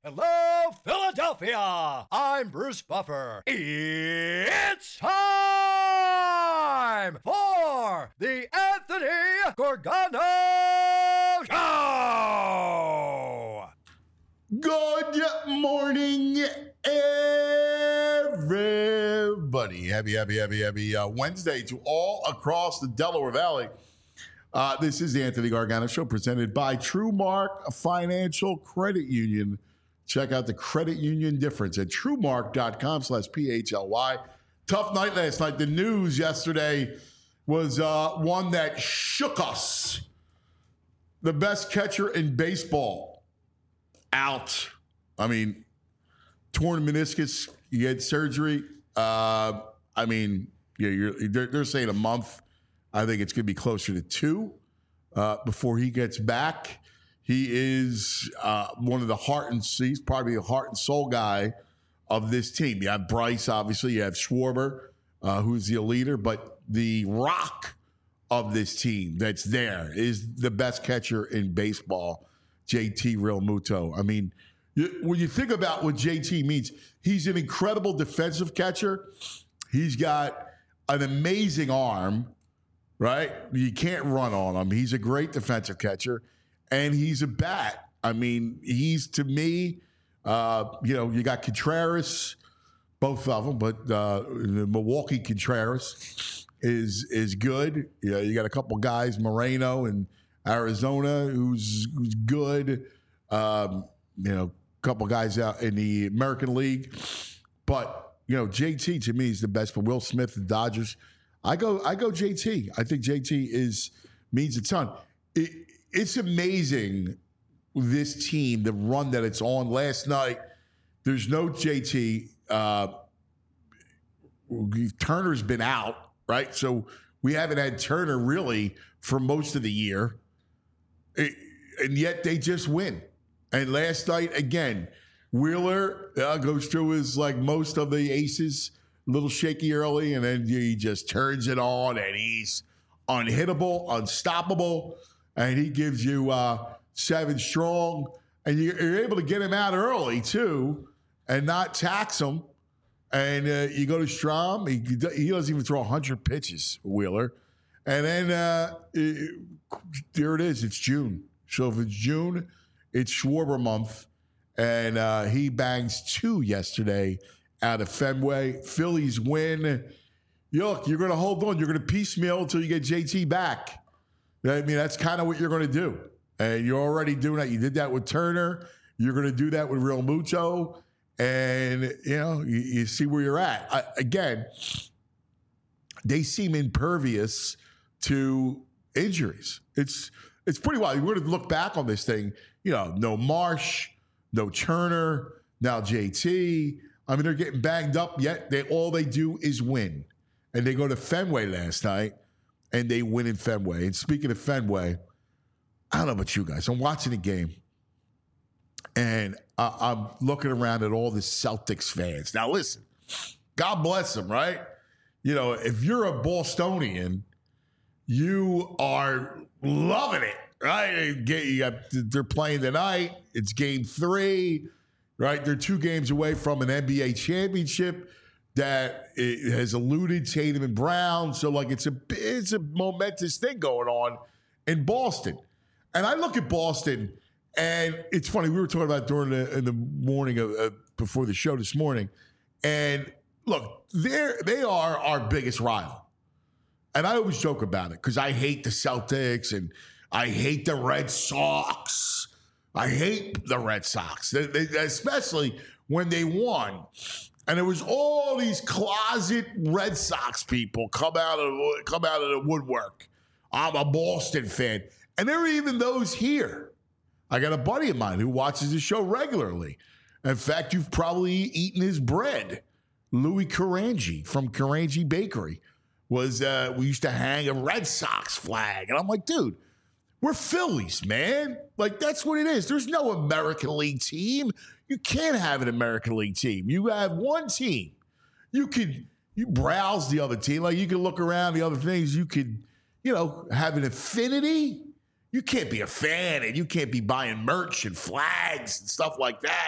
Hello, Philadelphia! I'm Bruce Buffer. It's time for the Anthony Gorgano Show! Good morning, everybody. Happy Wednesday to all across the Delaware Valley. This is the Anthony Gargano Show presented by TrueMark Financial Credit Union. Check out the credit union difference at truemark.com/PHLY. Tough night last night. The news yesterday was one that shook us. The best catcher in baseball out. I mean, torn meniscus, you had surgery. They're saying a month. I think it's going to be closer to 2 before he gets back. He is one of the he's probably the heart and soul guy of this team. You have Bryce, obviously. You have Schwarber, who's the leader. But the rock of this team that's there is the best catcher in baseball, JT Realmuto. I mean, when you think about what JT means, he's an incredible defensive catcher. He's got an amazing arm, right? You can't run on him. He's a great defensive catcher. And he's a bat. I mean, he's, to me, you got Contreras, both of them, but the Milwaukee Contreras is good. You got a couple guys, Moreno in Arizona, who's good. A couple guys out in the American League. But, JT, to me, is the best. But Will Smith, the Dodgers, I go JT. I think JT means a ton. It's amazing, this team, the run that it's on. Last night, there's no JT. Turner's been out, right? So we haven't had Turner really for most of the year. And yet they just win. And last night, again, Wheeler goes through his, like most of the aces, a little shaky early, and then he just turns it on, and he's unhittable, unstoppable. And he gives you 7 strong, and you're able to get him out early too, and not tax him. And you go to Strom, he doesn't even throw 100 pitches, Wheeler. And then there it is. It's June. So if it's June, it's Schwarber month, and he bangs 2 yesterday out of Fenway. Phillies win. Look, you're going to hold on. You're going to piecemeal until you get JT back. I mean, that's kind of what you're going to do. And you're already doing that. You did that with Turner. You're going to do that with Realmuto. And, you see where you're at. Again, they seem impervious to injuries. It's pretty wild. We're going to look back on this thing. No Marsh, no Turner, now JT. I mean, they're getting banged up, yet all they do is win. And they go to Fenway last night. And they win in Fenway. And speaking of Fenway, I don't know about you guys. I'm watching the game, and I'm looking around at all the Celtics fans. Now, listen, God bless them, right? If you're a Bostonian, you are loving it, right? They're playing tonight. It's game 3, right? They're 2 games away from an NBA championship that it has eluded Tatum and Brown. So, it's a momentous thing going on in Boston. And I look at Boston, and it's funny. We were talking about in the morning before the show this morning. And, look, they are our biggest rival. And I always joke about it because I hate the Celtics, and I hate the Red Sox. I hate the Red Sox, especially when they won. And there was all these closet Red Sox people come out of the woodwork. I'm a Boston fan. And there are even those here. I got a buddy of mine who watches the show regularly. In fact, you've probably eaten his bread. Louis Carangi from Carangi Bakery we used to hang a Red Sox flag. And I'm like, dude, we're Phillies, man. That's what it is. There's no American League team. You can't have an American League team. You have one team. You browse the other team. You can look around the other things. You could, have an affinity. You can't be a fan and you can't be buying merch and flags and stuff like that.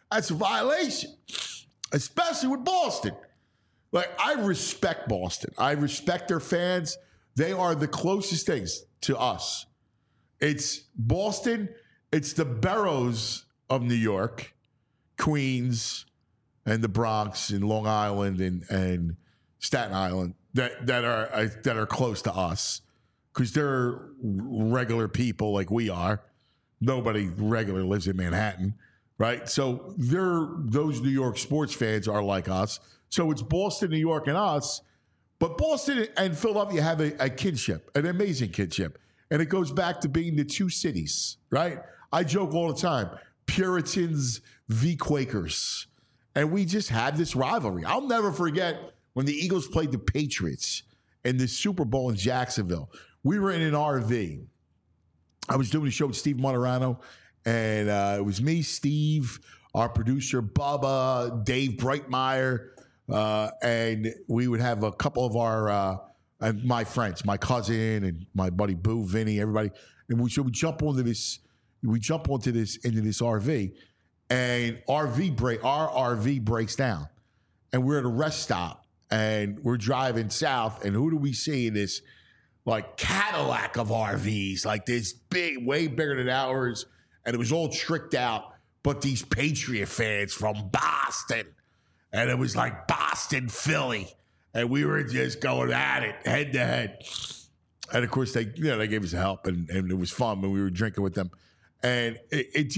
That's a violation, especially with Boston. Like, I respect Boston. I respect their fans. They are the closest things to us. It's Boston. It's the boroughs of New York, Queens, and the Bronx, and Long Island, and Staten Island that are close to us because they're regular people like we are. Nobody regular lives in Manhattan, right? So those New York sports fans are like us. So it's Boston, New York, and us. But Boston and Philadelphia have a kinship, an amazing kinship. And it goes back to being the two cities, right? I joke all the time, Puritans v. Quakers. And we just had this rivalry. I'll never forget when the Eagles played the Patriots in the Super Bowl in Jacksonville. We were in an RV. I was doing a show with Steve Monterano, and it was me, Steve, our producer, Bubba, Dave Breitmeyer, and we would have a couple of our and my friends, my cousin and my buddy Boo, Vinny, everybody, and we jump onto this. We jump into this RV, and our RV breaks down, and we're at a rest stop, and we're driving south, and who do we see in this like Cadillac of RVs, like this big, way bigger than ours, and it was all tricked out, but these Patriot fans from Boston, and it was like Boston, Philly. And we were just going at it head to head. And of course, they gave us help, and it was fun when we were drinking with them. And it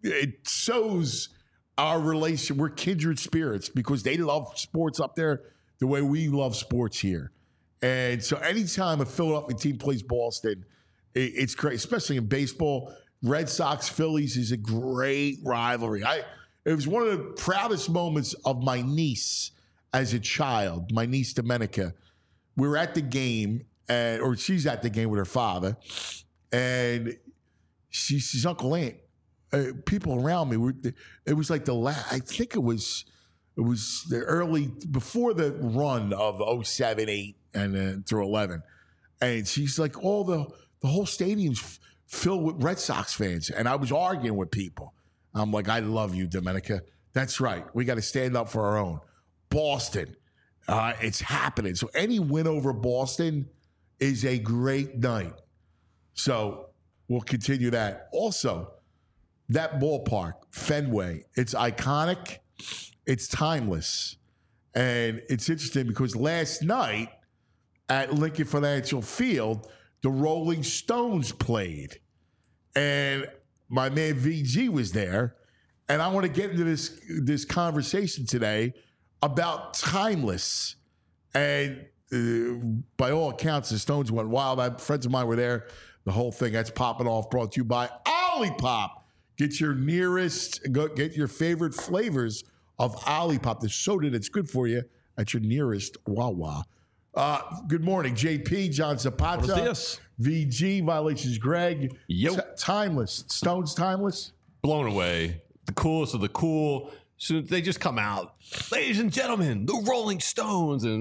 shows our relation. We're kindred spirits because they love sports up there the way we love sports here. And so anytime a Philadelphia team plays Boston, it's great, especially in baseball. Red Sox, Phillies is a great rivalry. It was one of the proudest moments of my niece as a child, my niece Domenica. We were at the game, or she's at the game with her father, and she's Uncle Ant. People around me it was like I think it was the early, before the run of 07, 8, and through 11. And she's like, the whole stadium's filled with Red Sox fans. And I was arguing with people. I'm like, I love you, Domenica. That's right. We got to stand up for our own. Boston, it's happening. So any win over Boston is a great night. So we'll continue that. Also, that ballpark, Fenway, it's iconic. It's timeless. And it's interesting because last night at Lincoln Financial Field, the Rolling Stones played. And my man VG was there. And I want to get into this conversation today about timeless. And by all accounts, the Stones went wild. Friends of mine were there. The whole thing that's popping off, brought to you by Olipop. Get your get your favorite flavors of Olipop, the soda that's good for you, at your nearest Wawa. Good morning, JP, John Zapata, VG, Violations Greg. Timeless. Stones timeless? Blown away. The coolest of the cool. So they just come out, ladies and gentlemen, the Rolling Stones. And,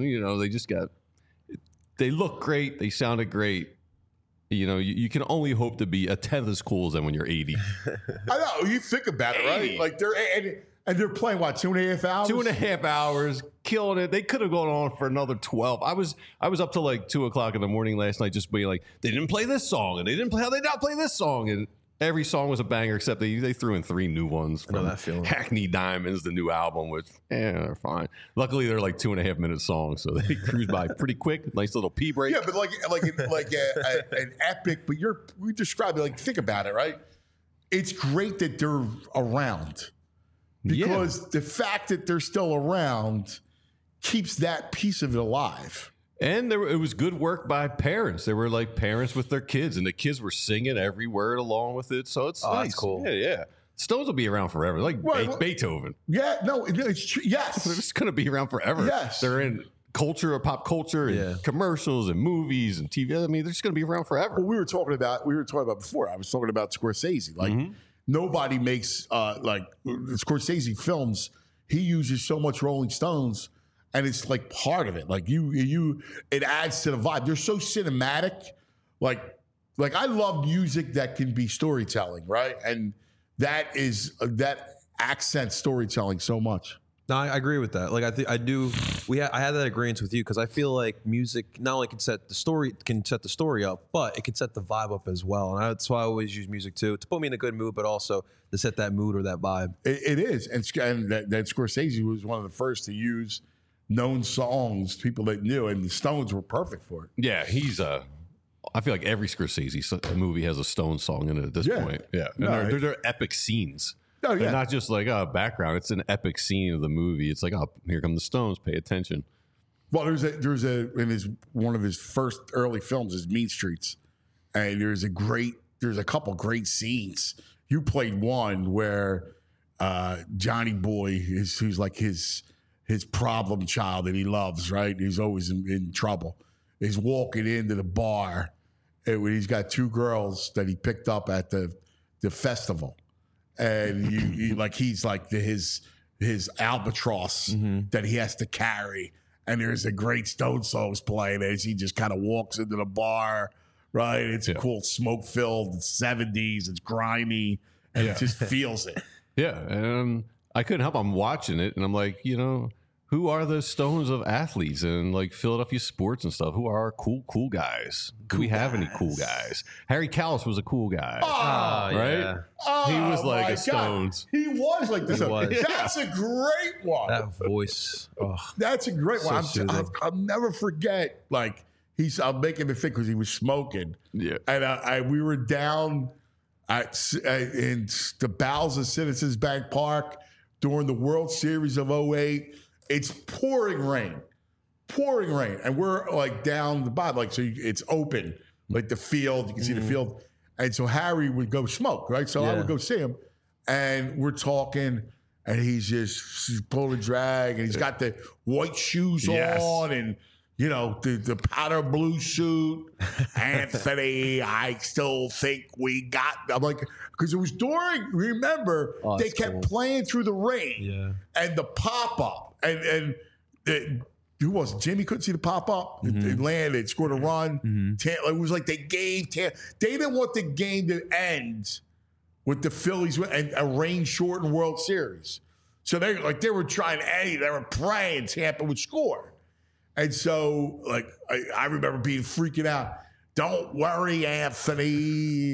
they look great. They sounded great. You can only hope to be a tenth as cool as them when you're 80. I know. You think about it, right? Like they're playing, what, 2.5 hours? 2.5 hours, killing it. They could have gone on for another 12. I was up to like 2 o'clock in the morning last night just being like, they didn't play this song, and how they not play this song? And every song was a banger, except they threw in 3 new ones from Hackney Diamonds, the new album, which, they're fine. Luckily, they're like 2.5-minute songs, so they cruise by pretty quick. Nice little pee break. Yeah, but like an epic, but we describe it, like, think about it, right? It's great that they're around. Because the fact that they're still around keeps that piece of it alive. And it was good work by parents. They were like parents with their kids, and the kids were singing every word along with it. So it's nice. That's cool. Yeah. Stones will be around forever, like Beethoven. Yeah, no, it's true. Yes. They're just going to be around forever. Yes. They're in culture or pop culture and commercials and movies and TV. I mean, they're just going to be around forever. Well, we were talking about before. I was talking about Scorsese. Like, nobody makes, Scorsese films, he uses so much Rolling Stones, and it's like part of it. Like it adds to the vibe. They're so cinematic. Like I love music that can be storytelling, right? And that accent storytelling so much. No, I agree with that. Like I do. I had that agreement with you because I feel like music not only can set the story up, but it can set the vibe up as well. And that's why I always use music too, to put me in a good mood, but also to set that mood or that vibe. It is, and that Scorsese was one of the first to use known songs, people that knew, and the Stones were perfect for it. Yeah, I feel like every Scorsese movie has a Stone song in it at this point. Yeah, and they're epic scenes. Oh, yeah. They're not just like a background. It's an epic scene of the movie. It's like, oh, here come the Stones. Pay attention. Well, there's one of his first early films is Mean Streets, and there's a couple great scenes. You played one where Johnny Boy who's like his problem child that he loves, right? He's always in trouble. He's walking into the bar, and he's got two girls that he picked up at the festival. And he's like his albatross that he has to carry. And there's a great Stone songs playing as he just kind of walks into the bar, right? It's cool, smoke filled, 70s, it's grimy, and it just feels it. Yeah, and I couldn't help. I'm watching it, and I'm like, who are the Stones of athletes and like Philadelphia sports and stuff? Who are our cool guys? Do we have any cool guys? Harry Callis was a cool guy, right? Yeah. He was like my a Stones. God. He was like this. was. That's a great one. That voice. Oh, That's a great one. soothing. I'll never forget. Like I'm making me think because he was smoking. Yeah, and we were down in the bowels of Citizens Bank Park during the World Series of 2008. It's pouring rain, and we're like down the bottom, like so it's open, like the field. You can see the field, and so Harry would go smoke, right? So I would go see him, and we're talking, and he's pulling drag, and he's got the white shoes on, and the powder blue suit. Anthony, I still think we got. I'm like, because it was during. Remember, they kept playing through the rain, and the pop up. And who was it? Jimmy couldn't see the pop up. It landed, scored a run. It was like they didn't want the game to end with the Phillies and a rain-shortened World Series. So they were trying. They were praying Tampa would score. And so, I remember being freaking out. Don't worry, Anthony.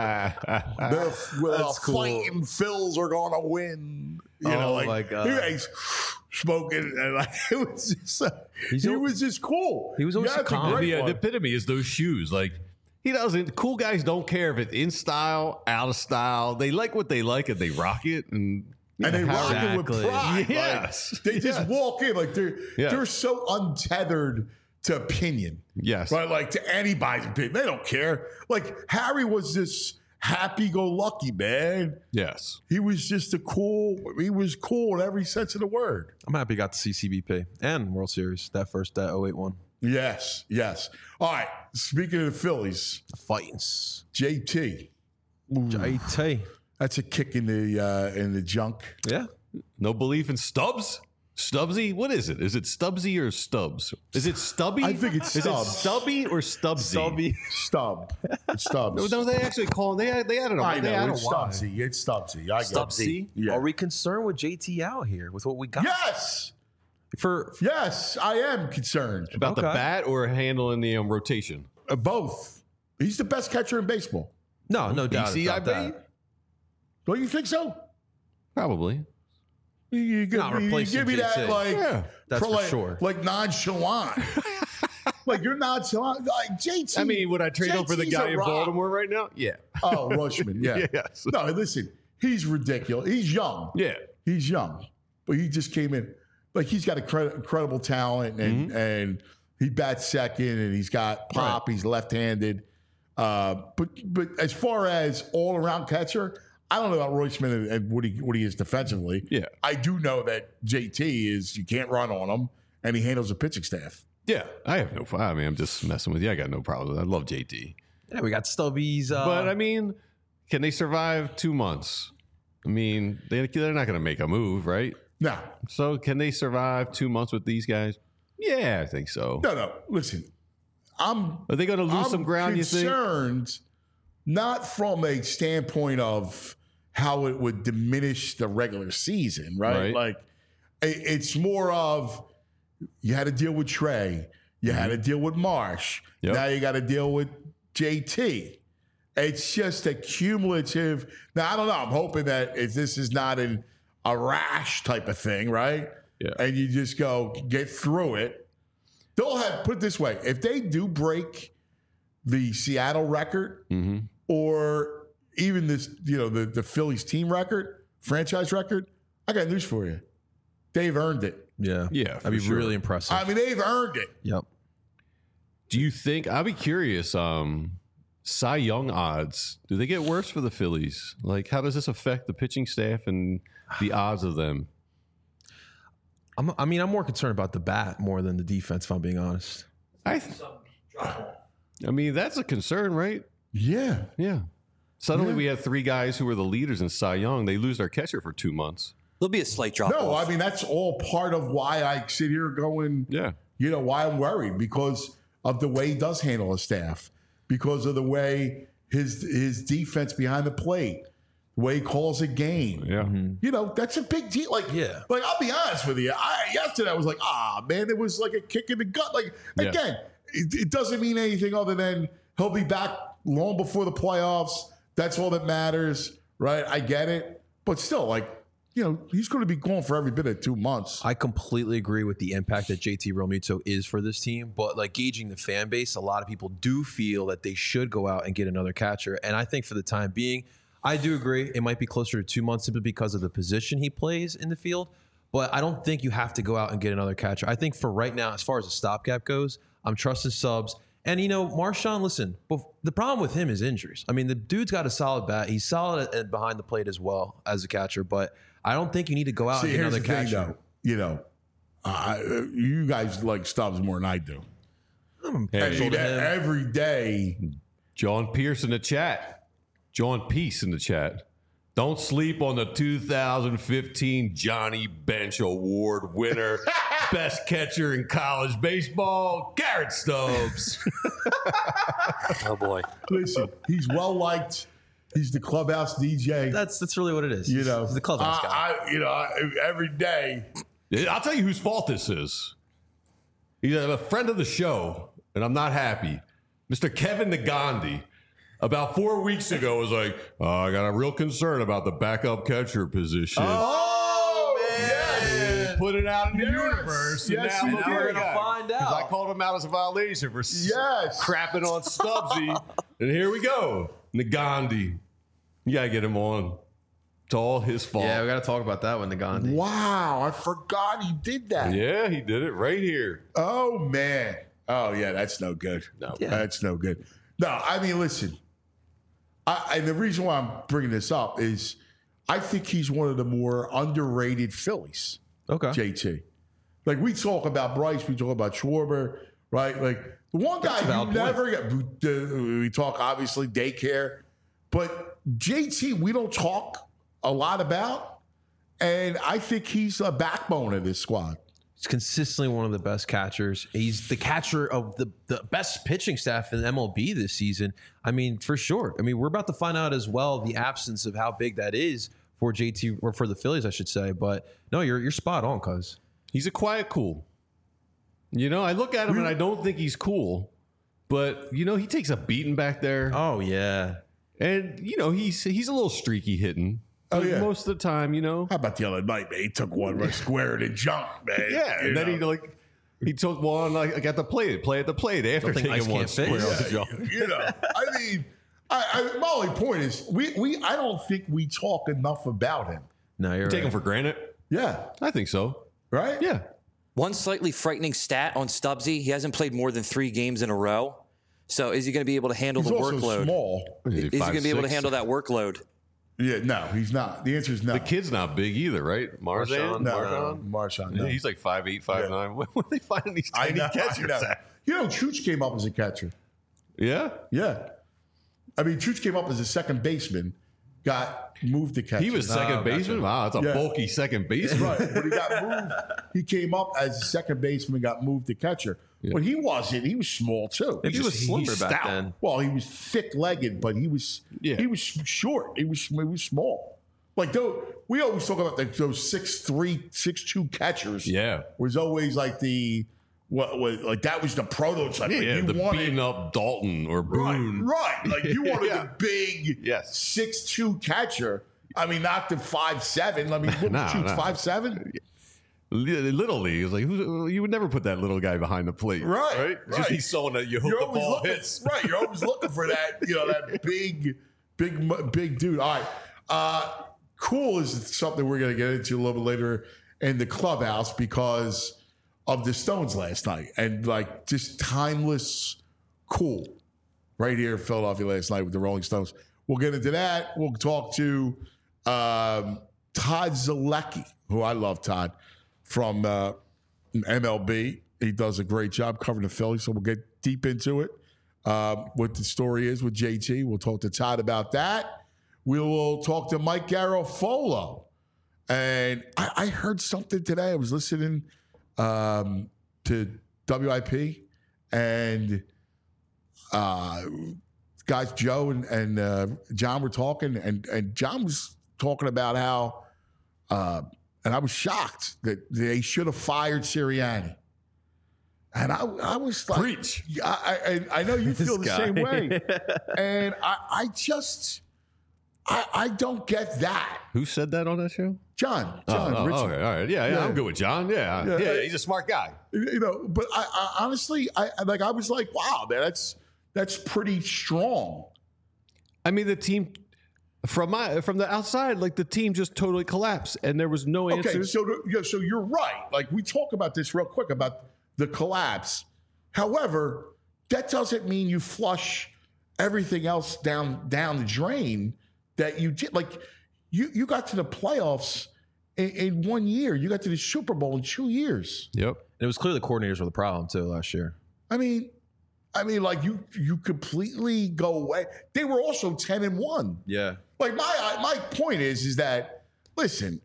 The fighting Phils are going to win. My God. He's smoking, and it was just, he was just cool. He was always so calm. The epitome is those shoes. Like, he doesn't, cool guys don't care if it's in style, out of style. They like what they like and they rock it. And they rock it with pride. Yes. Like, they just walk in like they're so untethered to opinion. Yes. Right? Like to anybody's opinion. They don't care. Like Harry was this happy-go-lucky man. Yes. He was just he was cool in every sense of the word. I'm happy he got the CCBP and World Series, that 08 one. Yes. All right. Speaking of the Phillies. The Fightins. JT. JT. That's a kick in the junk. Yeah. No belief in Stubbs? Stubbsy? What is it? Is it Stubbsy or Stubbs? Is it Stubby? I think it's Stubbs. Is it Stubby or Stubbsy? Stubb. It's Stubbs. No, they actually call they added a I know, it's Y. Stubbsy. It's Stubbsy. I get it. Stubbsy. Yeah. Are we concerned with JT out here with what we got? Yes. For Yes, I am concerned. About the bat or handling the rotation? Both. He's the best catcher in baseball. no doubt BC, I about bet? that. Don't you think so? Probably. You give Not me replacing that JT. That's for like, sure. Like nonchalant. Like you're nonchalant. Like JT. I mean, would I trade him for the JT's guy a in rock. Baltimore right now? Yeah. Oh, Rushman. Yeah. Yes. No, listen. He's ridiculous. He's young. Yeah. He's young, but he just came in. Like he's got incredible talent, and he bats second, and he's got pop. Right. He's left-handed. But as far as all-around catcher, I don't know about Royceman and what he is defensively. Yeah. I do know that JT is you can't run on him, and he handles the pitching staff. Yeah. I have no problem. I mean, I'm just messing with you. I got no problem. I love JT. Yeah, we got Stubbies. But I mean, can they survive 2 months? I mean, they're not going to make a move, right? No. So can they survive 2 months with these guys? Yeah, I think so. No. Listen, are they going to lose some ground? You think? Concerned, not from a standpoint of, how it would diminish the regular season, right? Like it's more of you had to deal with Trey, you had to deal with Marsh, now you got to deal with JT. It's just a cumulative. Now I don't know. I'm hoping that if this is not a rash type of thing, right? Yeah. And you just go get through it. They'll have, put it this way, if they do break the Seattle record or even this, the Phillies team record, franchise record, I got news for you. They've earned it. Yeah. Yeah. That'd be really impressive. I mean, they've earned it. Yep. Do you think, I'll be curious, Cy Young odds, do they get worse for the Phillies? Like, how does this affect the pitching staff and the odds of them? I'm more concerned about the bat more than the defense, if I'm being honest. I mean, that's a concern, right? Yeah. Yeah. Suddenly we have 3 guys who were the leaders in Cy Young. They lose their catcher for 2 months. There'll be a slight drop off. No, I mean, that's all part of why I sit here going, why I'm worried, because of the way he does handle his staff, because of the way his defense behind the plate, the way he calls a game. Yeah. That's a big deal. Like I'll be honest with you. Yesterday I was like, man, it was like a kick in the gut. Like, again, it doesn't mean anything other than he'll be back long before the playoffs. That's all that matters, right? I get it. But still, like, he's going to be gone for every bit of 2 months. I completely agree with the impact that JT Realmuto is for this team, but like gauging the fan base, a lot of people do feel that they should go out and get another catcher. And I think for the time being, I do agree it might be closer to 2 months simply because of the position he plays in the field, but I don't think you have to go out and get another catcher. I think for right now, as far as the stopgap goes, I'm trusting Subs. And, Marshawn, listen, the problem with him is injuries. I mean, the dude's got a solid bat. He's solid behind the plate as well as a catcher, but I don't think you need to go out and get another catcher. You guys like Stubbs more than I do. Every day. John Pierce in the chat. John Peace in the chat. Don't sleep on the 2015 Johnny Bench Award winner, best catcher in college baseball, Garrett Stubbs. Oh, boy. Listen, he's well liked. He's the clubhouse DJ. That's really what it is. He's the clubhouse guy. Every day. I'll tell you whose fault this is. He's a friend of the show, and I'm not happy. Mr. Kevin Nagandi, about 4 weeks ago, was like, I got a real concern about the backup catcher position. Oh, man. He put it out in the universe. Yes, and he now did. we're going to find out. I called him out as a violation for crapping on Stubbsy. And here we go. Nagandi. You got to get him on. It's all his fault. Yeah, we got to talk about that one, Nagandi. Wow, I forgot he did that. Yeah, he did it right here. Oh, man. Oh, yeah, that's no good. No. Yeah. That's no good. No, I mean, listen. And the reason why I'm bringing this up is I think he's one of the more underrated Phillies. Okay. JT. Like, we talk about Bryce, we talk about Schwarber, right? Like, the one guy you never get, we talk, obviously, daycare, but JT, we don't talk a lot about, and I think he's a backbone of this squad. He's consistently one of the best catchers. He's the catcher of the best pitching staff in MLB this season. I mean, for sure. I mean, we're about to find out as well the absence of how big that is for JT, or for the Phillies, I should say. But no, you're spot on, cuz. He's a quiet cool. I look at him and I don't think he's cool, but he takes a beating back there. Oh yeah, and he's a little streaky hitting. Oh, yeah. Most of the time, How about the other night, man? He took one right square and jumped, man. Yeah, and then he took one play at the plate after taking one square on the jump. I mean, my only point is I don't think we talk enough about him. no, you're Take right. him for granted. Yeah, I think so. right. Yeah. One slightly frightening stat on Stubbsy, he hasn't played more than 3 games in a row. So is he going to be able to handle He's the also workload? small. Is he going to be able to handle that workload? Yeah, no, he's not. The answer is no. The kid's not big either, right? Marshawn? Marshawn. No. Yeah, he's like 5'8", 5'9". Where are they finding these tiny catchers at? Chooch came up as a catcher. Yeah. Yeah. I mean, Chooch came up as a second baseman, got moved to catcher. He was second baseman? Wow, that's a bulky second baseman. Right. When he got moved, he came up as a second baseman, got moved to catcher. Yeah. But he wasn't. He was small, too. Maybe he was slimmer he's back stout. then. Well, he was thick-legged, but he was short. He was small. Like, we always talk about those 6'3", 6'2" catchers. Yeah. Was always like like that was the prototype. Like Yeah, you the wanted, beating up Dalton or Boone. Right. Like you wanted Yeah. the big Yes. 6'2" catcher. I mean, not the 5'7". I mean, what No, shoots no. 5'7"? Little league is like you would never put that little guy behind the plate, Right. Just be someone that you hope You're the always ball looking, hits. right? You're always looking for that, that big dude. All right, cool is something we're going to get into a little bit later in the clubhouse because of the Stones last night and like just timeless cool right here in Philadelphia last night with the Rolling Stones. We'll get into that. We'll talk to Todd Zolecki, who I love, Todd, from MLB. He does a great job covering the Phillies, so we'll get deep into it. What the story is with JT. We'll talk to Todd about that. We will talk to Mike Garofolo. And I heard something today. I was listening to WIP, and guys Joe and John were talking, and John was talking about how, and I was shocked that they should have fired Sirianni. And I was like, Preach. I know you feel the same way. And I don't get that. Who said that on that show? John Oh, Richard. okay, all right, yeah, I'm good with John. Yeah, he's a smart guy. But I honestly, I was like, wow, man, that's pretty strong. I mean, the team from the outside, like the team just totally collapsed, and there was no answers. Okay, so you're right. Like we talk about this real quick about the collapse. However, that doesn't mean you flush everything else down the drain that you did. Like you got to the playoffs in 1 year. You got to the Super Bowl in 2 years. Yep. And it was clear the coordinators were the problem too last year. I mean, like you completely go away. They were also 10-1. Yeah. Like my point is that listen,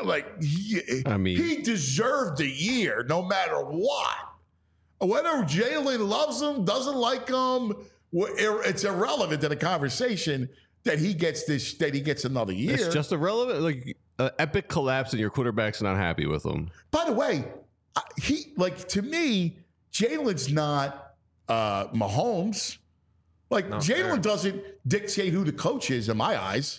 he deserved the year no matter what. Whether Jalen loves him, doesn't like him, it's irrelevant to the conversation that he gets another year. It's just irrelevant. Like epic collapse, and your quarterback's not happy with him. By the way, to me, Jalen's not Mahomes. Like Jalen doesn't dictate who the coach is in my eyes.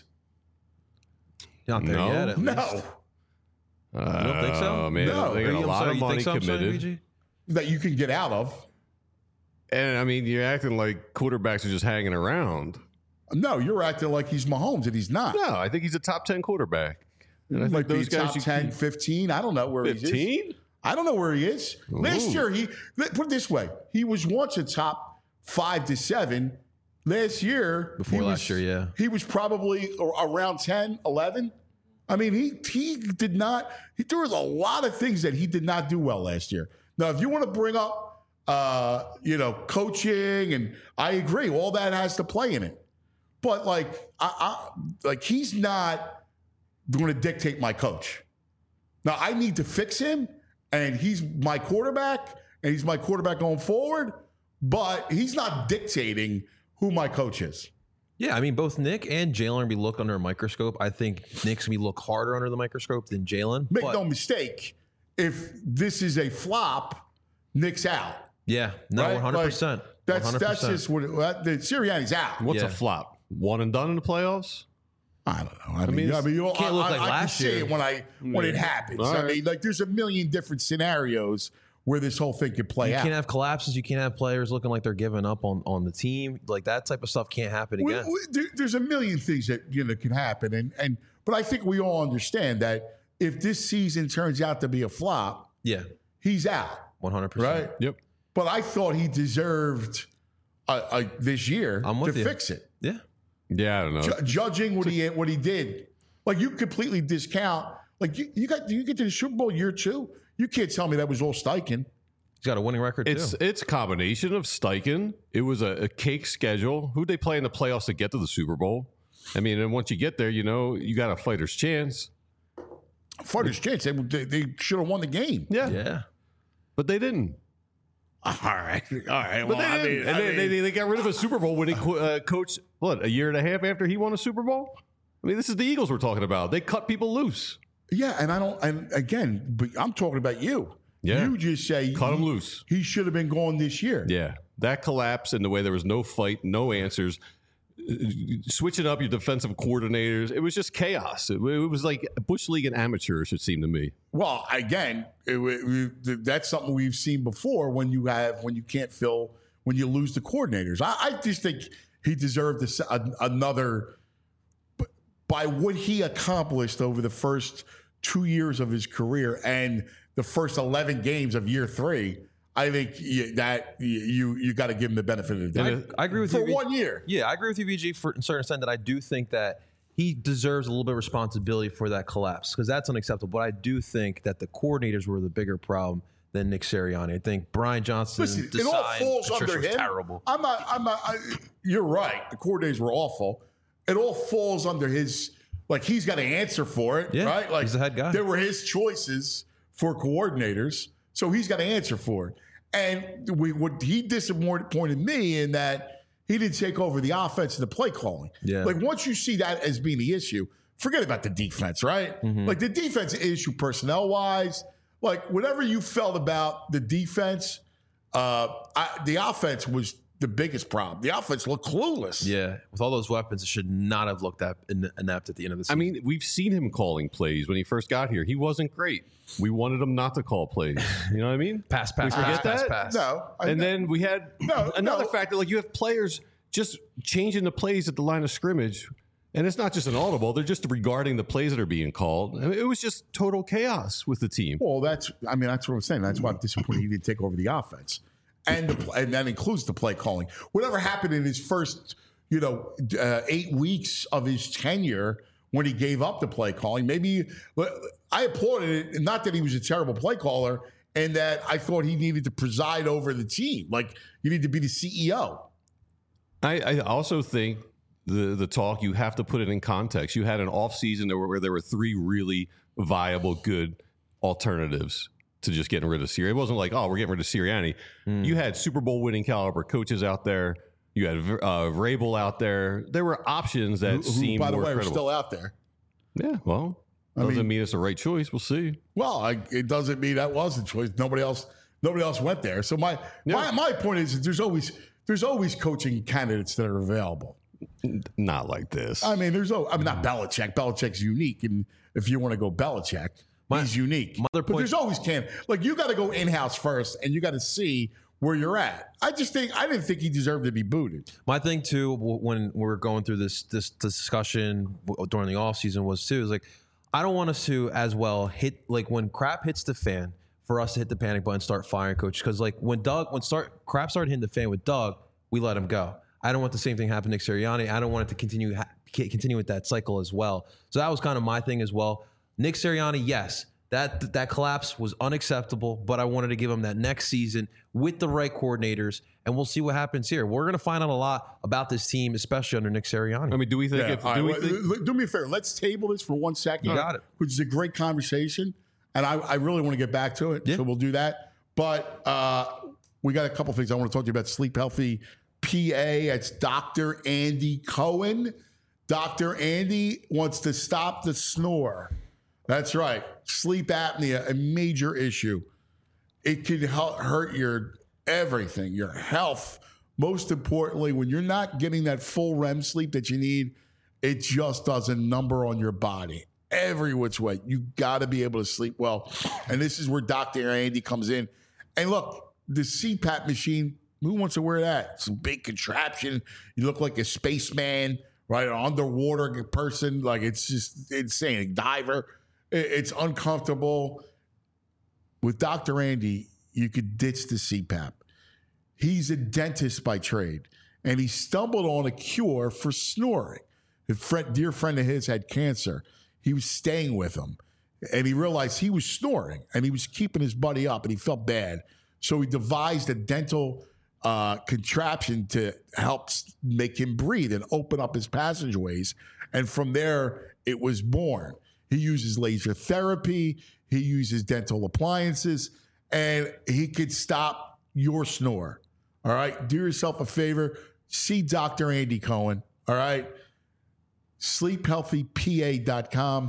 Not there No. yet, at least. No, You don't think so? Man, No. they got a lot of money committed. BG? that you can get out of. And I mean, you're acting like quarterbacks are just hanging around. No, you're acting like he's Mahomes and he's not. No, I think he's a top 10 quarterback. And I Might think those be guys top you 10, keep- 15. I don't know where he is. 15? I don't know where he is. Last year, put it this way, he was once a top 5 to 7. Last year, Before last year, yeah. he was probably around 10, 11. I mean, he did not. There was a lot of things that he did not do well last year. Now, if you want to bring up, coaching, and I agree, all that has to play in it. But he's not going to dictate my coach. Now, I need to fix him, and he's my quarterback, and he's my quarterback going forward. But he's not dictating who my coach is. Yeah, I mean, both Nick and Jalen are going to be looked under a microscope. I think Nick's going to be looked harder under the microscope than Jalen. Make no mistake, if this is a flop, Nick's out. Yeah, no, Right? 100%. That's 100%. just what the Sirianni's out. What's Yeah. a flop? One and done in the playoffs? I don't know. I mean, mean, can't look like I can last see year. it when it happens. All I right. mean, there's a million different scenarios where this whole thing could play You out. can't have collapses. You can't have players looking like they're giving up on the team. Like that type of stuff can't happen again. There's a million things that can happen, but I think we all understand that if this season turns out to be a flop, Yeah, he's out, 100%. right? Yep. But I thought he deserved this year I'm with to you. fix it. Yeah. Yeah, I don't know. Judging what he did, like you completely discount. Like you get to the Super Bowl year 2. You can't tell me that was all Steichen. He's got a winning record too. It's a combination of Steichen. It was a cake schedule. Who'd they play in the playoffs to get to the Super Bowl? I mean, and once you get there, you got a fighter's chance. Fighter's chance. They should have won the game. Yeah. But they didn't. All right. But they didn't. They got rid of a Super Bowl winning coach, a year and a half after he won a Super Bowl? I mean, this is the Eagles we're talking about. They cut people loose. Yeah, and again, but I'm talking about you. Yeah. You just say Cut him loose. He should have been gone this year. Yeah. That collapse and the way there was no fight, no answers, switching up your defensive coordinators. It was just chaos. It was like Bush League and amateurs, it seemed to me. Well, again, that's something we've seen before when you lose the coordinators. I just think he deserved another, by what he accomplished over the first 2 years of his career and the first 11 games of year 3. I think that you got to give him the benefit of the doubt. I agree with you for 1 year. Yeah, I agree with you, VG, for a certain extent that I do think that he deserves a little bit of responsibility for that collapse because that's unacceptable. But I do think that the coordinators were the bigger problem than Nick Sirianni. I think Brian Johnson. Listen, it all falls under him. Terrible. You're right. The coordinators were awful. It all falls under his. Like he's got to answer for it, right? Like he's the head guy. There were his choices for coordinators, so he's got to answer for it. And what he disappointed me in that he didn't take over the offense and the play calling. Yeah. Like once you see that as being the issue, forget about the defense, right? Mm-hmm. Like the defense issue personnel wise, like whatever you felt about the defense, the offense was the biggest problem. The offense looked clueless. Yeah, with all those weapons, it should not have looked that inept at the end of the season. I mean, we've seen him calling plays when he first got here. He wasn't great. We wanted him not to call plays. You know what I mean? pass. We forget that? Pass. No. Then we had another factor. Like you have players just changing the plays at the line of scrimmage. And it's not just an audible. They're just regarding the plays that are being called. I mean, it was just total chaos with the team. Well, that's what I'm saying. That's why I'm disappointed he didn't take over the offense. And that includes the play calling. Whatever happened in his first, 8 weeks of his tenure when he gave up the play calling, maybe I applauded it. Not that he was a terrible play caller, and that I thought he needed to preside over the team. Like you need to be the CEO. I also think the talk, you have to put it in context. You had an offseason where there were 3 really viable, good alternatives to just getting rid of Sirianni. It wasn't like, oh, we're getting rid of Sirianni. You had Super Bowl winning caliber coaches out there. You had Vrabel out there. There were options that seemed by the more way, credible. are still out there. Yeah, well, doesn't mean it's the right choice. We'll see. Well, it doesn't mean that was the choice. Nobody else went there. So my point is that there's always coaching candidates that are available. Not like this. I mean, not Belichick. Belichick's unique, and if you want to go Belichick, he's unique. But there's always you got to go in-house first, and you got to see where you're at. I didn't think he deserved to be booted. My thing too, when we're going through this discussion during the offseason was like, I don't want us to as well hit, like when crap hits the fan, for us to hit the panic button and start firing coaches. Because like when crap started hitting the fan with Doug, we let him go. I don't want the same thing happen to Nick Sirianni. I don't want it to continue with that cycle as well. So that was kind of my thing as well. Nick Sirianni, yes, that collapse was unacceptable, but I wanted to give him that next season with the right coordinators, and we'll see what happens here. We're going to find out a lot about this team, especially under Nick Sirianni. I mean, do we think? Do me a favor. Let's table this for 1 second. You got it. Which is a great conversation, and I really want to get back to it. Yeah. So we'll do that. But we got a couple things I want to talk to you about. Sleep Healthy PA. It's Dr. Andy Cohen. Dr. Andy wants to stop the snore. That's right. Sleep apnea, a major issue. It can hurt your everything, your health. Most importantly, when you're not getting that full REM sleep that you need, it just does a number on your body. Every which way. You got to be able to sleep well. And this is where Dr. Andy comes in. And look, the CPAP machine, who wants to wear that? It's a big contraption. You look like a spaceman, right? An underwater person. Like, it's just insane. A diver. It's uncomfortable. With Dr. Andy, you could ditch the CPAP. He's a dentist by trade, and he stumbled on a cure for snoring. A dear friend of his had cancer. He was staying with him, and he realized he was snoring, and he was keeping his buddy up, and he felt bad. So he devised a dental contraption to help make him breathe and open up his passageways. And from there, it was born. He uses laser therapy. He uses dental appliances, and he could stop your snore. All right? Do yourself a favor. See Dr. Andy Cohen. All right? sleephealthypa.com,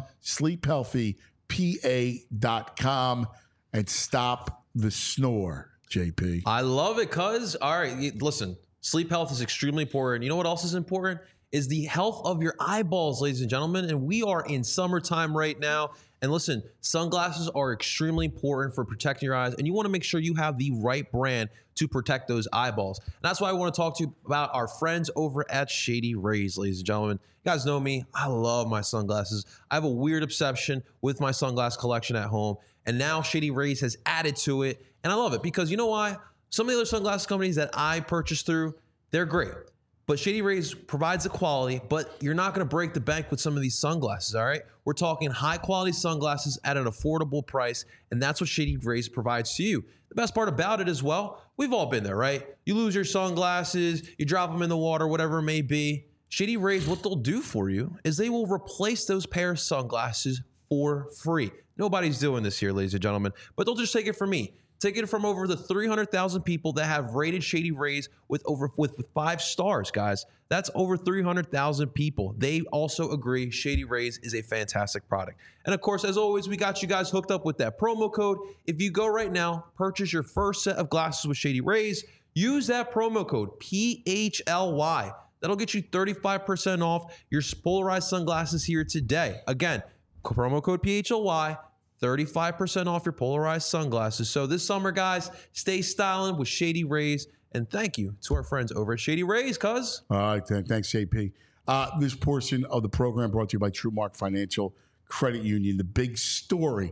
sleephealthypa.com, and stop the snore, JP. I love it, cuz. All right, listen, sleep health is extremely important. You know what else is important? Is the health of your eyeballs, ladies and gentlemen. And we are in summertime right now. And listen, sunglasses are extremely important for protecting your eyes. And you want to make sure you have the right brand to protect those eyeballs. And that's why I want to talk to you about our friends over at Shady Rays, ladies and gentlemen. You guys know me. I love my sunglasses. I have a weird obsession with my sunglass collection at home. And now Shady Rays has added to it. And I love it because you know why? Some of the other sunglasses companies that I purchase through, they're great. But Shady Rays provides the quality, but you're not going to break the bank with some of these sunglasses, all right? We're talking high-quality sunglasses at an affordable price, and that's what Shady Rays provides to you. The best part about it as well, we've all been there, right? You lose your sunglasses, you drop them in the water, whatever it may be. Shady Rays, what they'll do for you is they will replace those pair of sunglasses for free. Nobody's doing this here, ladies and gentlemen, but they'll just take it from me. Take it from over the 300,000 people that have rated Shady Rays with 5 stars, guys. That's over 300,000 people. They also agree Shady Rays is a fantastic product. And of course, as always, we got you guys hooked up with that promo code. If you go right now, purchase your first set of glasses with Shady Rays, use that promo code PHLY. That'll get you 35% off your polarized sunglasses here today. Again, promo code PHLY. 35% off your polarized sunglasses. So this summer, guys, stay styling with Shady Rays. And thank you to our friends over at Shady Rays, cuz. All right, thanks, JP. This portion of the program brought to you by TrueMark Financial Credit Union. The big story,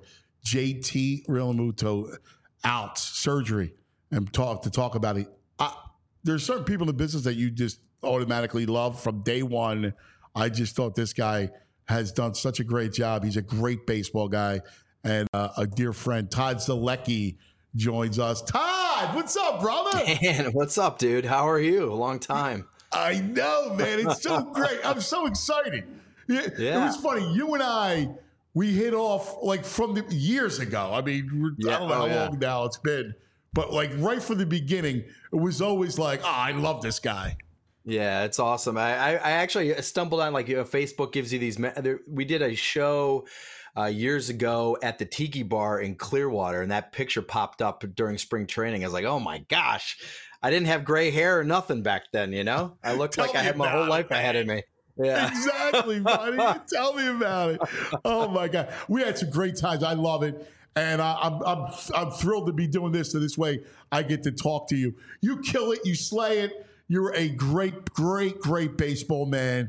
JT Realmuto out, surgery, and to talk about it. There's certain people in the business that you just automatically love from day one. I just thought this guy has done such a great job. He's a great baseball guy. And a dear friend, Todd Zalecki, joins us. Todd, what's up, brother? Man, what's up, dude? How are you? A long time. I know, man. It's so great. I'm so excited. It was funny. You and I, we hit off like from the years ago. I mean, I don't know how long now it's been. But like right from the beginning, it was always like, I love this guy. Yeah, it's awesome. I actually stumbled on Facebook gives you these. We did a show years ago at the Tiki Bar in Clearwater, and that picture popped up during spring training. I was like, oh my gosh, I didn't have gray hair or nothing back then, you know? I looked like I had my whole life ahead of me. Yeah, exactly, buddy. Tell me about it. Oh my God, we had some great times. I love it, and I'm thrilled to be doing this. So this way, I get to talk to you. You kill it. You slay it. You're a great baseball man.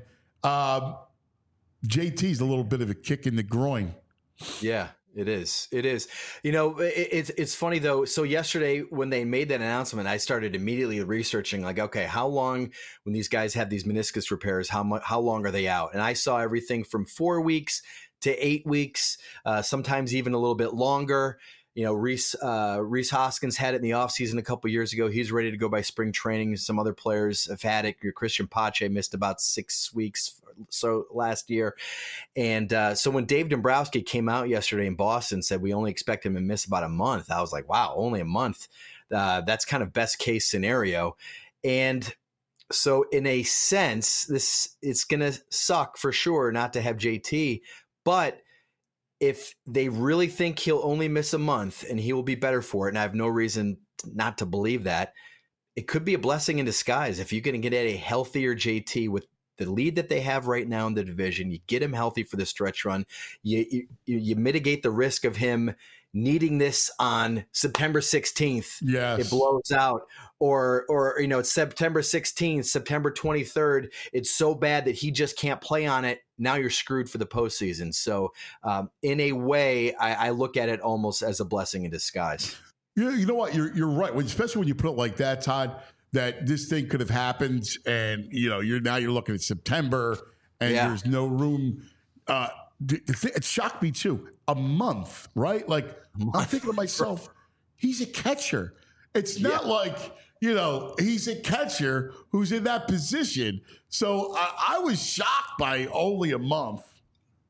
JT's a little bit of a kick in the groin. Yeah, it is. It is. You know, it's funny though. So yesterday when they made that announcement, I started immediately researching like, okay, how long when these guys have these meniscus repairs, how long are they out? And I saw everything from 4 weeks to 8 weeks, sometimes even a little bit longer. You know, Rhys Hoskins had it in the offseason a couple years ago. He's ready to go by spring training. Some other players have had it. Your Christian Pache missed about 6 weeks so last year. And so when Dave Dombrowski came out yesterday in Boston and said we only expect him to miss about a month, I was like, wow, only a month. That's kind of best case scenario. And so in a sense, it's going to suck for sure not to have JT, but if they really think he'll only miss a month and he will be better for it, and I have no reason not to believe that, it could be a blessing in disguise. If you can get a healthier JT with the lead that they have right now in the division, you get him healthy for the stretch run, you mitigate the risk of him needing this on September 16th. Yes. It blows out. Or you know, it's September 16th, September 23rd. It's so bad that he just can't play on it. Now you're screwed for the postseason. So in a way, I look at it almost as a blessing in disguise. You know what? You're right. Especially when you put it like that, Todd, that this thing could have happened and, you know, you're looking at September and there's no room. It shocked me too. A month, right? Like I'm thinking to myself, he's a catcher. It's not like, you know, he's a catcher who's in that position. So I was shocked by only a month.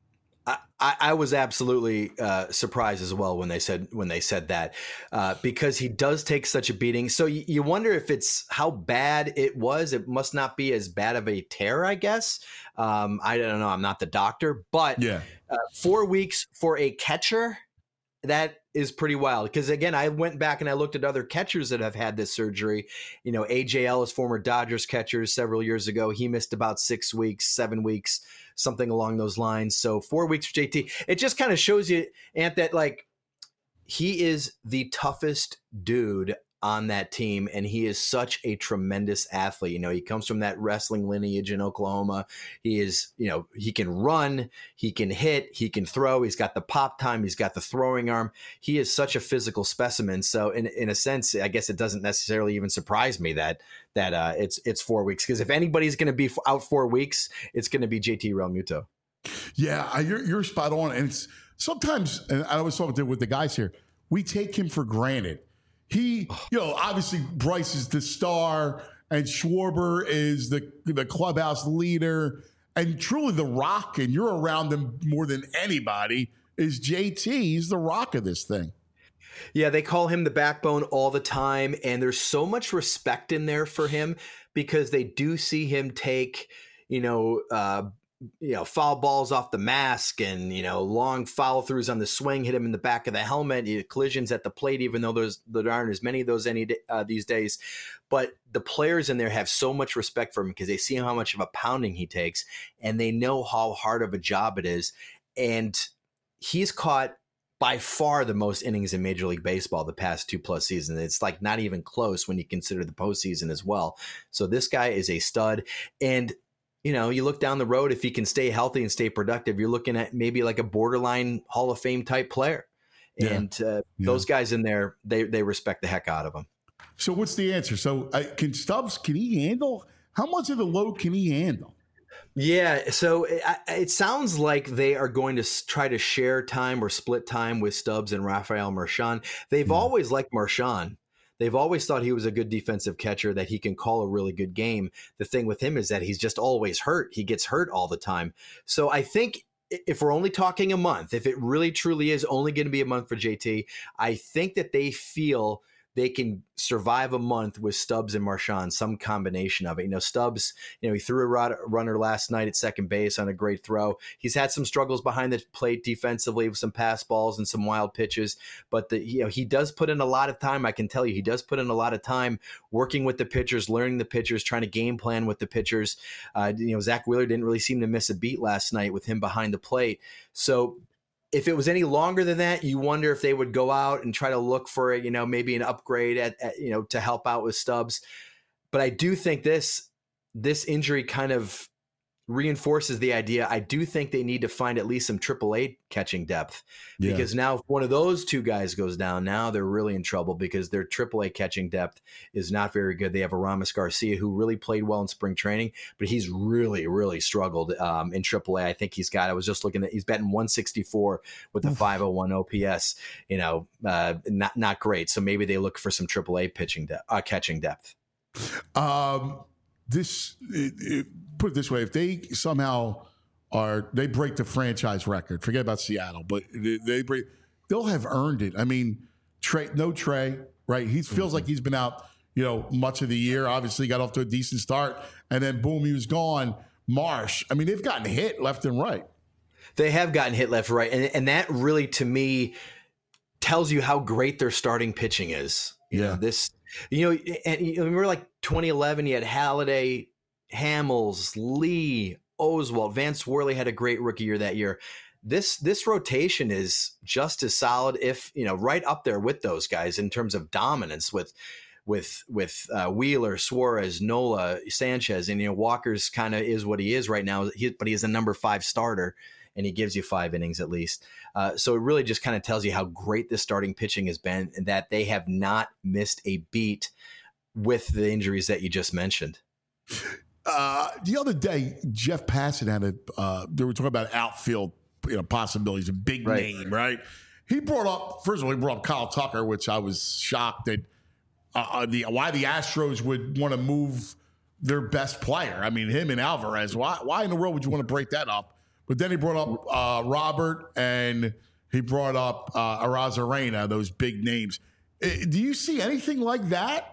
I was absolutely surprised as well when they said that because he does take such a beating. So you wonder if it's how bad it was. It must not be as bad of a tear, I guess. I don't know. I'm not the doctor, but 4 weeks for a catcher, that is pretty wild. Because again, I went back and I looked at other catchers that have had this surgery. You know, AJ Ellis, former Dodgers catcher, several years ago, he missed about 6 weeks, 7 weeks, something along those lines. So 4 weeks for JT. It just kind of shows you, Ant, that like he is the toughest dude on that team, and he is such a tremendous athlete. You know, he comes from that wrestling lineage in Oklahoma. He is, you know, he can run, he can hit, he can throw. He's got the pop time, he's got the throwing arm. He is such a physical specimen. So in a sense, I guess it doesn't necessarily even surprise me that it's 4 weeks, because if anybody's going to be out 4 weeks, it's going to be JT Realmuto. Yeah, you're spot on. And it's sometimes, and I was talking with the guys here, we take him for granted. He, you know, obviously Bryce is the star and Schwarber is the clubhouse leader, and truly the rock, and you're around him more than anybody, is JT. He's the rock of this thing. Yeah, they call him the backbone all the time, and there's so much respect in there for him because they do see him take, foul balls off the mask and, long follow throughs on the swing, hit him in the back of the helmet, collisions at the plate, even though there aren't as many of those these days. But the players in there have so much respect for him because they see how much of a pounding he takes, and they know how hard of a job it is. And he's caught by far the most innings in Major League Baseball the past 2+ seasons. It's like not even close when you consider the postseason as well. So this guy is a stud. And you look down the road, if he can stay healthy and stay productive, you're looking at maybe like a borderline Hall of Fame type player. Yeah. And those guys in there, they respect the heck out of him. So what's the answer? So can Stubbs, can he handle? How much of the load can he handle? Yeah, so it sounds like they are going to try to share time or split time with Stubbs and Rafael Marchand. They've always liked Marchand. They've always thought he was a good defensive catcher, that he can call a really good game. The thing with him is that he's just always hurt. He gets hurt all the time. So I think if we're only talking a month, if it really truly is only going to be a month for JT, I think that they feel they can survive a month with Stubbs and Marchand, some combination of it. Stubbs, he threw a runner last night at second base on a great throw. He's had some struggles behind the plate defensively with some pass balls and some wild pitches, but he does put in a lot of time. I can tell you, he does put in a lot of time working with the pitchers, learning the pitchers, trying to game plan with the pitchers. Zach Wheeler didn't really seem to miss a beat last night with him behind the plate. So if it was any longer than that, you wonder if they would go out and try to look for, maybe an upgrade at to help out with Stubbs. But I do think this injury kind of reinforces the idea. I do think they need to find at least some AAA catching depth, because now if one of those two guys goes down, now they're really in trouble because their AAA catching depth is not very good. They have Aramis Garcia, who really played well in spring training, but he's really, really struggled in AAA. I think I was just looking at, he's batting 164 with a 501 OPS, not great. So maybe they look for some AAA catching depth. Put it this way: if they somehow they break the franchise record, forget about Seattle, but they'll have earned it. I mean, Trey, right? He feels like he's been out, much of the year. Obviously, got off to a decent start, and then boom, he was gone. Marsh, I mean, they've gotten hit left and right. They have gotten hit left and right, and that really, to me, tells you how great their starting pitching is. Remember like 2011, you had Halladay, Hamels, Lee, Oswalt, Vance Worley had a great rookie year that year. This rotation is just as solid, if right up there with those guys in terms of dominance with Wheeler, Suarez, Nola, Sanchez, and Walker's kind of is what he is right now. But he is a number 5 starter, and he gives you 5 innings at least. So it really just kind of tells you how great this starting pitching has been, and that they have not missed a beat with the injuries that you just mentioned. The other day, Jeff Passan had they were talking about outfield possibilities, a big name, right? He brought up Kyle Tucker, which I was shocked at why the Astros would want to move their best player. I mean, him and Alvarez. Why in the world would you want to break that up? But then he brought up Robert and he brought up Arozarena, those big names. Do you see anything like that?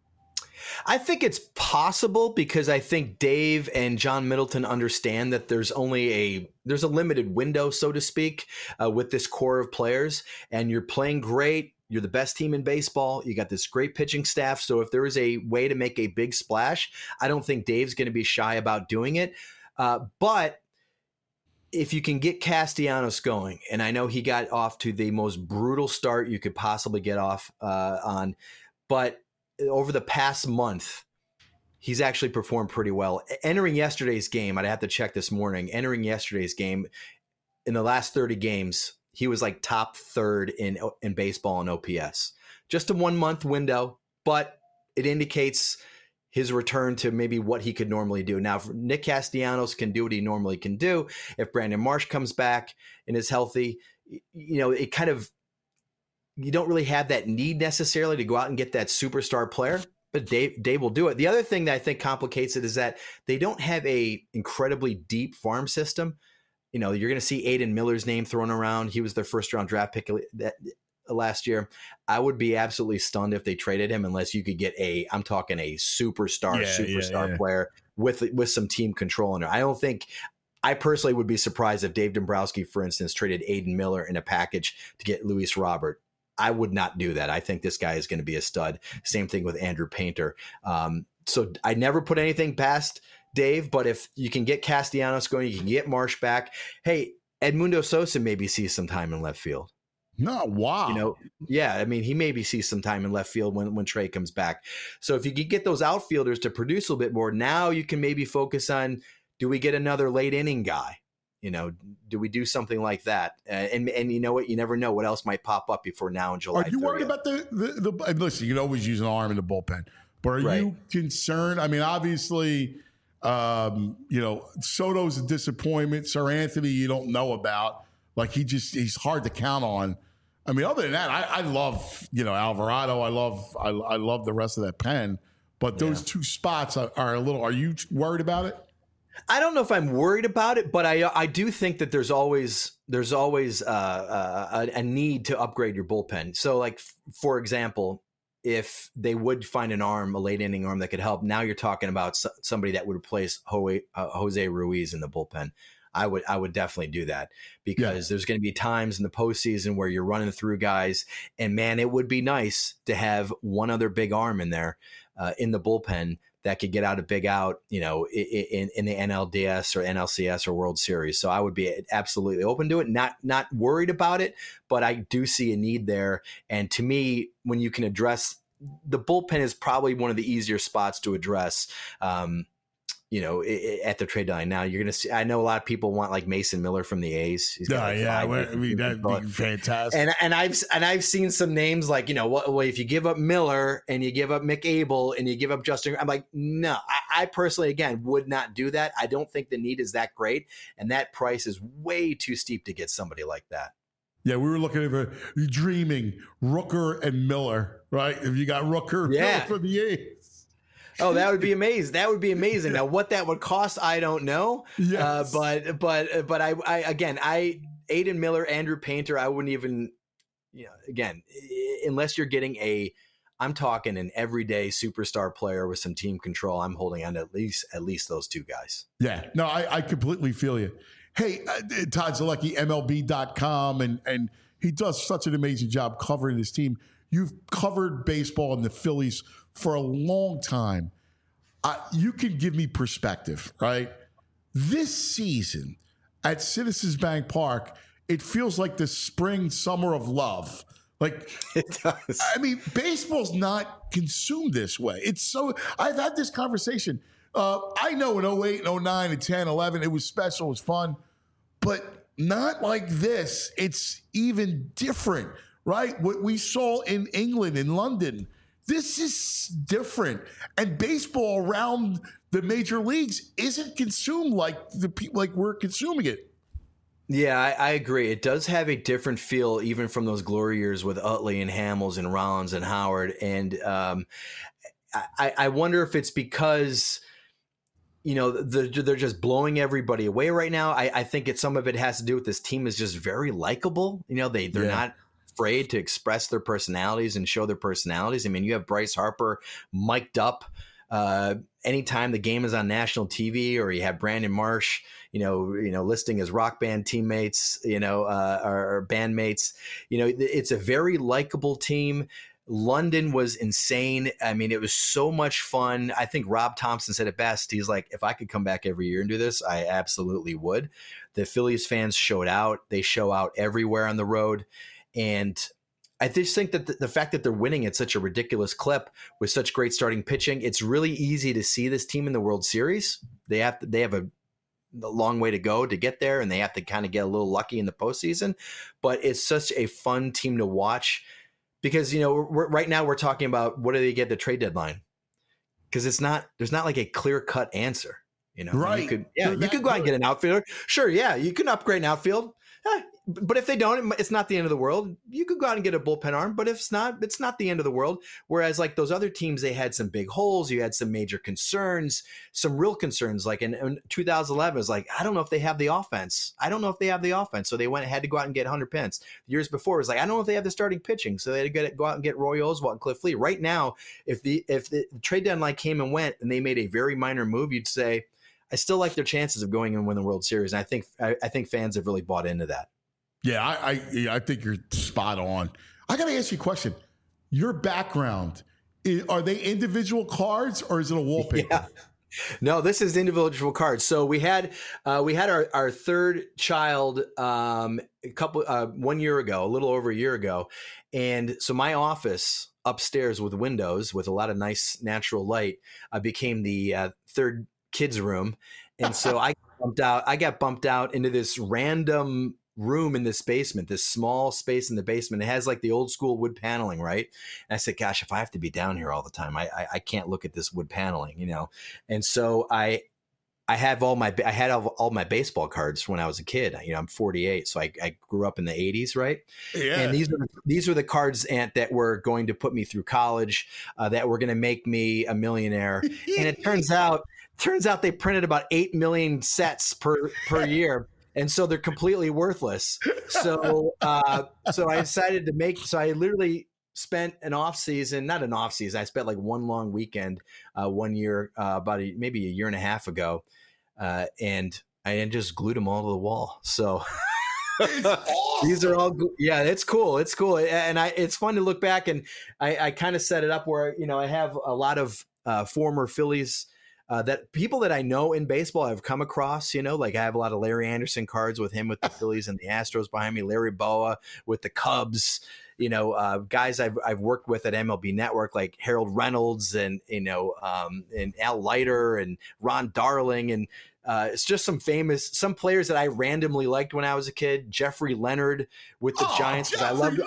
I think it's possible because I think Dave and John Middleton understand that there's a limited window, so to speak, with this core of players, and you're playing great. You're the best team in baseball. You got this great pitching staff. So if there is a way to make a big splash, I don't think Dave's going to be shy about doing it. But if you can get Castellanos going, and I know he got off to the most brutal start you could possibly get off on, but over the past month, he's actually performed pretty well. Entering yesterday's game, I'd have to check this morning, in the last 30 games, he was like top third in baseball in OPS. Just a 1 month window, but it indicates his return to maybe what he could normally do. Now, if Nick Castellanos can do what he normally can do, if Brandon Marsh comes back and is healthy, it kind of, you don't really have that need necessarily to go out and get that superstar player, but Dave will do it. The other thing that I think complicates it is that they don't have a incredibly deep farm system. You're going to see Aiden Miller's name thrown around. He was their first round draft pick last year. I would be absolutely stunned if they traded him unless you could get I'm talking a superstar player with some team control in it. I personally would be surprised if Dave Dombrowski, for instance, traded Aiden Miller in a package to get Luis Robert. I would not do that. I think this guy is going to be a stud. Same thing with Andrew Painter. So I never put anything past Dave, but if you can get Castellanos going, you can get Marsh back. Hey, Edmundo Sosa maybe sees some time in left field. No, wow. He maybe sees some time in left field when Trey comes back. So if you could get those outfielders to produce a little bit more, now you can maybe focus on, do we get another late inning guy? Do we do something like that? And you know what? You never know what else might pop up before now in July. Are you worried about the listen, you can always use an arm in the bullpen, but are you concerned? I mean, obviously, Soto's a disappointment. Sir Anthony, you don't know about. Like, he's hard to count on. I mean, other than that, I love, Alvarado. I love the rest of that pen, but those two spots are a little, are you worried about it? I don't know if I'm worried about it, but I do think that there's always a need to upgrade your bullpen. So, like, for example, if they would find a late inning arm that could help, now you're talking about somebody that would replace Jose Ruiz in the bullpen. I would definitely do that because there's going to be times in the postseason where you're running through guys, and man, it would be nice to have one other big arm in there in the bullpen that could get out a big out, in the NLDS or NLCS or World Series. So I would be absolutely open to it, not worried about it, but I do see a need there. And to me, when you can address the bullpen is probably one of the easier spots to address, at the trade deadline. Now you're going to see, I know a lot of people want like Mason Miller from the A's. That'd be fantastic. And I've seen some names like, if you give up Miller and you give up Mick Abel and you give up Justin, I'm like, no, I personally, again, would not do that. I don't think the need is that great. And that price is way too steep to get somebody like that. Yeah, we were looking at dreaming Rooker and Miller, right? If you got Rooker Miller for the A's. Oh, that would be amazing. That would be amazing. Now, what that would cost, I don't know. Yes. But Aiden Miller, Andrew Painter, I wouldn't even, again, unless you're getting I'm talking an everyday superstar player with some team control, I'm holding on to at least those two guys. Yeah. No, I completely feel you. Hey, Todd Zolecki, MLB.com, and he does such an amazing job covering his team. You've covered baseball and the Phillies for a long time. You can give me perspective, right? This season at Citizens Bank Park, it feels like the spring, summer of love. Like, it does. I mean, baseball's not consumed this way. I've had this conversation. I know in 08, 09, and 10, 11, it was special, it was fun, but not like this. It's even different, right? What we saw in England, in London, this is different. And baseball around the major leagues isn't consumed like we're consuming it. Yeah, I agree. It does have a different feel, even from those glory years with Utley and Hamels and Rollins and Howard. And I wonder if it's because they're just blowing everybody away right now. I think some of it has to do with this team is just very likable. They're not afraid to express their personalities and show their personalities. I mean, you have Bryce Harper mic'd up anytime the game is on national TV, or you have Brandon Marsh, listing his rock band teammates, or bandmates. It's a very likable team. London was insane. I mean, it was so much fun. I think Rob Thompson said it best. He's like, if I could come back every year and do this, I absolutely would. The Phillies fans showed out. They show out everywhere on the road. And I just think that the fact that they're winning at such a ridiculous clip with such great starting pitching, it's really easy to see this team in the World Series. They have a long way to go to get there, and they have to kind of get a little lucky in the postseason. But it's such a fun team to watch. Because, right now we're talking about what do they get at the trade deadline? Because there's not like a clear cut answer. Right. You could go out and get an outfielder. Sure. Yeah. You can upgrade an outfield. But if they don't, it's not the end of the world. You could go out and get a bullpen arm, but if it's not the end of the world. Whereas like those other teams, they had some big holes. You had some major concerns, some real concerns. Like in 2011, it was like, I don't know if they have the offense. So they had to go out and get Hunter Pence. The years before, it was like, I don't know if they have the starting pitching. So they had to go out and get Roy Oswalt and Cliff Lee. Right now, if the trade deadline came and went and they made a very minor move, you'd say, I still like their chances of going and win the World Series. And I think fans have really bought into that. Yeah, I think you're spot on. I got to ask you a question. Your background, are they individual cards or is it a wallpaper? Yeah. No, this is individual cards. So we had our third child a little over a year ago, and so my office upstairs with windows with a lot of nice natural light became the third kids room, and so I got bumped out into this random room in this basement, this small space in the basement. It has like the old school wood paneling, right? And I said, gosh, if I have to be down here all the time, I can't look at this wood paneling, And so I had all my baseball cards when I was a kid. I'm 48, so I grew up in the 80s, right? Yeah. And these were the cards, Ant, that were going to put me through college, that were going to make me a millionaire. And it turns out they printed about 8 million sets per year. And so they're completely worthless. So I decided I literally spent not an off season. I spent like one long weekend, 1 year, maybe a year and a half ago. And I just glued them all to the wall. So It's awesome. These are all, yeah, it's cool. It's cool. And it's fun to look back, and I kind of set it up where, I have a lot of former Phillies that people that I know in baseball I've come across, like I have a lot of Larry Anderson cards with him with the Phillies and the Astros behind me, Larry Boa with the Cubs, guys I've worked with at MLB Network, like Harold Reynolds and Al Leiter and Ron Darling. And it's just some players that I randomly liked when I was a kid. Jeffrey Leonard with the Giants. I loved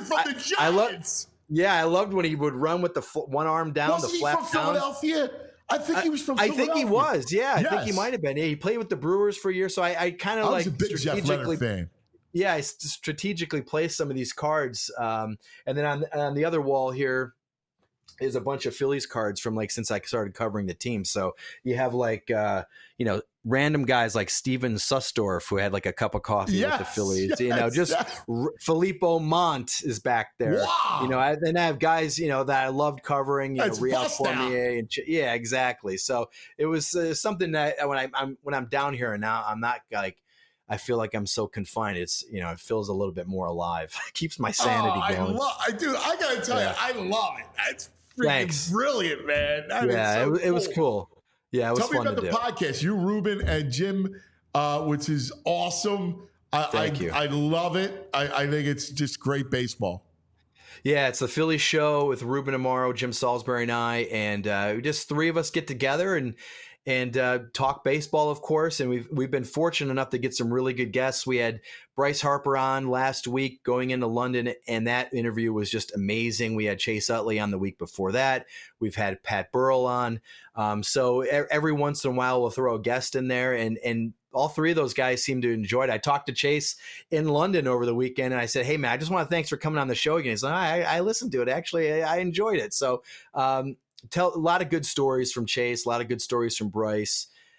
when he would run with the one arm down, Wasn't the flap he from down. Philadelphia? I think he was from Philadelphia. I think he was. Yeah, Yes. I think he might have been. Yeah, he played with the Brewers for a year, so I kind of I like was a big Jeff Leonard fan. Yeah, I strategically placed some of these cards, and then on the other wall here is a bunch of Phillies cards from since I started covering the team. So you have random guys like Steven Sustorf, who had a cup of coffee with the Phillies. Filippo Mont is back there. Wow. Then I have guys that I loved covering. Real Formier and yeah, exactly. So it was something that when I'm down here and now I'm not I feel like I'm so confined. It's it feels a little bit more alive. It keeps my sanity going. I gotta tell you, I love it. It's freaking brilliant, man. It was cool. Yeah, it was fun to do. Tell me about the podcast. You, Ruben, and Jim, which is awesome. Thank you. I love it. I think it's just great baseball. Yeah, it's the Philly show with Ruben Amaro, Jim Salisbury, and I, and just three of us get together and talk baseball, of course. And we've been fortunate enough to get some really good guests. We had Bryce Harper on last week going into London, and that interview was just amazing. We had Chase Utley on the week before that. We've had Pat Burrell on. So every once in a while we'll throw a guest in there, and all three of those guys seem to enjoy it. I talked to Chase in London over the weekend, and I said, "Hey man, I just want to thanks for coming on the show again." He's like, I listened to it. Actually, I enjoyed it. So tell a lot of good stories from Chase, a lot of good stories from Bryce.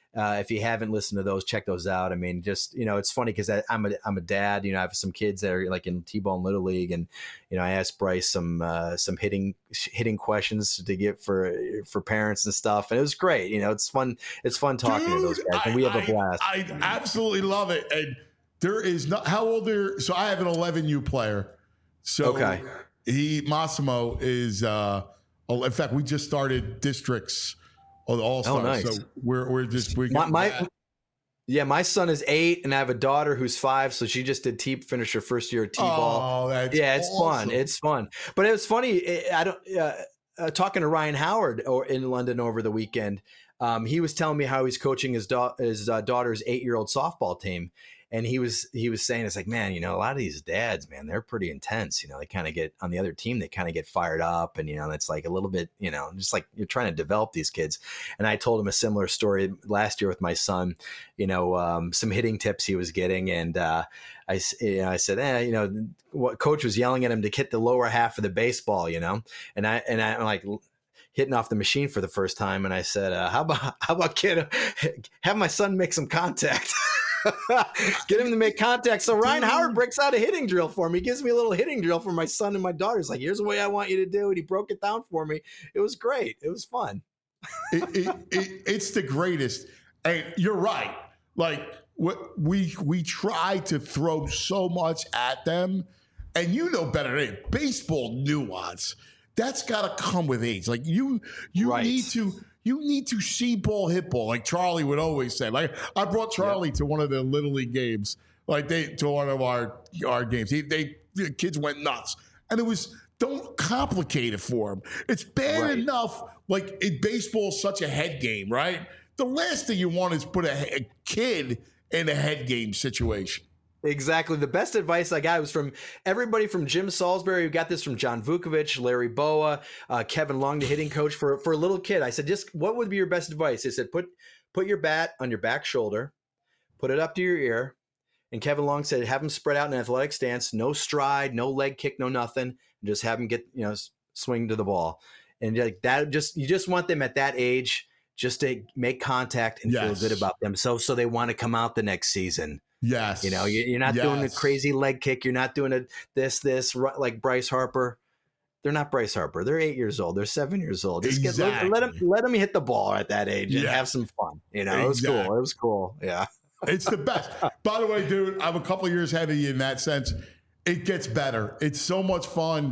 If you haven't listened to those, check those out. I mean, just, it's funny because I'm a dad. I have some kids that are like in T-ball and Little League, and I asked Bryce some hitting questions to get for parents and stuff, and it was great. It's fun. It's fun talking to those guys, and we have a blast. I absolutely love it. And there is not how old are. So I have an 11U player. So okay. Massimo is. In fact, we just started districts. All stars. Oh, nice. So we're my son is 8, and I have a daughter who's 5. So she just did finished her first year of T-ball. Oh, that's it's awesome. Fun. It's fun. But it was funny. Talking to Ryan Howard in London over the weekend. He was telling me how he's coaching his daughter's 8-year-old softball team. And he was saying, it's like, man, a lot of these dads, man, they're pretty intense. They kind of get on the other team, they kind of get fired up, and it's like a little bit, just like you're trying to develop these kids. And I told him a similar story last year with my son, some hitting tips he was getting, and I said, what coach was yelling at him to hit the lower half of the baseball, and I'm like hitting off the machine for the first time, and I said, how about kid, have my son make some contact. Get him to make contact. So Ryan Howard breaks out a hitting drill for me. He gives me a little hitting drill for my son and my daughter. He's like, here's the way I want you to do it. He broke it down for me. It was great. It was fun. It's the greatest. And you're right. Like we try to throw so much at them, and better than it. Baseball nuance. That's got to come with age. Like you right. You need to see ball, hit ball, like Charlie would always say. Like I brought Charlie to one of the Little League games, to one of our games. The kids went nuts, and it was don't complicate it for them. It's bad enough. Like baseball is such a head game, right? The last thing you want is put a kid in a head game situation. Exactly. The best advice I got was from everybody from Jim Salisbury. We got this from John Vukovic, Larry Boa, Kevin Long, the hitting coach for a little kid. I said, just what would be your best advice? They said, put your bat on your back shoulder, put it up to your ear. And Kevin Long said, have him spread out in an athletic stance, no stride, no leg kick, no nothing. And just have him get, swing to the ball. And like that, you just want them at that age just to make contact and feel good about them. So they want to come out the next season. Yes. You're not doing a crazy leg kick. You're not doing this like Bryce Harper. They're not Bryce Harper. They're 8 years old. They're 7 years old. Just let them hit the ball at that age and have some fun. It was cool. It was cool. Yeah. It's the best. By the way, dude, I'm a couple of years ahead of you in that sense. It gets better. It's so much fun.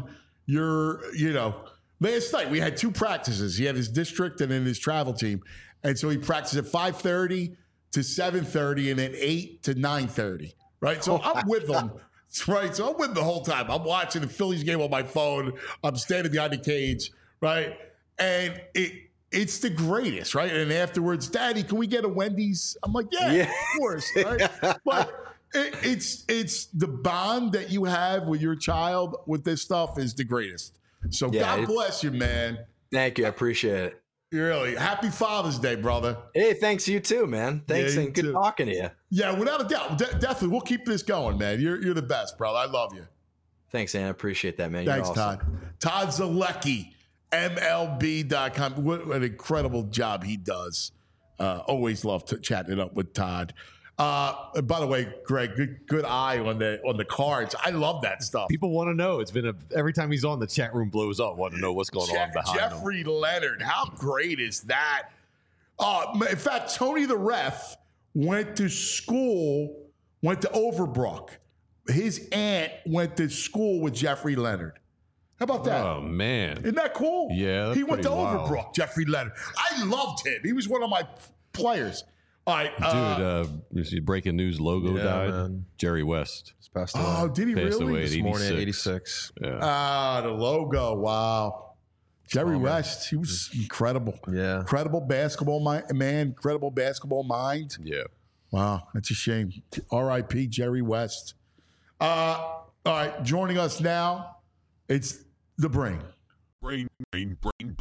Last night we had 2 practices. He had his district and then his travel team. And so he practiced at 5:30 to 7:30 and then 8 to 9:30, right? So I'm with them, right? So I'm with them the whole time. I'm watching the Phillies game on my phone. I'm standing behind the cage, right? And it's the greatest, right? And afterwards, Daddy, can we get a Wendy's? I'm like, yeah. Of course, right? But it's the bond that you have with your child with this stuff is the greatest. So God bless you, man. Thank you. I appreciate it. Really. Happy Father's Day, brother. Hey, thanks you too, man. Thanks and good talking to you. Yeah, without a doubt. Definitely. We'll keep this going, man. You're the best, brother. I love you. Thanks, Ann. I appreciate that, man. Thanks, You're awesome. Todd Zalecki, MLB.com. What an incredible job he does. Always love chatting it up with Todd. By the way, Greg, good eye on the cards. I love that stuff. People want to know. It's been every time he's on, the chat room blows up. Want to know what's going on behind Jeffrey Leonard. How great is that? In fact, Tony the ref went to Overbrook. His aunt went to school with Jeffrey Leonard. How about that? Oh, man. Isn't that cool? Yeah, he went to wild. Overbrook, Jeffrey Leonard. I loved him. He was one of my players. All right, dude, breaking news, Logo died. Man. Jerry West. He's passed away. Oh, did he passed really? Away this morning at 86. Yeah. The Logo. Wow. Jerry West, he was incredible. Yeah. Incredible basketball man, incredible basketball mind. Yeah. Wow, that's a shame. R.I.P. Jerry West. All right, joining us now, it's the Brain. Brain. Red,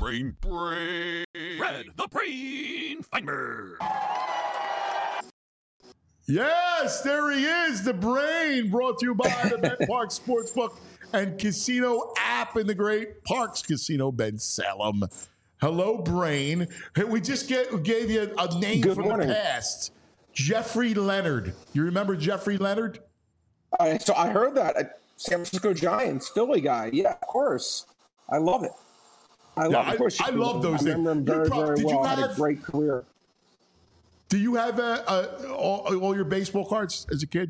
the Brain Finder. Yes, there he is, the Brain, brought to you by the BetParx Sportsbook and Casino app in the great Parx Casino, Ben Salem. Hello, Brain. Hey, we just gave you a name Good from morning. the past. Jeffrey Leonard. You remember Jeffrey Leonard? So I heard that. San Francisco Giants, Philly guy. Yeah, of course. I love it. I love it. Of course, I love those I remember him things. very well. Had a great career. Do you have all your baseball cards as a kid?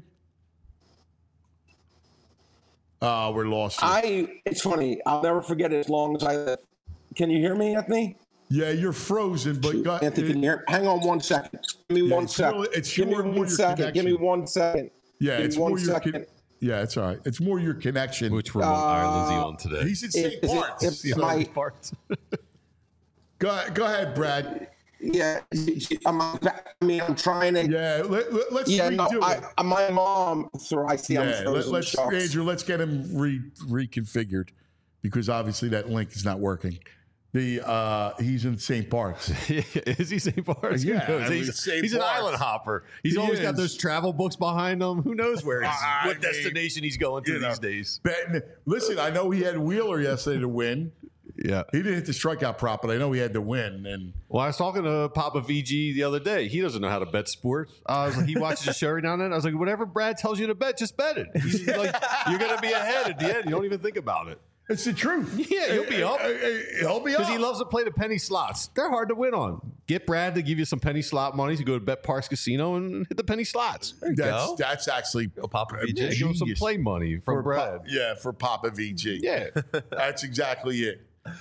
We're lost. It's funny. I'll never forget it as long as I live. Can you hear me, Anthony? Yeah, you're frozen, but Anthony, can you hear? Hang on 1 second. Give me 1 second. Give me 1 second. Give me 1 second. Yeah, Give it's me more 1 your second. yeah, it's all right. It's more your connection. Which remote island is he on today? He's in St. Bart's. Go ahead, Brad. Yeah, I'm trying to. Yeah, let's redo it. My mom. So I see. Yeah, Andrew, let's get him reconfigured because obviously that link is not working. He's in St. Bart's. Is he St. Bart's? Yeah, Who knows? He's an island hopper. He's always got those travel books behind him. Who knows what destination he's going to these days? Listen, I know he had Wheeler yesterday to win. Yeah, he didn't hit the strikeout prop, but I know he had to win. And well, I was talking to Papa VG the other day. He doesn't know how to bet sports. He watches the show every now and then. I was like, whatever Brad tells you to bet, just bet it. He's like, you're going to be ahead at the end. You don't even think about it. It's the truth. Yeah, he'll be up. He'll be up because he loves to play the penny slots. They're hard to win on. Get Brad to give you some penny slot money. You go to Bet Parks Casino and hit the penny slots. That's actually Papa VG. Give him some play money from Brad. For Papa VG. Yeah, that's exactly it.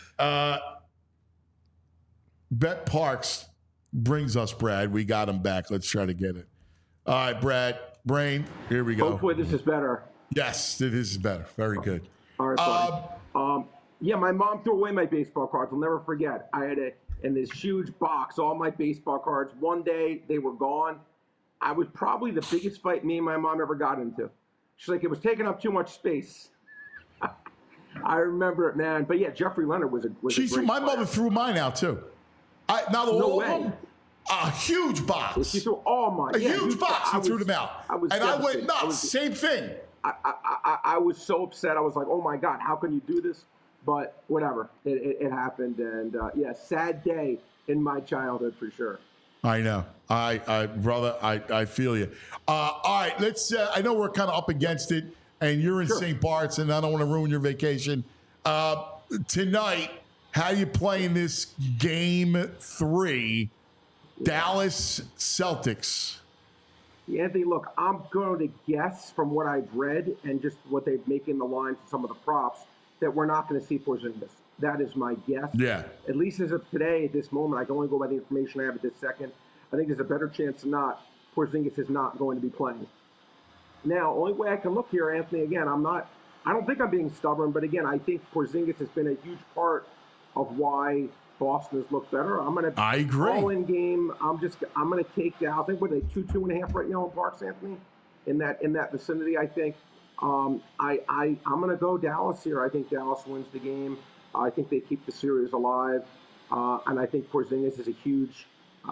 Bet Parks brings us Brad. We got him back. Let's try to get it. All right, Brad. Brain. Here we go. Hopefully this is better. Yes, this is better. Very good. All right, yeah, my mom threw away my baseball cards. I'll never forget. I had in this huge box all my baseball cards. One day they were gone. I was probably the biggest fight me and my mom ever got into. She's like, it was taking up too much space. I remember it, man. But yeah, Jeffrey Leonard was a great my player. mother threw mine out too. Not all of them. A huge box. She threw all mine. A huge box. She threw them out. I went nuts. Same thing. I was so upset. I was like, oh my God, how can you do this? But whatever. It happened. And yeah, sad day in my childhood for sure. I know. Brother, I feel you. All right, let's, I know we're kind of up against it, and you're in St. Bart's, and I don't want to ruin your vacation. Tonight, how you playing this game 3, Dallas Celtics? Anthony, look, I'm going to guess from what I've read and just what they've making the lines and some of the props that we're not going to see Porzingis. That is my guess. Yeah. At least as of today, at this moment, I can only go by the information I have at this second. I think there's a better chance than not Porzingis is not going to be playing. Now, only way I can look here, Anthony, again, I don't think I'm being stubborn, but again, I think Porzingis has been a huge part of why Boston has looked better. I agree. All-in game. I'm going to take Dallas. I think what are they 2.5 right now in Parks, Anthony? In that vicinity, I think. I'm going to go Dallas here. I think Dallas wins the game. I think they keep the series alive, and I think Porzingis is a huge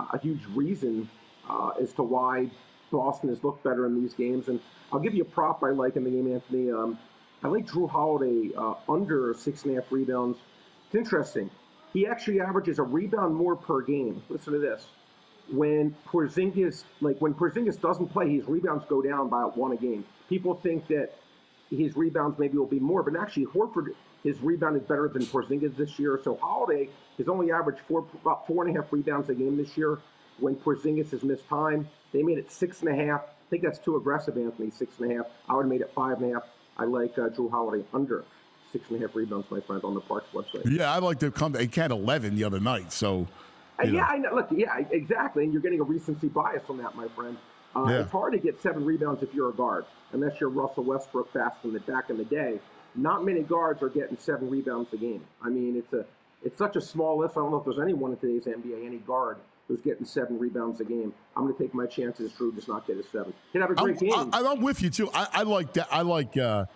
reason as to why Boston has looked better in these games. And I'll give you a prop I like in the game, Anthony. I like Drew Holiday under 6.5 rebounds. It's interesting. He actually averages a rebound more per game. Listen to this. When Porzingis doesn't play, his rebounds go down by 1 a game. People think that his rebounds maybe will be more, but actually Horford has rebounded better than Porzingis this year. So Holiday has only averaged about 4.5 rebounds a game this year. When Porzingis has missed time, they made it 6.5. I think that's too aggressive, Anthony. 6.5. I would have made it 5.5. I like Drew Holiday under 6.5 rebounds, my friend, on the Parks website. Yeah, I'd like to come. He had 11 the other night, so. Yeah, I know. Look, yeah, exactly. And you're getting a recency bias on that, my friend. It's hard to get 7 rebounds if you're a guard, unless you're Russell Westbrook back in the day. Not many guards are getting 7 rebounds a game. I mean, it's such a small list. I don't know if there's anyone in today's NBA, any guard, who's getting 7 rebounds a game. I'm going to take my chances. Drew does not get a 7. He'd have a great game. I'm with you too. I like that. I like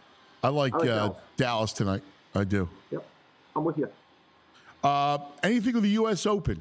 Dallas tonight. I do. Yep, I'm with you. Anything with the U.S. Open?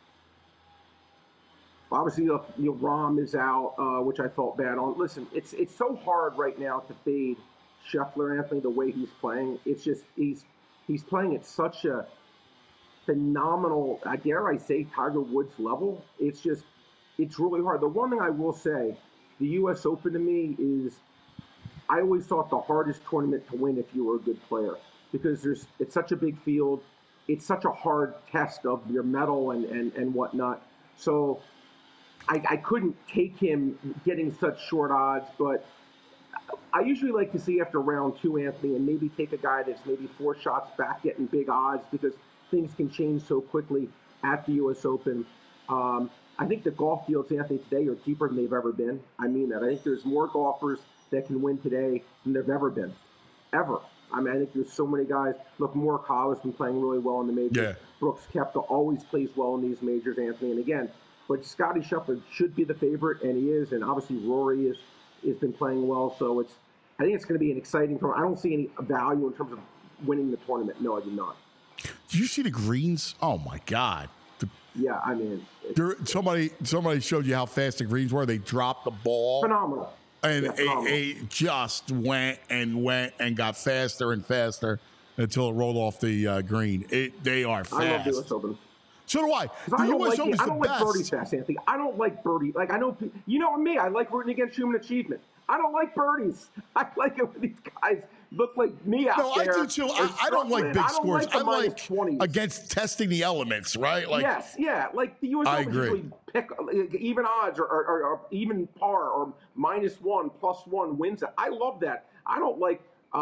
Obviously, Rahm is out, which I felt bad on. Listen, it's so hard right now to fade Scheffler, Anthony, the way he's playing. It's just he's playing at such a phenomenal, dare I say, Tiger Woods level. It's really hard. The one thing I will say, the U.S. Open to me is, I always thought the hardest tournament to win if you were a good player, because it's such a big field. It's such a hard test of your mettle and whatnot. So I couldn't take him getting such short odds, but I usually like to see after round 2, Anthony, and maybe take a guy that's maybe 4 shots back getting big odds, because things can change so quickly at the U.S. Open. I think the golf fields, Anthony, today are deeper than they've ever been. I mean that. I think there's more golfers that can win today than there've ever been. Ever. I mean, I think there's so many guys. Look, Morikawa's been playing really well in the majors. Yeah. Brooks Koepka always plays well in these majors, Anthony. And again, but Scottie Scheffler should be the favorite, and he is. And obviously Rory has been playing well. So I think it's going to be an exciting tournament. I don't see any value in terms of winning the tournament. No, I do not. Did you see the greens? Oh my God. Yeah, I mean, somebody showed you how fast the greens were. They dropped the ball. Phenomenal. And Yeah, it just went and got faster and faster until it rolled off the green. They are fast. I love the U.S. Open. So do I. The I don't U.S. Open is I the don't best. like birdie fast, Anthony. I don't like birdie. Like, I know, you know me, I like rooting against human achievement. I don't like birdies. I like it when these guys look like me out No, there. I do too. I don't like big scores. I like -20s. against testing the elements, right? Like, yes, yeah. Like the U.S. I Open agree. usually pick even odds or even par or -1, +1 wins it. I love that. I don't like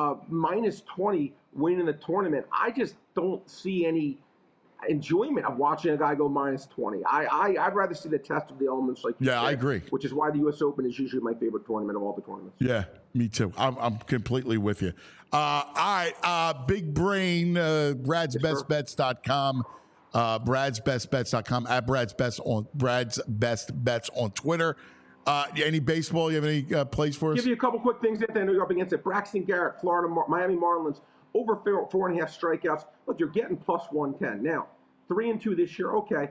-20 winning the tournament. I just don't see any enjoyment of watching a guy go -20. I'd rather see the test of the elements, like you Yeah, said, I agree. Which is why the U.S. Open is usually my favorite tournament of all the tournaments. Yeah, me too. I'm completely with you. All right, Big Brain, Brad'sBestBets.com, Brad'sBestBets.com, at Brad's Best Bets on Twitter. Any baseball? You have any plays for us? Give you a couple quick things that I know you're up against it. Braxton Garrett, Miami Marlins, over 4.5 strikeouts. Look, you're getting +110. Now, 3-2 this year, okay.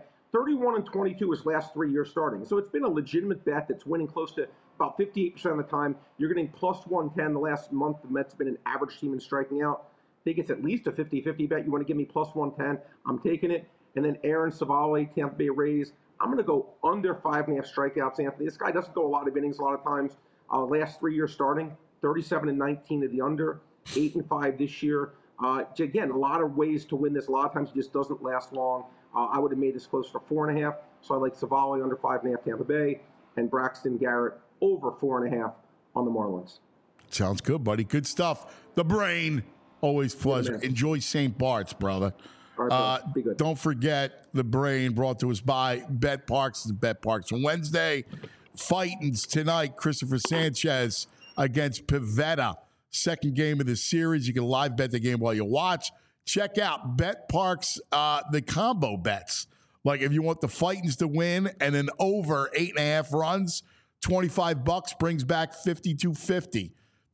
31-22 his last 3 years starting. So it's been a legitimate bet that's winning close to about 58% of the time. You're getting +110 the last month. The Mets have been an average team in striking out. I think it's at least a 50-50 bet. You want to give me +110, I'm taking it. And then Aaron Savali, Tampa Bay Rays. I'm going to go under 5.5 strikeouts, Anthony. This guy doesn't go a lot of innings a lot of times. Last 3 years starting, 37-19 to the under, 8-5 this year. Again, a lot of ways to win this. A lot of times it just doesn't last long. I would have made this closer to 4.5. So I like Savali under 5.5 Tampa Bay and Braxton Garrett over 4.5 on the Marlins. Sounds good, buddy. Good stuff. The Brain, always pleasure. man. Enjoy St. Bart's, brother. All right, be good. Don't forget The Brain, brought to us by Bet Parks. Bet Parks on Wednesday. Fightings tonight. Christopher Sanchez against Pivetta. Second game of the series. You can live bet the game while you watch. Check out Bet Parks, the combo bets. Like if you want the Fightings to win and then over 8.5 runs, $25 brings back $52.50.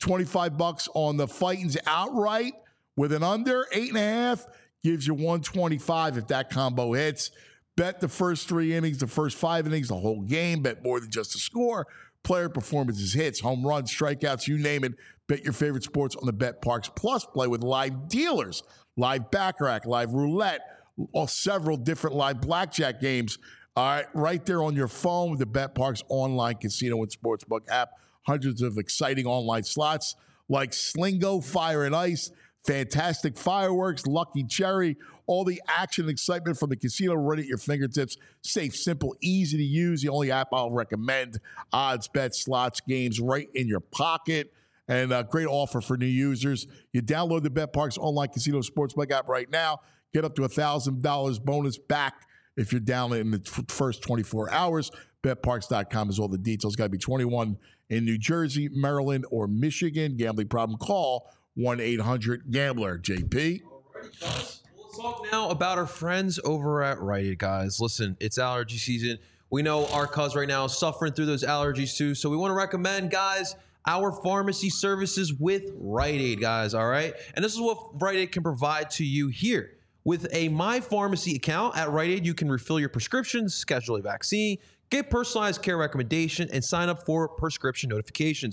$25 on the Fightings outright with an under 8.5 gives you $125 if that combo hits. Bet the first 3 innings, the first 5 innings, the whole game. Bet more than just a score. Player performances, hits, home runs, strikeouts, you name it. Bet your favorite sports on the Bet Parks Plus. Play with live dealers, live baccarat, live roulette, several different live blackjack games. All right, right there on your phone with the Bet Parks online casino and sportsbook app. Hundreds of exciting online slots like Slingo, Fire and Ice, Fantastic Fireworks, Lucky Cherry, all the action and excitement from the casino right at your fingertips. Safe, simple, easy to use. The only app I'll recommend. Odds, bets, slots, games right in your pocket. And a great offer for new users. You download the Bet Parks online casino sportsbook app right now. Get up to $1,000 bonus back if you're down in the first 24 hours. BetParks.com is all the details. Got to be 21 in New Jersey, Maryland, or Michigan. Gambling problem, call 1-800-GAMBLER. JP? Let's talk now about our friends over at Rite Aid, guys. Listen, it's allergy season. We know our cuz right now is suffering through those allergies too. So we want to recommend, guys, our pharmacy services with Rite Aid, guys, all right? And this is what Rite Aid can provide to you here. With a My Pharmacy account at Rite Aid, you can refill your prescriptions, schedule a vaccine, get personalized care recommendation, and sign up for prescription notifications.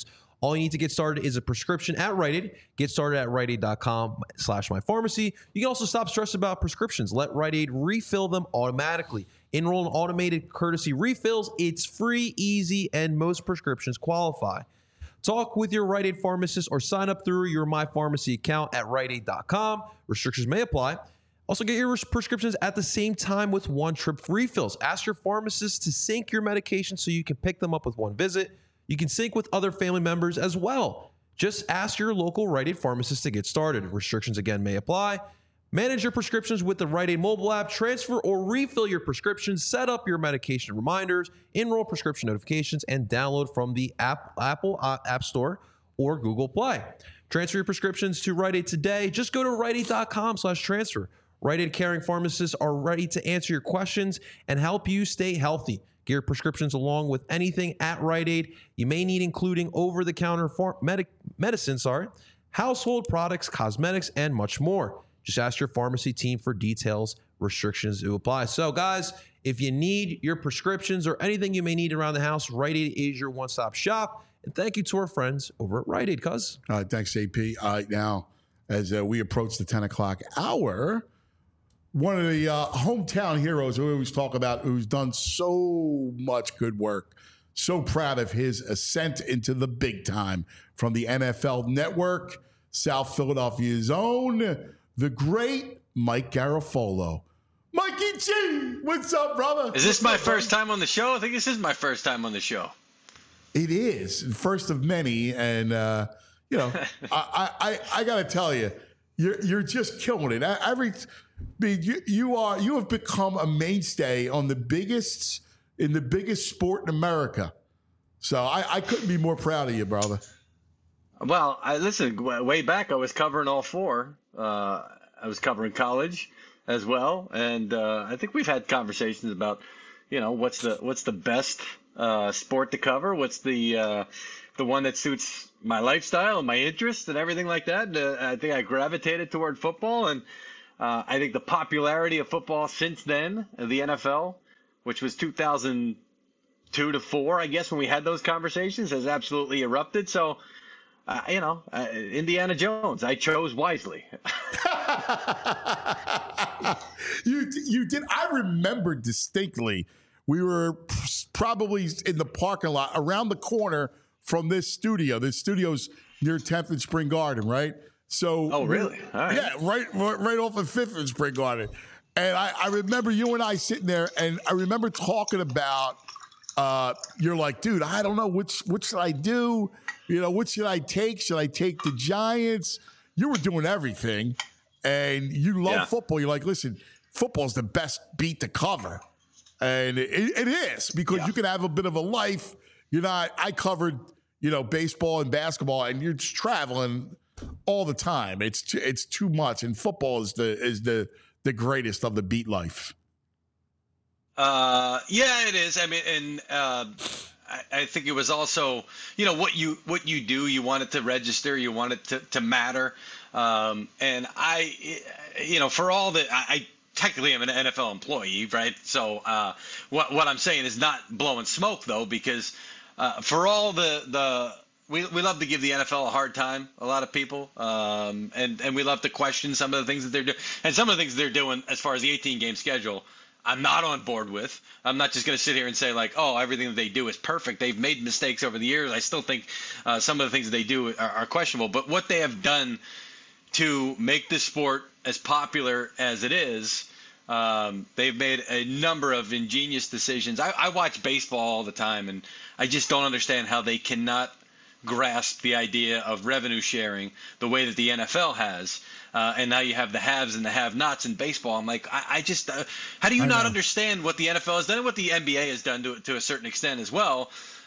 All you need to get started is a prescription at Rite Aid. Get started at riteaid.com/mypharmacy. You can also stop stressing about prescriptions. Let Rite Aid refill them automatically. Enroll in automated courtesy refills. It's free, easy, and most prescriptions qualify. Talk with your Rite Aid pharmacist or sign up through your MyPharmacy account at riteaid.com. Restrictions may apply. Also, get your prescriptions at the same time with one-trip refills. Ask your pharmacist to sync your medication so you can pick them up with one visit. You can sync with other family members as well. Just ask your local Rite Aid pharmacist to get started. Restrictions, again, may apply. Manage your prescriptions with the Rite Aid mobile app. Transfer or refill your prescriptions. Set up your medication reminders. Enroll prescription notifications. And download from the Apple App Store or Google Play. Transfer your prescriptions to Rite Aid today. Just go to riteaid.com/transfer. Rite Aid caring pharmacists are ready to answer your questions and help you stay healthy. Get your prescriptions along with anything at Rite Aid you may need, including over-the-counter medicine, household products, cosmetics, and much more. Just ask your pharmacy team for details. Restrictions do apply. So, guys, if you need your prescriptions or anything you may need around the house, Rite Aid is your one-stop shop. And thank you to our friends over at Rite Aid, cuz. Thanks, AP. Now, as we approach the 10 o'clock hour, one of the hometown heroes we always talk about, who's done so much good work. So proud of his ascent into the big time from the NFL Network, South Philadelphia's own, the great Mike Garafolo. Mikey G, what's up, brother? Is this my first time on the show? I think this is my first time on the show. It is, first of many, and I got to tell you, you're just killing it. You have become a mainstay on the biggest sport in America. So I couldn't be more proud of you, brother. Well, listen, way back I was covering all four. I was covering college as well, and I think we've had conversations about, what's the best sport to cover, what's the one that suits my lifestyle and my interests and everything like that. I think I gravitated toward football, and I think the popularity of football since then, the NFL, which was 2002 to 4, I guess, when we had those conversations, has absolutely erupted. So, Indiana Jones, I chose wisely. You did. I remember distinctly. We were probably in the parking lot around the corner from this studio. This studio's near 10th and Spring Garden, right? So, oh, really? All right. Yeah, right off of 5th and Spring Garden. And I remember you and I sitting there, and I remember talking about, you're like, dude, I don't know, what should I do? What should I take? Should I take the Giants? You were doing everything, and you love football. You're like, listen, football's the best beat to cover. And it is, because you can have a bit of a life. I covered, baseball and basketball, and you're just traveling all the time. It's too much, and football is the greatest of the beat life. Yeah, it is. I mean, and I think it was also, what you do, you want it to register, you want it to matter. And for all that, I technically am an NFL employee, right? So what I'm saying is not blowing smoke, though, because for all we love to give the NFL a hard time, a lot of people, and we love to question some of the things that they're doing. And some of the things they're doing as far as the 18-game schedule, I'm not on board with. I'm not just going to sit here and say, like, oh, everything that they do is perfect. They've made mistakes over the years. I still think some of the things that they do are questionable. But what they have done to make this sport as popular as it is, they've made a number of ingenious decisions. I watch baseball all the time, and I just don't understand how they cannot grasp the idea of revenue sharing the way that the NFL has. And now you have the haves and the have-nots in baseball. I'm like, I just how do you not understand what the NFL has done and what the NBA has done to a certain extent as well?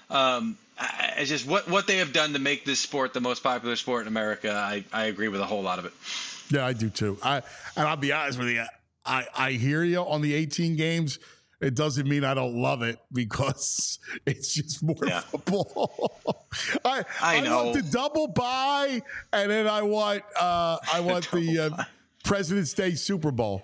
It's just what they have done to make this sport the most popular sport in America. I agree with a whole lot of it. Yeah, I do too. And I'll be honest with you. I hear you on the 18 games. It doesn't mean I don't love it, because it's just more football. I know. Want the double bye, and then I want the President's Day Super Bowl.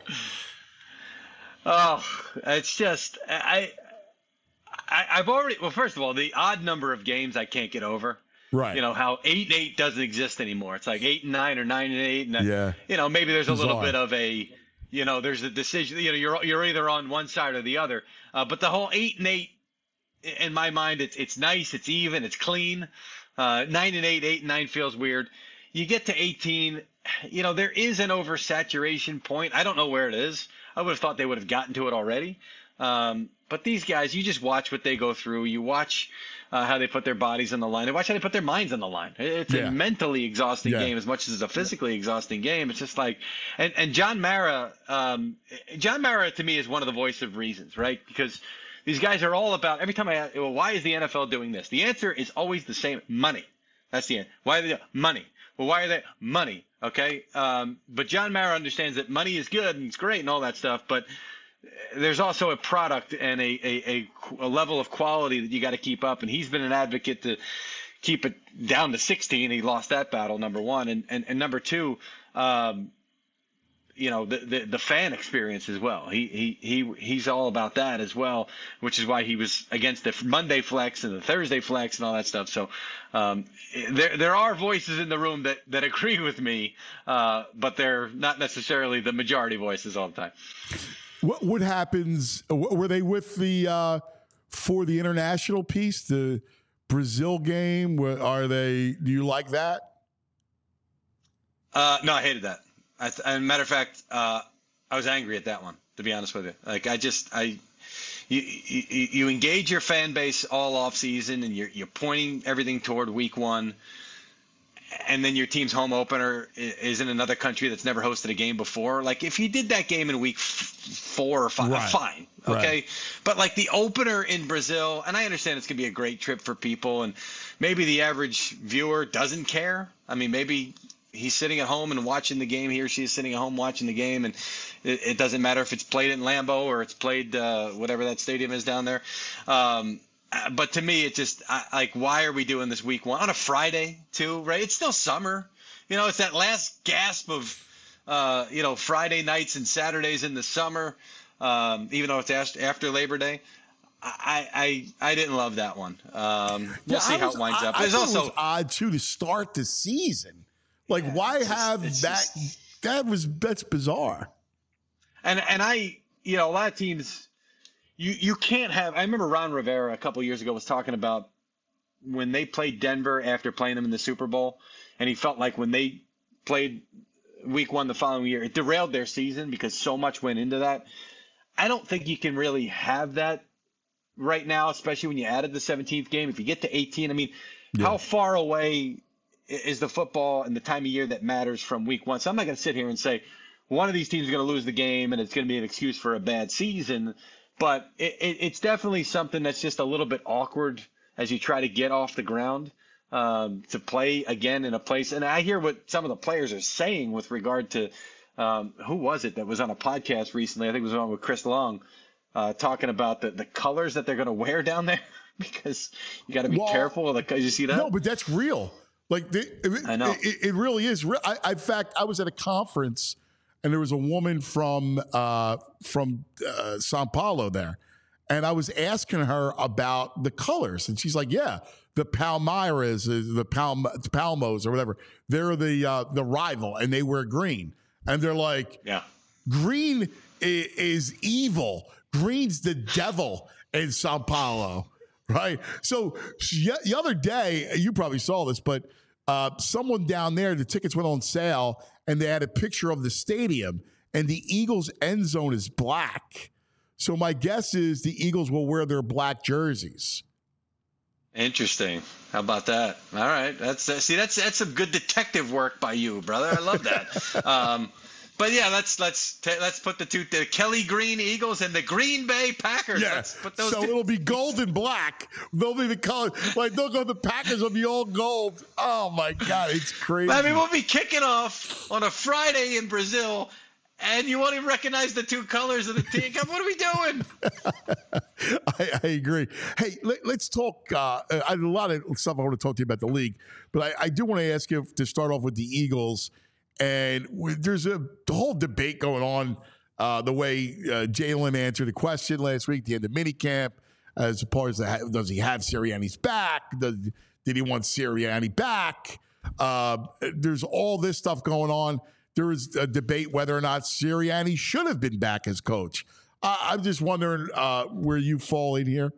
Oh, it's just I've already. Well, first of all, the odd number of games I can't get over. Right. How 8-8 doesn't exist anymore. It's like 8-9 or 9-8, and Yeah. maybe there's a little Bizarre. bit of a, there's a decision. You're either on one side or the other. But the whole 8-8, in my mind, it's nice, it's even, it's clean. 9-8, 8-9 feels weird. You get to 18, there is an oversaturation point. I don't know where it is. I would have thought they would have gotten to it already. But these guys, you just watch what they go through. You watch how they put their bodies on the line. You watch how they put their minds on the line. It's a mentally exhausting game as much as it's a physically exhausting game. It's just like, and John Mara to me is one of the voice of reasons, right? Because these guys are all about, every time I ask, well, why is the NFL doing this? The answer is always the same: money. That's the answer. Why are they money? Well, why are they money? Okay. But John Mara understands that money is good and it's great and all that stuff, but there's also a product and a level of quality that you got to keep up. And he's been an advocate to keep it down to 16. He lost that battle, number one. And number two, the fan experience as well. He's all about that as well, which is why he was against the Monday flex and the Thursday flex and all that stuff. So there are voices in the room that agree with me, but they're not necessarily the majority voices all the time. What happens? Were they with for the international piece, the Brazil game? Are they? Do you like that? No, I hated that. As a matter of fact, I was angry at that one, to be honest with you. Like, you engage your fan base all off season, and you're pointing everything toward week one, and then your team's home opener is in another country that's never hosted a game before. Like, if you did that game in week 4 or 5, fine, okay. Right. But like the opener in Brazil, and I understand it's gonna be a great trip for people, and maybe the average viewer doesn't care. I mean, maybe he's sitting at home and watching the game. He or she is sitting at home watching the game, and it doesn't matter if it's played in Lambeau or it's played whatever that stadium is down there. But to me, it just like, why are we doing this week one on a Friday too? Right? It's still summer. It's that last gasp of Friday nights and Saturdays in the summer. Even though it's after Labor Day. I didn't love that one. We'll see how it winds up. There's also, it was odd too to start the season. Like, why have that? That's bizarre. And a lot of teams, you can't have. I remember Ron Rivera a couple of years ago was talking about when they played Denver after playing them in the Super Bowl, and he felt like when they played week one the following year, it derailed their season because so much went into that. I don't think you can really have that right now, especially when you added the 17th game. If you get to 18, I mean, how far away is the football and the time of year that matters from week one? So I'm not going to sit here and say one of these teams is going to lose the game and it's going to be an excuse for a bad season. But it's definitely something that's just a little bit awkward as you try to get off the ground to play again in a place. And I hear what some of the players are saying with regard to who was it that was on a podcast recently? I think it was on with Chris Long talking about the colors that they're going to wear down there because you got to be careful. You see that? No, but that's real. Like I know it really is real. In fact, I was at a conference and there was a woman from Sao Paulo there, and I was asking her about the colors, and she's like, "Yeah, the Palmeiras, the Palmos, or whatever. They're the rival, and they wear green." And they're like, "Yeah, green is evil. Green's the devil in Sao Paulo." Right. So the other day, you probably saw this, but someone down there, the tickets went on sale and they had a picture of the stadium and the Eagles end zone is black. So my guess is the Eagles will wear their black jerseys. Interesting. How about that? All right. That's some good detective work by you, brother. I love that. But yeah, let's put the Kelly Green Eagles and the Green Bay Packers. Yeah. Let's put those so it'll be gold and black. They'll be the color. Like they'll go. The Packers will be all gold. Oh my God, it's crazy. I mean, we'll be kicking off on a Friday in Brazil, and you won't even recognize the two colors of the team. What are we doing? I agree. Hey, let's talk. I have a lot of stuff I want to talk to you about the league, but I do want to ask you to start off with the Eagles. And there's a whole debate going on the way Jalen answered the question last week, the end of minicamp, as far as does he have Sirianni's back? Did he want Sirianni back? There's all this stuff going on. There is a debate whether or not Sirianni should have been back as coach. I'm just wondering where you fall in here.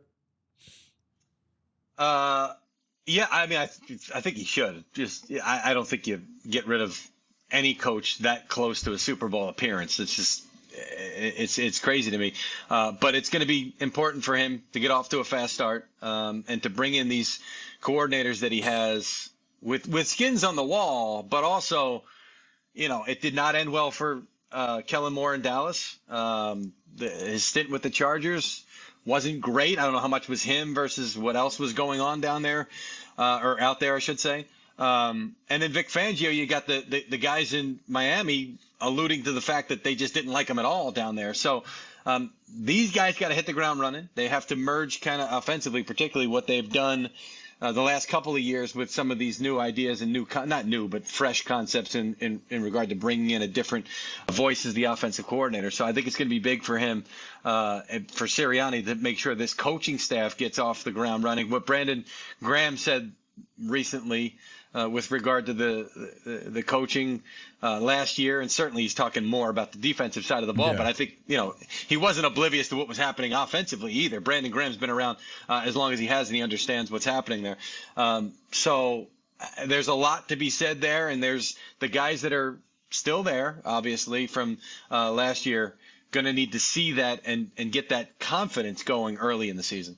Yeah, I mean, I think he should. I don't think you get rid of any coach that close to a Super Bowl appearance. It's just, it's crazy to me. But it's going to be important for him to get off to a fast start, and to bring in these coordinators that he has with skins on the wall. But also, it did not end well for Kellen Moore in Dallas. His stint with the Chargers wasn't great. I don't know how much was him versus what else was going on down there, or out there, I should say. And then Vic Fangio, you got the guys in Miami alluding to the fact that they just didn't like him at all down there. So these guys got to hit the ground running. They have to merge kind of offensively, particularly what they've done the last couple of years with some of these new ideas and not new, but fresh concepts in regard to bringing in a different voice as the offensive coordinator. So I think it's going to be big for him, and for Sirianni, to make sure this coaching staff gets off the ground running. What Brandon Graham said recently with regard to the coaching last year, and certainly he's talking more about the defensive side of the ball, Yeah. but I think he wasn't oblivious to what was happening offensively either. Brandon Graham's been around as long as he has, and he understands what's happening there. So there's a lot to be said there, and there's the guys that are still there, obviously, from last year, going to need to see that and get that confidence going early in the season.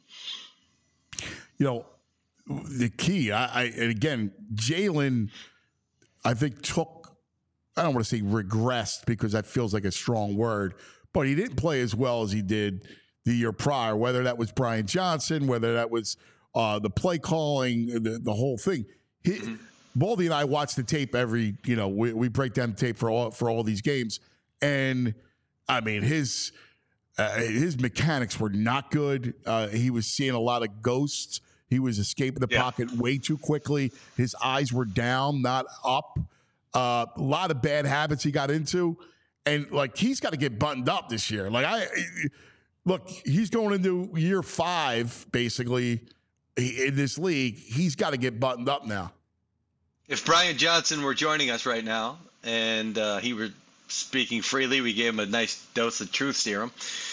The key, and again, Jalen, I think I don't want to say regressed because that feels like a strong word, but he didn't play as well as he did the year prior, whether that was Brian Johnson, whether that was the play calling, the whole thing. Baldy and I watch the tape we break down the tape for all these games. And I mean, his mechanics were not good. He was seeing a lot of ghosts. He was escaping the pocket way too quickly. His eyes were down, not up. A lot of bad habits he got into. And, he's got to get buttoned up this year. He's going into year 5, basically, in this league. He's got to get buttoned up now. If Brian Johnson were joining us right now and he were speaking freely, we gave him a nice dose of truth serum,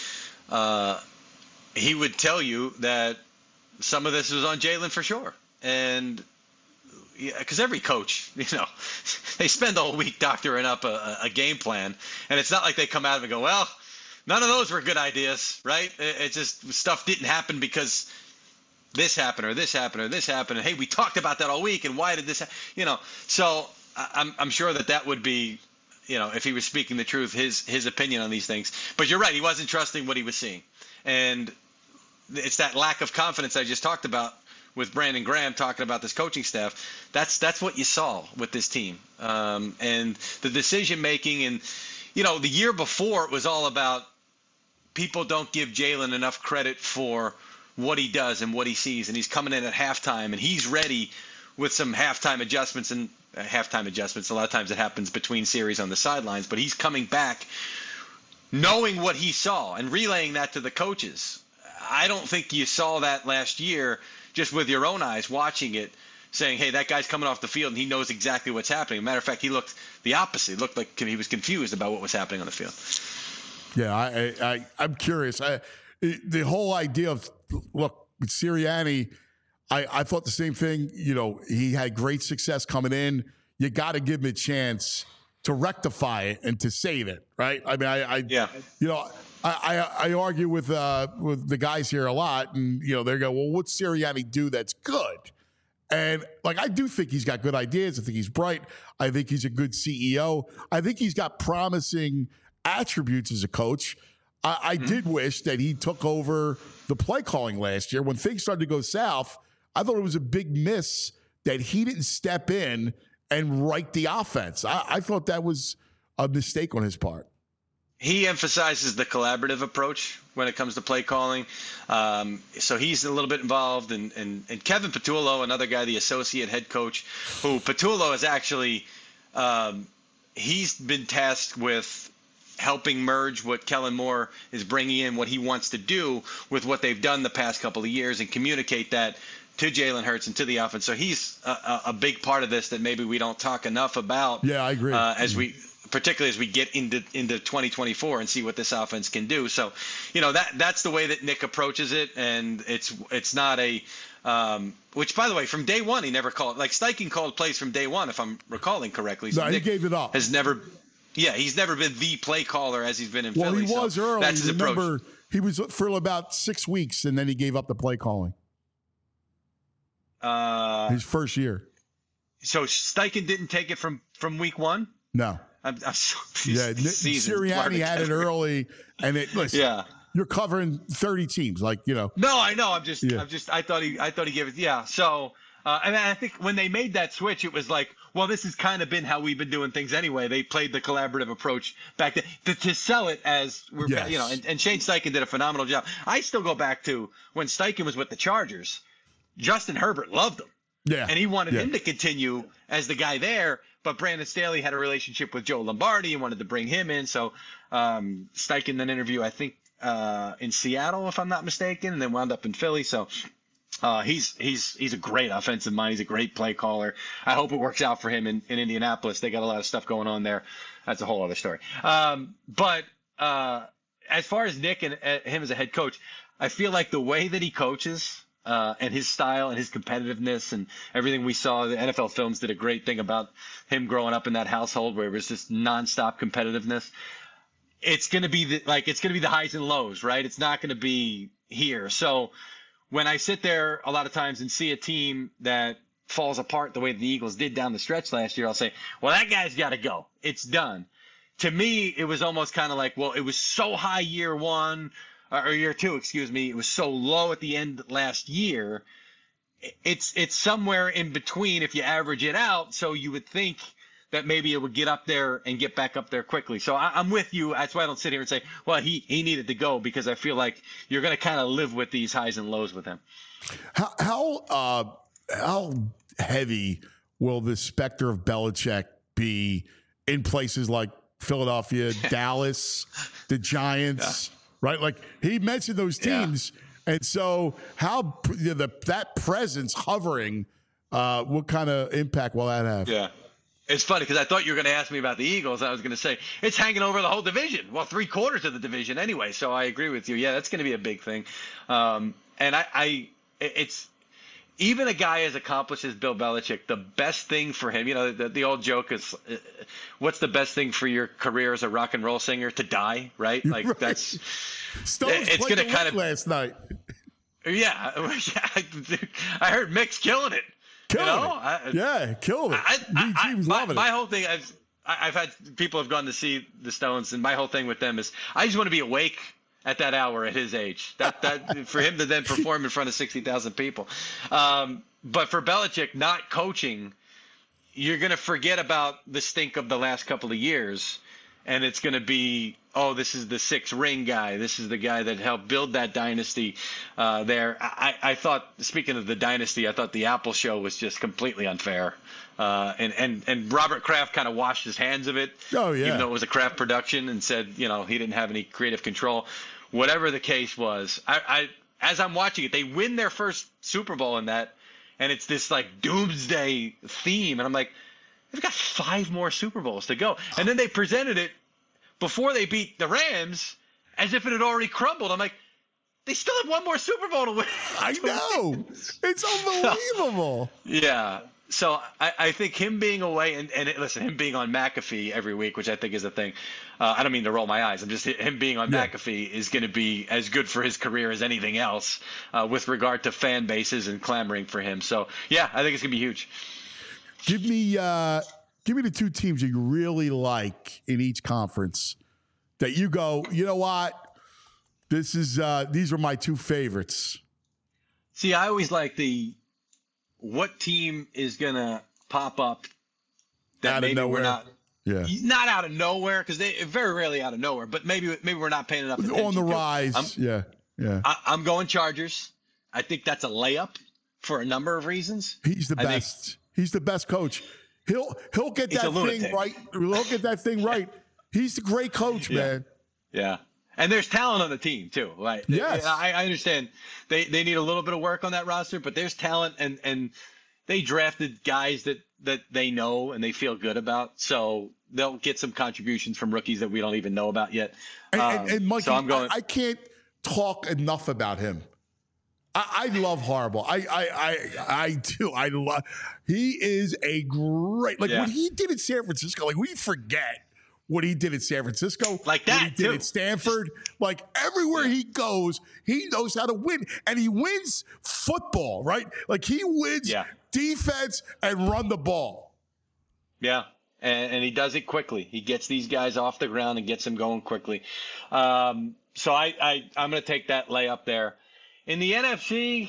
he would tell you that some of this was on Jalen for sure. And because every coach, they spend the whole week doctoring up a game plan. And it's not like they come out of it and go, well, none of those were good ideas, right? It's just stuff didn't happen because this happened or this happened or this happened. And, hey, we talked about that all week. And why did this happen? So I'm sure that would be, if he was speaking the truth, his opinion on these things. But you're right. He wasn't trusting what he was seeing. And it's that lack of confidence I just talked about with Brandon Graham talking about this coaching staff. That's what you saw with this team. And the decision making, and the year before it was all about people don't give Jalen enough credit for what he does and what he sees, and he's coming in at halftime and he's ready with some halftime adjustments. And a lot of times it happens between series on the sidelines, but he's coming back knowing what he saw and relaying that to the coaches. I don't think you saw that last year just with your own eyes watching it, saying, hey, that guy's coming off the field and he knows exactly what's happening. As a matter of fact, he looked the opposite. He looked like he was confused about what was happening on the field. Yeah, I'm curious. The whole idea of, with Sirianni, I thought the same thing. He had great success coming in. You got to give him a chance to rectify it and to save it, right? I mean, I argue with the guys here a lot, and they go, well, what's Sirianni do that's good? And I do think he's got good ideas. I think he's bright. I think he's a good CEO. I think he's got promising attributes as a coach. I did wish that he took over the play calling last year. When things started to go south, I thought it was a big miss that he didn't step in and right the offense. I thought that was a mistake on his part. He emphasizes the collaborative approach when it comes to play calling. So he's a little bit involved. And Kevin Patullo, another guy, the associate head coach, who Patullo is actually he's been tasked with helping merge what Kellen Moore is bringing in, what he wants to do with what they've done the past couple of years, and communicate that to Jalen Hurts and to the offense. So he's a big part of this that maybe we don't talk enough about. Yeah, I agree. Particularly as we get into 2024 and see what this offense can do. So, that's the way that Nick approaches it, and it's not a which, by the way, from day one he never called. Like Steichen called plays from day one, if I'm recalling correctly. So no, Nick he gave it up. he's never been the play caller as he's been in Well, Philly. he was early. That's his Remember, approach. he was for about 6 weeks, and then he gave up the play calling. His first year. So Steichen didn't take it from week one? No. I'm so Sirianni had it early, and listen. Yeah. You're covering 30 teams, No, I know. I thought he gave it. Yeah. So, and I think when they made that switch, it was like, well, this has kind of been how we've been doing things anyway. They played the collaborative approach back then to sell it as we're, and Shane Steichen did a phenomenal job. I still go back to when Steichen was with the Chargers. Justin Herbert loved him. Yeah. And he wanted him to continue as the guy there, but Brandon Staley had a relationship with Joe Lombardi and wanted to bring him in. So Steichen then interviewed, I think, in Seattle, if I'm not mistaken, and then wound up in Philly. So he's a great offensive mind. He's a great play caller. I hope it works out for him in Indianapolis. They got a lot of stuff going on there. That's a whole other story. But as far as Nick and him as a head coach, I feel like the way that he coaches and his style and his competitiveness and everything we saw, the NFL Films did a great thing about him growing up in that household where it was just nonstop competitiveness. It's going to be the highs and lows, right? It's not going to be here. So when I sit there a lot of times and see a team that falls apart the way the Eagles did down the stretch last year, I'll say, well, that guy's got to go. It's done. To me, it was almost kind of like, well, it was so high year one or year two, excuse me. It was so low at the end last year. It's somewhere in between if you average it out. So you would think that maybe it would get up there and get back up there quickly. So I'm with you. That's why I don't sit here and say, well, he needed to go, because I feel like you're going to kind of live with these highs and lows with him. How heavy will the specter of Belichick be in places like Philadelphia, Dallas, the Giants, right? Like he mentioned those teams. Yeah. And so how that presence hovering, what kind of impact will that have? Yeah. It's funny because I thought you were going to ask me about the Eagles. I was going to say it's hanging over the whole division. Well, 3/4 of the division anyway. So I agree with you. Yeah, that's going to be a big thing. And it's even a guy as accomplished as Bill Belichick. The best thing for him, the old joke is, what's the best thing for your career as a rock and roll singer? To die, right? Like right. That's. Stones it's going to kind of last night. Yeah, I heard Mick's killing it. Killed it. My whole thing, I've had people have gone to see the Stones, and my whole thing with them is I just want to be awake at that hour at his age. That for him to then perform in front of 60,000 people. But for Belichick not coaching, you're going to forget about the stink of the last couple of years, and it's going to be, oh, this is the 6-ring guy. This is the guy that helped build that dynasty there. I thought, speaking of the dynasty, I thought the Apple show was just completely unfair. And Robert Kraft kind of washed his hands of it. Oh, yeah. Even though it was a Kraft production, and said, he didn't have any creative control. Whatever the case was, I as I'm watching it, they win their first Super Bowl in that, and it's this like doomsday theme. And I'm like, they've got 5 more Super Bowls to go. And then they presented it before they beat the Rams as if it had already crumbled. I'm like, they still have 1 more Super Bowl to win. I know. It's unbelievable. Yeah. So I think him being away and listen, him being on McAfee every week, which I think is a thing. I don't mean to roll my eyes. I'm just him being on McAfee is going to be as good for his career as anything else with regard to fan bases and clamoring for him. So, yeah, I think it's going to be huge. Give me the 2 teams you really like in each conference that you go, you know what? These are my 2 favorites. See, I always like what team is going to pop up that maybe we're not out of nowhere, because they very rarely out of nowhere, but maybe we're not paying enough attention on the rise. I'm going Chargers. I think that's a layup for a number of reasons. He's the best. He's the best coach. He'll get that thing right. He'll get that thing right. He's the great coach, man. Yeah. And there's talent on the team too, right? Yes. I understand they need a little bit of work on that roster, but there's talent, and they drafted guys that they know and they feel good about. So they'll get some contributions from rookies that we don't even know about yet. And Mikey, so I'm going. I can't talk enough about him. I love Horrible. I do. I love. He is a great. Like what he did in San Francisco. Like we forget what he did at San Francisco, like that what he did at Stanford. Like everywhere he goes, he knows how to win, and he wins football, right? Like he wins defense and run the ball. Yeah, and he does it quickly. He gets these guys off the ground and gets them going quickly. So I'm going to take that layup there. In the NFC,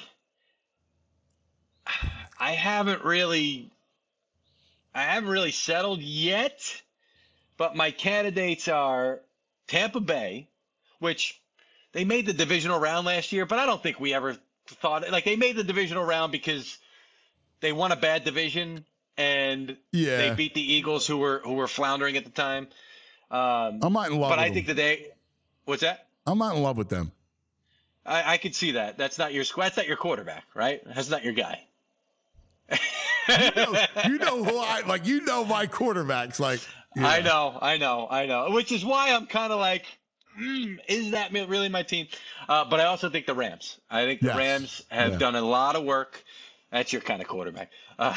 I haven't really settled yet. But my candidates are Tampa Bay, which they made the divisional round last year, but I don't think we ever thought like they made the divisional round because they won a bad division and they beat the Eagles who were floundering at the time. I'm not in love with them. I think that what's that? I'm not in love with them. I could see that. That's not your quarterback, right? That's not your guy. you know who I like. You know my quarterbacks. Like I know. Which is why I'm kind of like, is that really my team? But I also think the Rams. I think the Rams have done a lot of work. That's your kind of quarterback.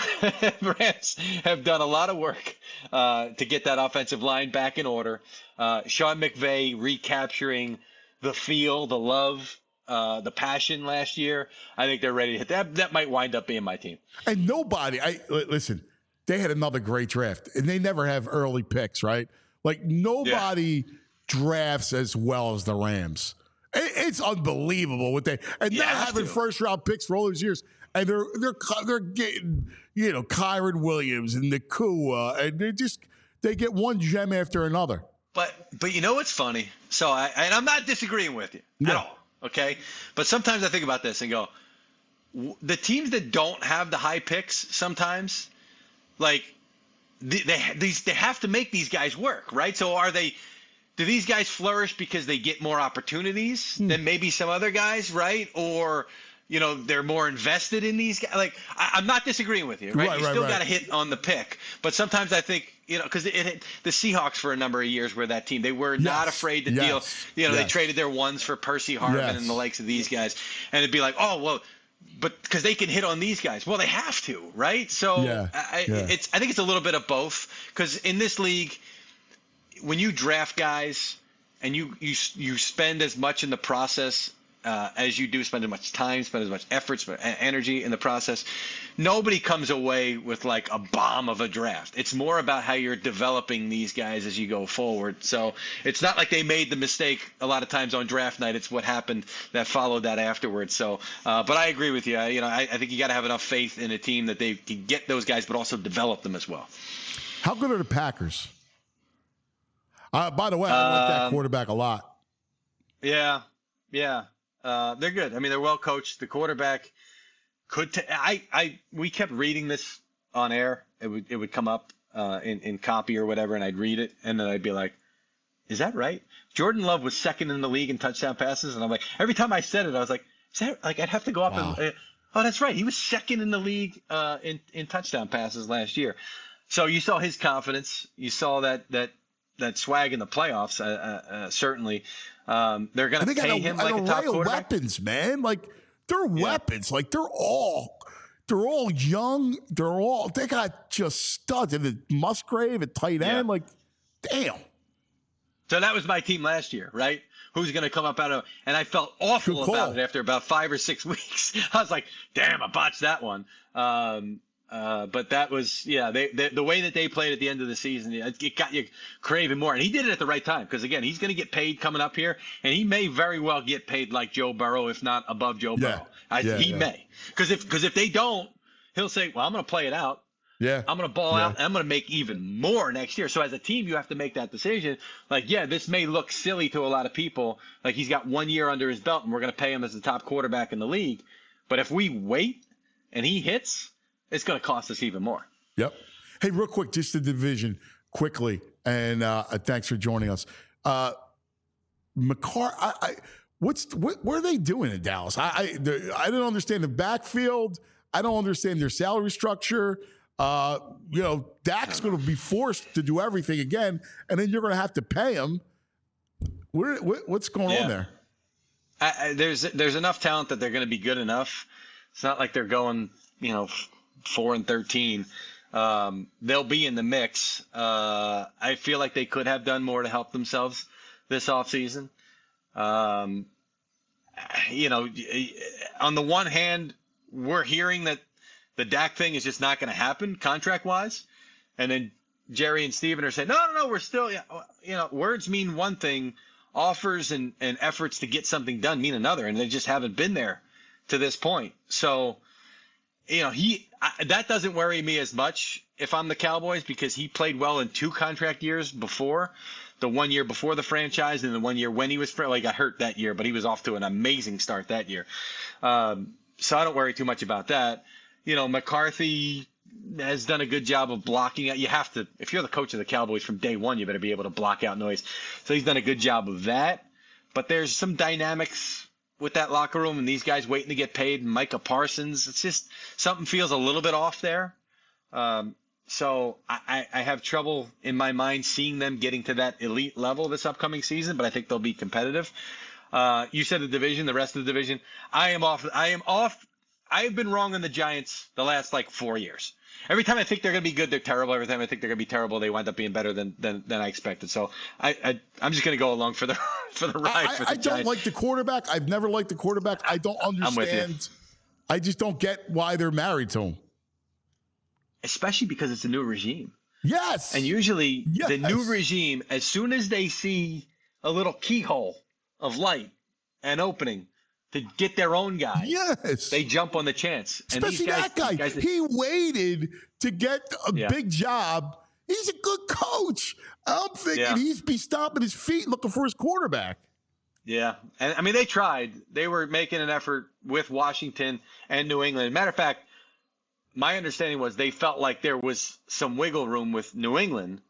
Rams have done a lot of work to get that offensive line back in order. Sean McVay recapturing the feel, the love, the passion last year. I think they're ready to hit that. That might wind up being my team. And nobody, listen, they had another great draft, and they never have early picks, right? Like nobody drafts as well as the Rams. It's unbelievable what they now having first round picks for all those years, and they're getting Kyron Williams and Nakua, and they get one gem after another. But you know what's funny? So I'm not disagreeing with you at all. Okay, but sometimes I think about this and go, the teams that don't have the high picks sometimes, like they have to make these guys work, right? So do these guys flourish because they get more opportunities than maybe some other guys, right? Or they're more invested in these guys. Like I'm not disagreeing with you, right? You still got to hit on the pick, but sometimes I think because the Seahawks for a number of years were that team. They were not afraid to deal. They traded their ones for Percy Harvin and the likes of these guys, and it'd be like, oh well, but because they can hit on these guys. Well, they have to, right? So I think it's a little bit of both. Because in this league, when you draft guys and you spend as much in the process as you do, spend as much time, spend as much effort, spend energy in the process, nobody comes away with like a bomb of a draft. It's more about how you're developing these guys as you go forward. So it's not like they made the mistake a lot of times on draft night. It's what happened that followed that afterwards. So, but I agree with you. I think you got to have enough faith in a team that they can get those guys, but also develop them as well. How good are the Packers? By the way, I like that quarterback a lot. Yeah. They're good. I mean, they're well coached. The quarterback could. We kept reading this on air. It would come up in copy or whatever, and I'd read it, and then I'd be like, "Is that right?" Jordan Love was second in the league in touchdown passes, and I'm like, every time I said it, I was like, "Is that like?" I'd have to go up and, oh, that's right. He was second in the league in touchdown passes last year. So you saw his confidence. You saw that swag in the playoffs. Certainly. They're going to pay him like a top quarterback. Weapons, man. Like they're weapons. Like they're all young. They got just studs. And the Musgrave at tight end. Like, damn. So that was my team last year, right? Who's going to come up out of? And I felt awful about it after about 5 or 6 weeks. I was like, damn, I botched that one. But that was, the way that they played at the end of the season, it got you craving more. And he did it at the right time because, again, he's going to get paid coming up here, and he may very well get paid like Joe Burrow, if not above Joe Burrow. He may. Because if they don't, he'll say, well, I'm going to play it out. Yeah. I'm going to ball out, and I'm going to make even more next year. So as a team, you have to make that decision. Like, this may look silly to a lot of people. Like, he's got 1 year under his belt, and we're going to pay him as the top quarterback in the league. But if we wait and he hits, it's going to cost us even more. Yep. Hey, real quick, just the division quickly, and thanks for joining us. what are they doing in Dallas? I didn't understand the backfield. I don't understand their salary structure. Dak's going to be forced to do everything again, and then you're going to have to pay him. What's going on there? There's enough talent that they're going to be good enough. It's not like they're going, 4-13. They'll be in the mix. I feel like they could have done more to help themselves this offseason. On the one hand, we're hearing that the Dak thing is just not going to happen contract-wise. And then Jerry and Steven are saying, no, we're still, words mean one thing. Offers and efforts to get something done mean another, and they just haven't been there to this point. So, that doesn't worry me as much if I'm the Cowboys, because he played well in 2 contract years before, the 1 year before the franchise and the 1 year when he was got hurt that year, but he was off to an amazing start that year. So I don't worry too much about that. McCarthy has done a good job of blocking out. You have to, if you're the coach of the Cowboys from day one, you better be able to block out noise. So he's done a good job of that. But there's some dynamics with that locker room and these guys waiting to get paid. Micah Parsons, it's just something feels a little bit off there. So I have trouble in my mind seeing them getting to that elite level this upcoming season, but I think they'll be competitive. You said the division, the rest of the division. I am off. I have been wrong on the Giants the last 4 years. Every time I think they're going to be good, they're terrible. Every time I think they're going to be terrible, they wind up being better than I expected. So I'm just going to go along for the ride. I don't like the quarterback. I've never liked the quarterback. I don't understand. I just don't get why they're married to him. Especially because it's a new regime. Yes. And usually the new regime, as soon as they see a little keyhole of light and opening to get their own guy, they jump on the chance. And especially that guy. He waited to get a big job. He's a good coach. I'm thinking he's be stomping his feet looking for his quarterback. Yeah. And I mean, they tried. They were making an effort with Washington and New England. Matter of fact, my understanding was they felt like there was some wiggle room with New England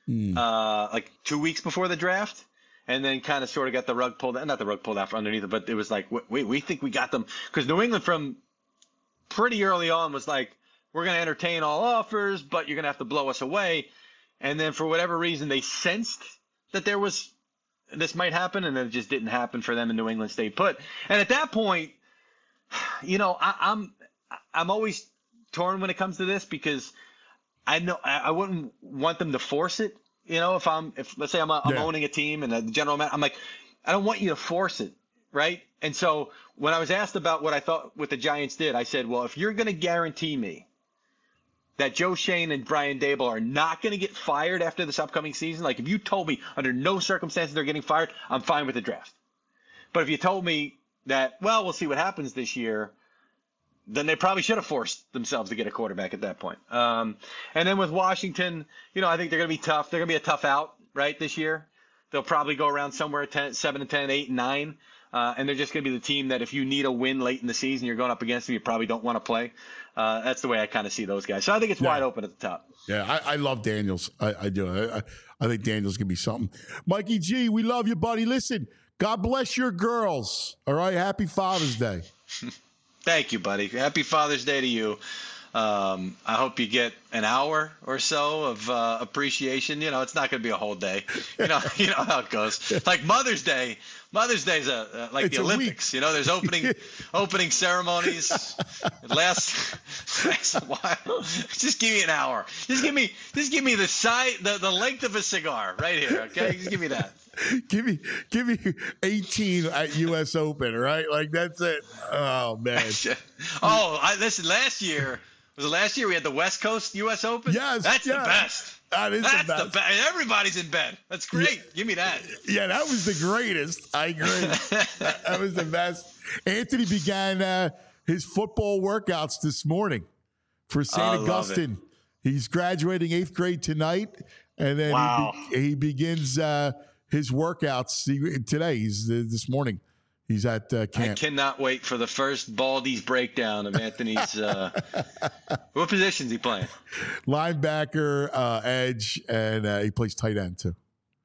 2 weeks before the draft. And then kind of sort of got the rug pulled, not the rug pulled out from underneath it, but it was like, wait, we think we got them. Because New England from pretty early on was like, we're going to entertain all offers, but you're going to have to blow us away. And then for whatever reason, they sensed that this might happen, and then it just didn't happen for them, and New England stayed put. And at that point, I'm always torn when it comes to this, because I know I wouldn't want them to force it. If let's say I'm owning a team and a general manager, I'm like, I don't want you to force it, right? And so when I was asked about what I thought what the Giants did, I said, well, if you're going to guarantee me that Joe Shane and Brian Daboll are not going to get fired after this upcoming season, like if you told me under no circumstances they're getting fired, I'm fine with the draft. But if you told me that, well, we'll see what happens this year, then they probably should have forced themselves to get a quarterback at that point. And then with Washington, I think they're going to be tough. They're going to be a tough out, right, this year. They'll probably go around somewhere at 7-10, 8-9. And they're just going to be the team that if you need a win late in the season, you're going up against them, you probably don't want to play. That's the way I kind of see those guys. So I think it's wide open at the top. Yeah, I love Daniels. I do. I think Daniels can be something. Mikey G, we love you, buddy. Listen, God bless your girls. All right, happy Father's Day. Thank you, buddy. Happy Father's Day to you. I hope you get an hour or so of appreciation. It's not going to be a whole day. You know how it goes. Like Mother's Day. Mother's Day is like the Olympics. There's opening ceremonies. It lasts a while. Just give me an hour. Just give me the length of a cigar right here. Okay, just give me that. Give me 18 at U.S. Open, right? Like that's it. Oh man. Listen. Last year we had the West Coast U.S. Open. Yes, that's the best. That's the best. Everybody's in bed. That's great. Yeah. Give me that. Yeah, that was the greatest. I agree. That was the best. Anthony began his football workouts this morning for St. Augustine. He's graduating 8th grade tonight, and then he begins his workouts today. He's this morning. He's at camp. I cannot wait for the first Baldy's breakdown of Anthony's. What position is he playing? Linebacker, edge, and he plays tight end too.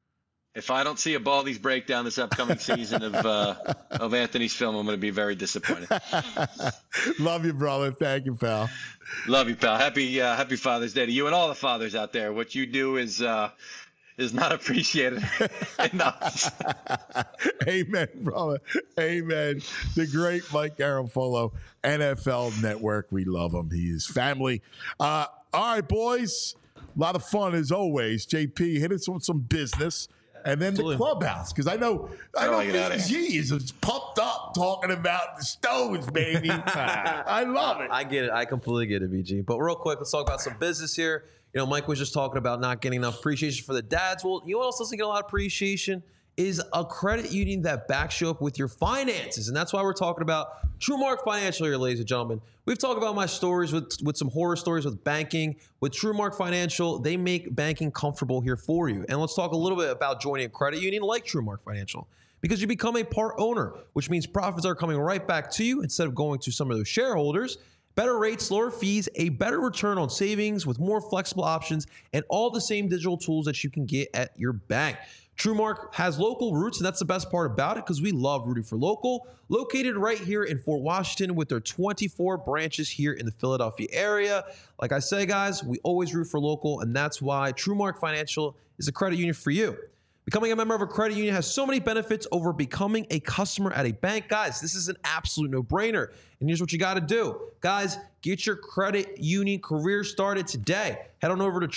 If I don't see a Baldy's breakdown this upcoming season of Anthony's film, I'm going to be very disappointed. Love you, brother. Thank you, pal. Love you, pal. Happy Father's Day to you and all the fathers out there. What you do is not appreciated enough. Amen, brother. Amen. The great Mike Garafolo, NFL Network. We love him. He is family. All right, boys. A lot of fun as always. JP, hit us with some business. And then the clubhouse, because I know G is pumped up talking about the Stones, baby. I love it. I get it. I completely get it, BG. But real quick, let's talk about some business here. You know, Mike was just talking about not getting enough appreciation for the dads. Well, you know what else doesn't get a lot of appreciation is a credit union that backs you up with your finances. And that's why we're talking about TrueMark Financial here, ladies and gentlemen. We've talked about my stories with some horror stories with banking. With TrueMark Financial, they make banking comfortable here for you. And let's talk a little bit about joining a credit union like TrueMark Financial. Because you become a part owner, which means profits are coming right back to you instead of going to some of those shareholders. Better rates, lower fees, a better return on savings with more flexible options, and all the same digital tools that you can get at your bank. TrueMark has local roots, and that's the best part about it because we love rooting for local. Located right here in Fort Washington with their 24 branches here in the Philadelphia area. Like I say, guys, we always root for local, and that's why TrueMark Financial is a credit union for you. Becoming a member of a credit union has so many benefits over becoming a customer at a bank. Guys, this is an absolute no-brainer. And here's what you got to do. Guys, get your credit union career started today. Head on over to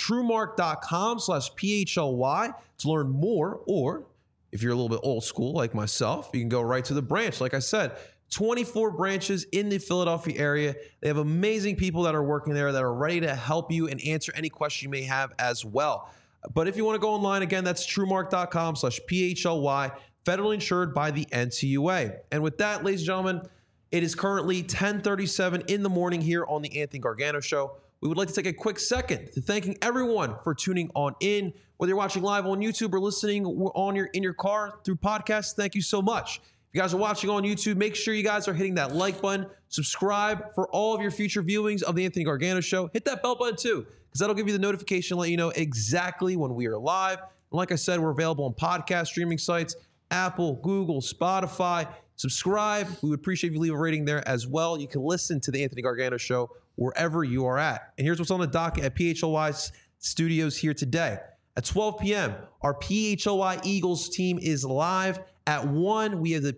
truemark.com/PHLY to learn more. Or if you're a little bit old school like myself, you can go right to the branch. Like I said, 24 branches in the Philadelphia area. They have amazing people that are working there that are ready to help you and answer any question you may have as well. But if you want to go online, again, that's truemark.com/PHLY, federally insured by the NCUA. And with that, ladies and gentlemen, it is currently 10:37 in the morning here on the Anthony Gargano Show. We would like to take a quick second to thanking everyone for tuning on in. Whether you're watching live on YouTube or listening in your car through podcasts, thank you so much. If you guys are watching on YouTube, make sure you guys are hitting that like button. Subscribe for all of your future viewings of the Anthony Gargano Show. Hit that bell button too, because that'll give you the notification, let you know exactly when we are live. And like I said, we're available on podcast streaming sites, Apple, Google, Spotify. Subscribe. We would appreciate if you leave a rating there as well. You can listen to the Anthony Gargano Show wherever you are at. And here's what's on the docket at PHLY Studios here today. At 12 p.m., our PHLY Eagles team is live. At 1, we have the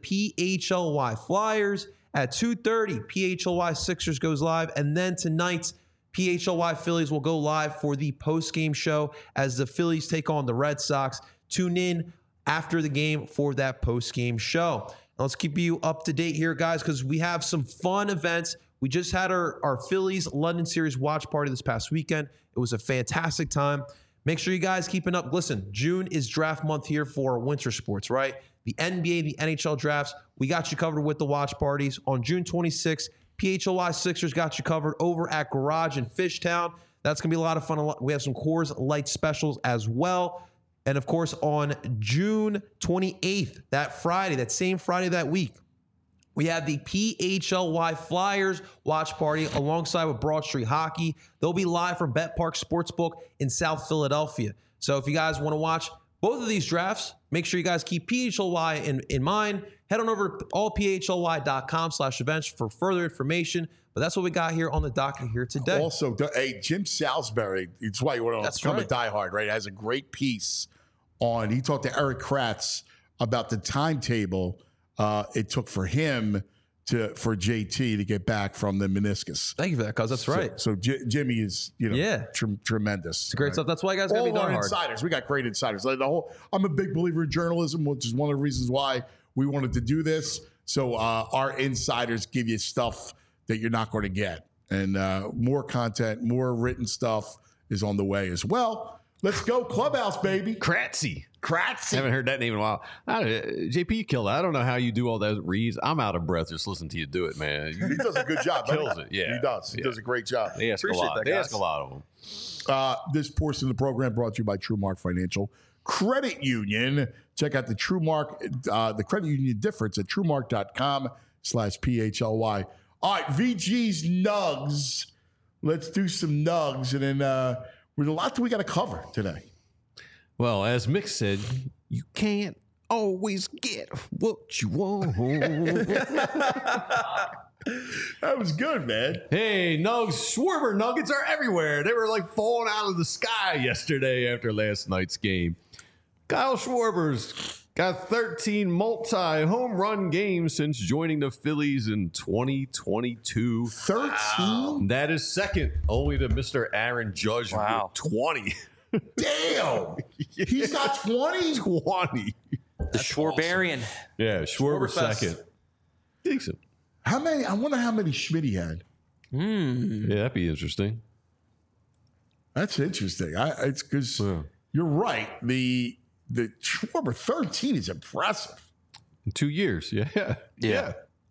PHLY Flyers. At 2:30, PHLY Sixers goes live. And then tonight, PHLY Phillies will go live for the post-game show as the Phillies take on the Red Sox. Tune in after the game for that post-game show. Now let's keep you up to date here, guys, because we have some fun events. We just had our Phillies London Series watch party this past weekend. It was a fantastic time. Make sure you guys keeping up. Listen, June is draft month here for winter sports, right? The NBA, the NHL drafts, we got you covered with the watch parties. On June 26th, PHLY Sixers got you covered over at Garage in Fishtown. That's going to be a lot of fun. We have some Coors Light specials as well. And of course, on June 28th, that Friday, that same Friday that week, we have the PHLY Flyers watch party alongside with Broad Street Hockey. They'll be live from Bet Park Sportsbook in South Philadelphia. So if you guys want to watch both of these drafts, make sure you guys keep PHLY in mind. Head on over to allphly.com/events for further information. But that's what we got here on the docket here today. Also, hey, Jim Salisbury, it's why you want to become a diehard, right? Has a great piece on, he talked to Eric Kratz about the timetable it took for him for JT to get back from the meniscus. Thank you for that, cuz that's right. So Jimmy is, tremendous. It's great stuff. That's why you guys got to be diehard. Insiders. We got great insiders. Like I'm a big believer in journalism, which is one of the reasons why we wanted to do this. So our insiders give you stuff that you're not going to get. And more content, more written stuff is on the way as well. Let's go Clubhouse, baby. Kratzy. Haven't heard that name in a while. JP, you killed it. I don't know how you do all those reads. I'm out of breath just listening to you do it, man. He does a good job. Kills it, yeah. He does. He does a great job. They ask a lot. They ask a lot of them. This portion of the program brought to you by TrueMark Financial Credit Union. Check out the TrueMark, the credit union difference at truemark.com/PHLY. All right, VG's Nugs. Let's do some Nugs. And then there's a lot that we got to cover today. Well, as Mick said, You can't always get what you want. That was good, man. Hey, Nugs, Schwarber nuggets are everywhere. They were like falling out of the sky yesterday after last night's game. Kyle Schwarber's got 13 multi-home run games since joining the Phillies in 2022. 13? That is second only to Mr. Aaron Judge Wow. with 20. Damn. He's got 20? 20. The Schwarbarian. Yeah, Schwarber Schwarberfest. second. Decent. How many? I wonder how many Schmidt had. Yeah, that'd be interesting. That's interesting. It's because you're right. The Schwarber 13 is impressive. 2 years. Yeah.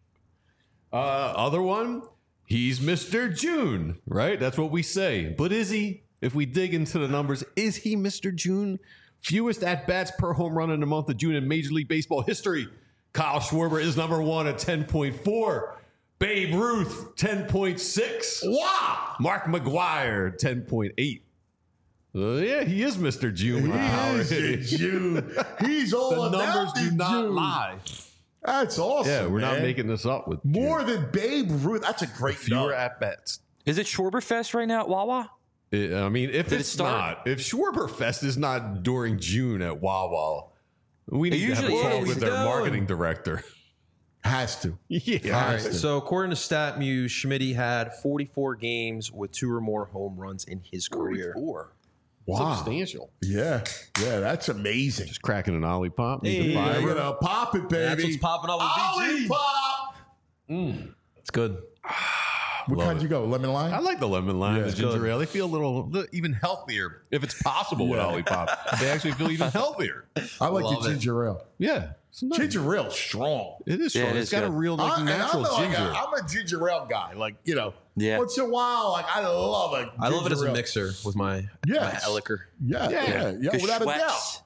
Other one, he's Mr. June, right? That's what we say. But is he? If we dig into the numbers, is he Mr. June? Fewest at-bats per home run in the month of June in Major League Baseball history. Kyle Schwarber is number one at 10.4. Babe Ruth, 10.6. Wow. Mark McGwire, 10.8. Yeah, he is Mr. June. He is the June. He's all The about numbers the do not June. lie. That's awesome. Yeah, we're not man. making this up with More June. than Babe Ruth. That's a great Fewer number. at-bats. Is it Schwarberfest right now at Wawa? I mean, if Did it it's start? not, if Schwarberfest is not during June at Wawa, we need to have a usually talk is. with their Going. marketing director. Has to. Yeah. All right. So according to StatMuse, Schmitty had 44 games with 2 or more home runs in his career. Wow. Substantial. Yeah. Yeah, that's amazing. Just cracking an ollie pop. Need Hey. the Yeah, fiber. you know, pop it, baby. That's what's popping up with Ollie BG. pop. It's good. What Love kind it. you go? Lemon lime? I like the lemon lime, Yeah, the it's ginger good. ale. They feel a little even healthier if it's possible with Yeah. ollie pop. They actually feel even healthier. I like Love the it. ginger ale. Yeah. It's nice. Ginger ale strong. It is Yeah, strong. it It's is got a good. real like And natural ginger. I'm a ginger ale guy. Like, you know, Yeah. once in a while, like, I love it. I love it as a ale. mixer with my Yes. my liquor. Yeah, yeah, yeah, Good without a doubt. Schweppes.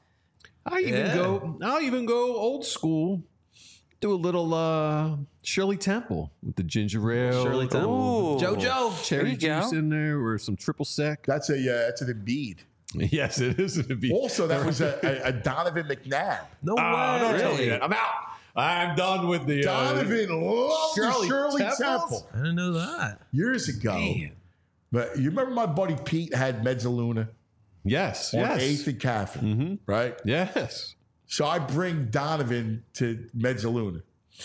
I'll even go old school. Do a little Shirley Temple with the ginger ale. Shirley Temple. Ooh. JoJo. Cherry There you go. juice in there or some triple sec. That's an Embiid. Yes, it is. It'd be Also, that was a Donovan McNabb. No Oh, way. don't tell me that. I'm out. I'm done with the Donovan loved Shirley Temples? Temple I didn't know that. years ago. Man. But you remember my buddy Pete had Mezzaluna Yes, on yes, 8th and Catherine, right? yes. So I bring Donovan to Mezzaluna.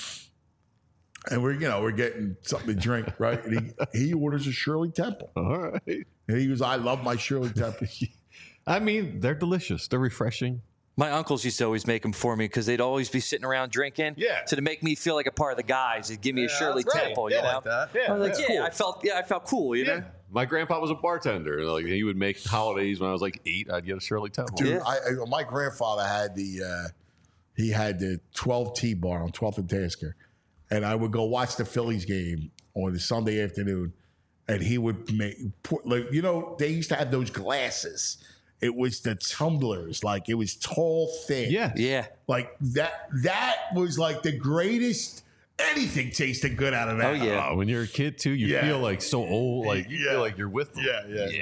And we're getting something to drink, right? And he orders a Shirley Temple. All right. And he goes, I love my Shirley Temple. I mean, they're delicious. They're refreshing. My uncles used to always make them for me because they'd always be sitting around drinking. Yeah. So to make me feel like a part of the guys, they'd give me a Shirley Temple. You know, like that. Yeah, I was like, I felt cool. You know. My grandpa was a bartender. And like he would make holidays when I was like 8. I'd get a Shirley Temple. Dude, Yeah. my grandfather had he had the 12T bar on 12th and Tasker. And I would go watch the Phillies game on the Sunday afternoon. And he would they used to have those glasses. It was the tumblers, like it was tall, thin. Yeah. Yeah. Like that was like the greatest. Anything tasted good out of that. Oh, yeah. When you're a kid too, you Yeah. feel like so old. Like you Yeah. feel like you're with them.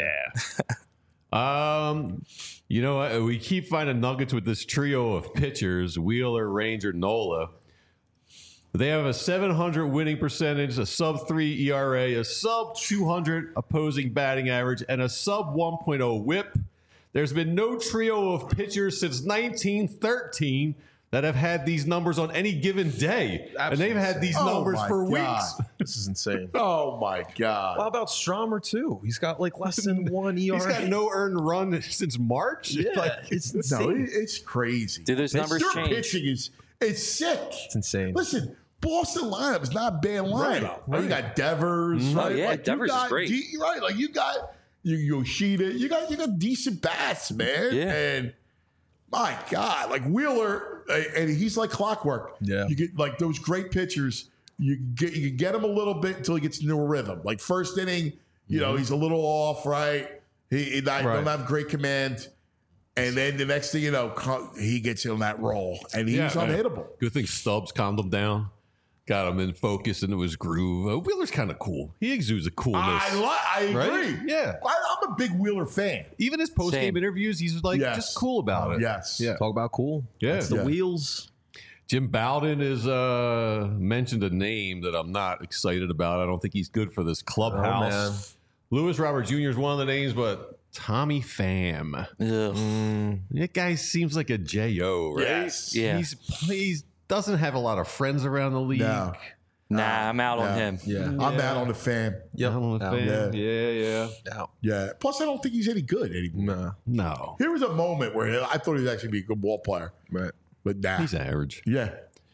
Yeah. You know what? We keep finding nuggets with this trio of pitchers: Wheeler, Ranger, Nola. They have a 700 winning percentage, a sub 3 ERA, a sub 200 opposing batting average, and a sub 1.0 WHIP. There's been no trio of pitchers since 1913 that have had these numbers on any given day, and they've had these Oh numbers my for God. weeks. This is insane. Oh my God. How about Stromer too? He's got like less than 1 ERA. He's got no earned run since March. Yeah, Like, it's No, insane. it's crazy. Do those numbers Their change? pitching it's sick. It's insane. Listen, Boston lineup is not a bad lineup. Right. You got Devers. Oh, Right? yeah, Like, you Devers is got great. Right, like you got Yoshida. You got decent bats, man. Yeah. And my God, like Wheeler, and he's like clockwork. Yeah. You get like those great pitchers. You can get him a little bit until he gets into a rhythm. Like first inning, he's a little off, right? He don't have great command. And then the next thing you know, he gets in that role, and he's unhittable. Good thing Stubbs calmed him down, got him in focus into his groove. Wheeler's kind of cool. He exudes a coolness. I agree. Right? Yeah. I'm I'm a big Wheeler fan. Even his post game Same. interviews, he's like Yes. just cool about it. Yes. Yeah. Talk about cool. Yeah. That's the Yeah. wheels. Jim Bowden is mentioned a name that I'm not excited about. I don't think he's good for this clubhouse. Lewis Robert Jr. is one of the names, but Tommy Pham. Ugh. That guy seems like a J.O., right? Yes. Yeah. He's doesn't have a lot of friends around the league. No. Nah, I'm out on him. Yeah. I'm out on the fan. Yeah. Yeah. Yeah. Plus, I don't think he's any good anymore. Nah. No. Here was a moment where I thought he was actually be a good ball player. Right. But nah. He's average. Yeah.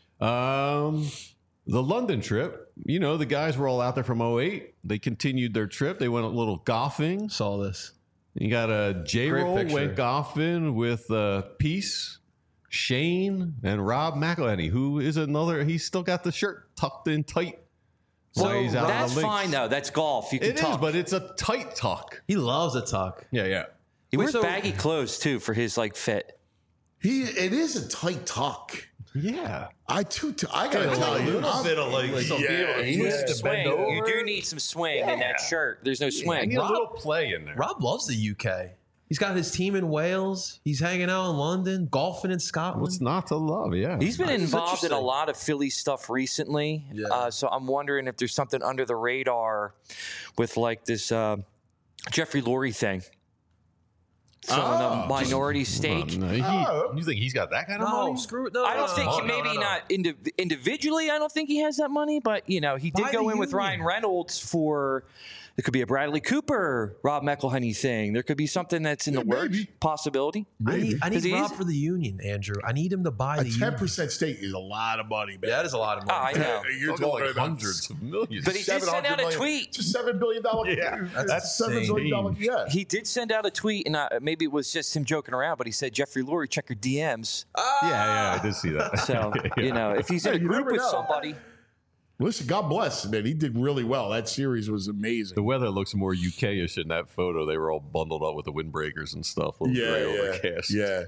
The London trip, the guys were all out there from 08. They continued their trip. They went a little golfing. Saw this. You got a J-Roll Great picture. went golfing with Peace, Shane, and Rob McElhenney, who is another. He's still got the shirt tucked in tight. So he's out on That's the links. fine though. That's golf. You can It tuck. is, but it's a tight tuck. He loves a tuck. Yeah. He wears so- baggy clothes too for his fit. It is a tight tuck. Yeah. I gotta tell you, You need some swing. You do need some swing in that shirt. There's no I swing. need a little play in there. Rob loves the UK. He's got his team in Wales. He's hanging out in London, golfing in Scotland. What's not to love? Yeah. He's been This is involved in a interesting. lot of Philly stuff recently. Yeah. So I'm wondering if there's something under the radar with this Jeffrey Lurie thing. Selling a minority stake. You think he's got that kind of money? screw it. No, I don't no, think no, maybe no. not individually. I don't think he has that money, but he did Buy go the in with union. Ryan Reynolds for. It could be a Bradley Cooper, Rob McElhenney thing. There could be something that's in the works. maybe. Possibility. I need 'Cause he Rob is- for the union, Andrew. I need him to buy a the union. 10% stake is a lot of money, man. Yeah, that is a lot of Oh, money. I know. You're Talking talking like about hundreds of millions. But he did send out a 700 million. tweet. It's a $7 billion. Yeah, that's that's $7 billion. Yeah. He did send out a tweet, and maybe it was just him joking around, but he said, Jeffrey Lurie, check your DMs. Yeah, I did see that. So, if he's in a you group never with know. somebody. Listen, God bless, man. He did really well. That series was amazing. The weather looks more UK-ish in that photo. They were all bundled up with the windbreakers and stuff. A little gray overcast. Yeah.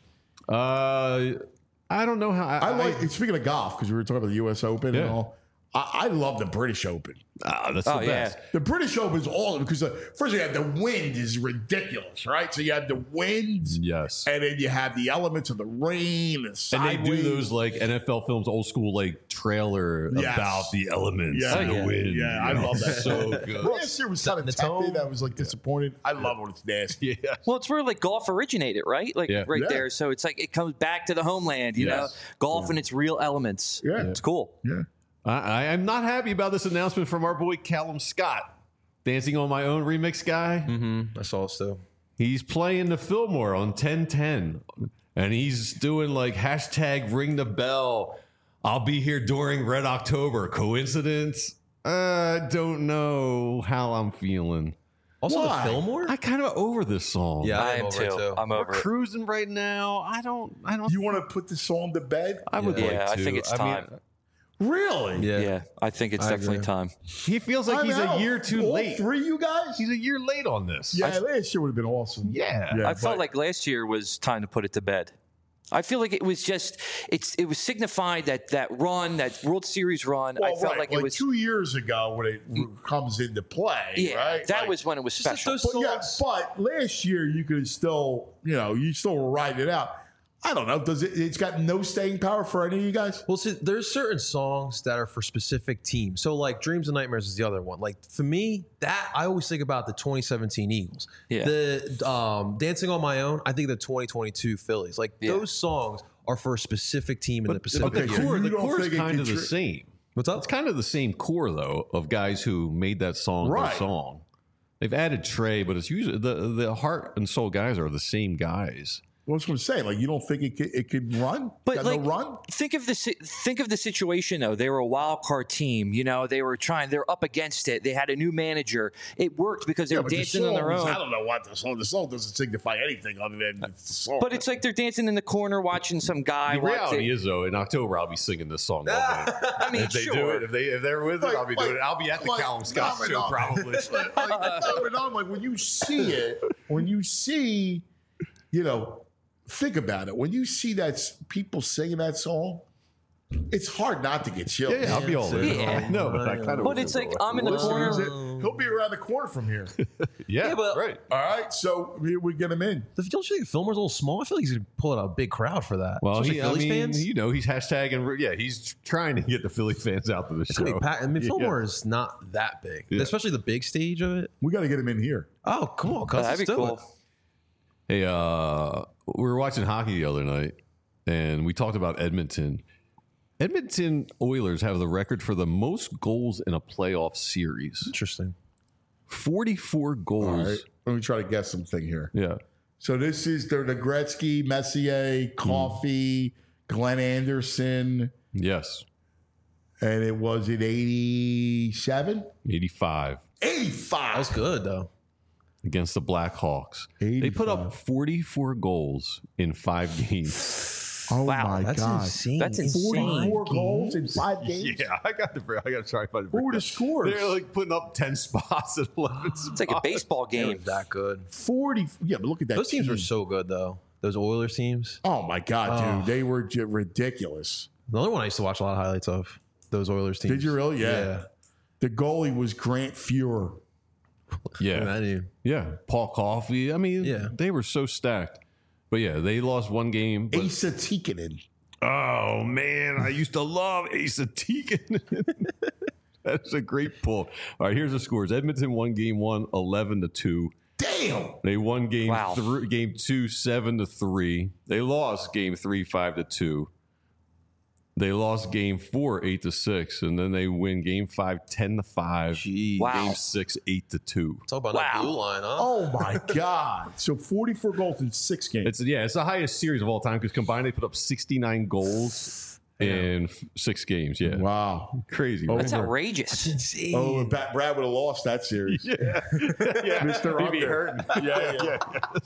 I don't know how. I like, speaking of golf, because we were talking about the U.S. Open and Yeah. all, I love the British Open. That's Oh, the yeah. best. The British Open is awesome because first you have the wind is ridiculous, right? So you have the wind, Yes. and then you have the elements of the rain and And sideways. they do those like NFL films, old school trailer Yes. about the elements Yeah. and the Oh, yeah. wind. Yeah, I love that. So good. Last year was kind of Setting the tepid. tone. I was disappointed. I love when it's nasty. Yeah. Well, it's where golf originated, right? Yeah. Right Yeah. there. So it's it comes back to the homeland, you know, Yes. golf and its real elements. Yeah. It's cool. Yeah. I'm not happy about this announcement from our boy Callum Scott, Dancing on My Own remix guy. I saw it still. He's playing the Fillmore on 1010, and he's doing hashtag ring the bell. I'll be here during Red October. Coincidence? I don't know how I'm feeling. Also, Why? the Fillmore. I kind of over this song. Yeah, I I'm am over it too. too. I'm We're over it. cruising right now. I don't. You want to put the song to bed? I would Yeah, like to. I think it's time. Really? Yeah, I think it's I definitely agree. time. He feels like I'm he's a out. year too All late. three, you guys? He's a year late on this. Yeah, last year would have been awesome. Yeah. Yeah, I felt but- like last year was time to put it to bed. I feel like it was just it was signified that run, that World Series run. Well, I felt right, like it was 2 years ago when it comes into play. yeah, right? that Like, was when it was Just special. those But, yeah, songs. but last year you could still, you still were riding it out. I don't know. It's got no staying power for any of you guys? Well, see, there's certain songs that are for specific teams. So, like Dreams and Nightmares is the other one. Like for me, that I always think about the 2017 Eagles. Yeah. The Dancing on My Own, I think the 2022 Phillies. Like Yeah. those songs are for a specific team in the Pacific. But the Okay, so core, you the don't core is think it kind of the contri- same. What's up? It's kind of the same core though of guys who made that song Right. their song. They've added Trey, but it's usually the heart and soul guys are the same guys. What's what I'm saying? Like, you don't think it could run? But got like, no run? think of the situation though. They were a wild card team. They're up against it. They had a new manager. It worked because they were But the dancing on their songs, own. I don't know what the song doesn't signify anything other than it's the song. But it's like they're dancing in the corner watching some guy. The watch reality it. is though, in October I'll be singing this song. I mean, if they do sure. it, if they're with it, I'll be doing it. I'll be at the Callum Scott show probably. Like when you see it, think about it. When you see people singing that song, it's hard not to get chills. Yeah, I'll be all in. Yeah. No, but I kind of. But it's like I'm in the corner. He'll be around the corner from here. Yeah, but- right. All right, so we get him in. Don't you think Fillmore's a little small? I feel like he's going to pull out a big crowd for that. Well, Especially Phillies fans. you know, he's hashtagging. Yeah, he's trying to get the Philly fans out to the It's gonna show. be packed. I mean, Fillmore is not that big, especially the big stage of it. We got to get him in here. Oh, come on, cuz. That'd be cool. Hey, we were watching hockey the other night, and we talked about Edmonton. Edmonton Oilers have the record for the most goals in a playoff series. Interesting. 44 goals. All right, let me try to guess something here. Yeah. So this is the Gretzky, Messier, Coffey, Glenn Anderson, Yes. and it was at 87? 85 85. That was good though. against the Blackhawks. They put up 44 goals in 5 games. Oh Wow, my That's God. insane. That's insane. 44 goals in 5 games? Yeah, I got to try to find What were the scores? They're like putting up 10 spots at 11 spots. It's like a baseball They were game. that good. 40. Yeah, but look at that. Those teams team. were so good though. Those Oilers teams. Oh my God, Oh. dude. They were ridiculous. The only one I used to watch a lot of highlights of. Those Oilers teams. Did you really? Yeah. The goalie was Grant Fuhrer. Yeah. I knew. Yeah. Paul Coffey. I mean, Yeah. they were so stacked. But yeah, they lost one game. But, Asa Tikkanen. oh, man. I used to love Asa Teagan. That's a great pull. All right, here's the scores. Edmonton won game 1, 11-2. Damn. They won game Wow. game 2, 7-3. They lost game 3, 5-2. They lost game 4, 8-6, and then they win game 5, 10-5. Jeez. Wow. Game 6, 8-2. Talk about Wow. that blue line, huh? Oh my God. So 44 goals in 6 games. It's the highest series of all time because combined they put up 69 goals in 6 games. Yeah, Wow. crazy. That's right? outrageous. Insane. Oh, and Brad would have lost that series. Yeah, Mr. He'd be Under. hurting. Yeah.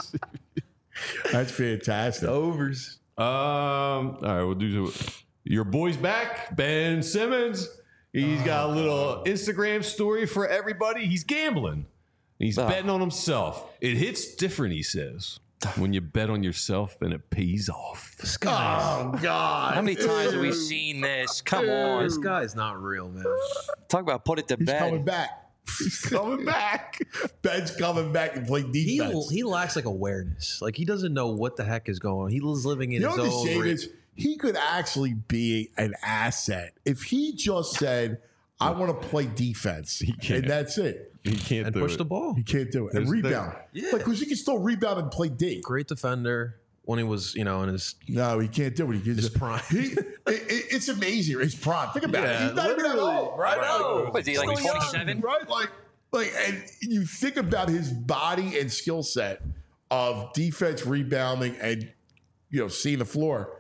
That's fantastic. Overs. All right, we'll do your boy's back, Ben Simmons. He's got a little Instagram story for everybody. He's gambling. He's betting on himself. It hits different, he says, when you bet on yourself and it pays off. This guy. Oh, God. How many times have we seen this? Come on. This guy's not real, man. Talk about put it to He's coming bed. back. He's coming back. Ben's coming back and play defense. He lacks like awareness. Like he doesn't know what the heck is going on. He was living in You know his what the own. shame is? He could actually be an asset if he just said, I want to play defense. can't. And that's it. He can't and do push it. the ball. He can't do it. And There's- rebound. Yeah. Like, because he can still rebound and play D. Great defender when he was, in his. No, he can't do it. He can His just, prime. It's amazing. His prime. Think about it. Yeah, He's not even that literally. old, right? Right. What is he, like Still young, 27? Right? Like, and you think about his body and skill set of defense, rebounding, and seeing the floor.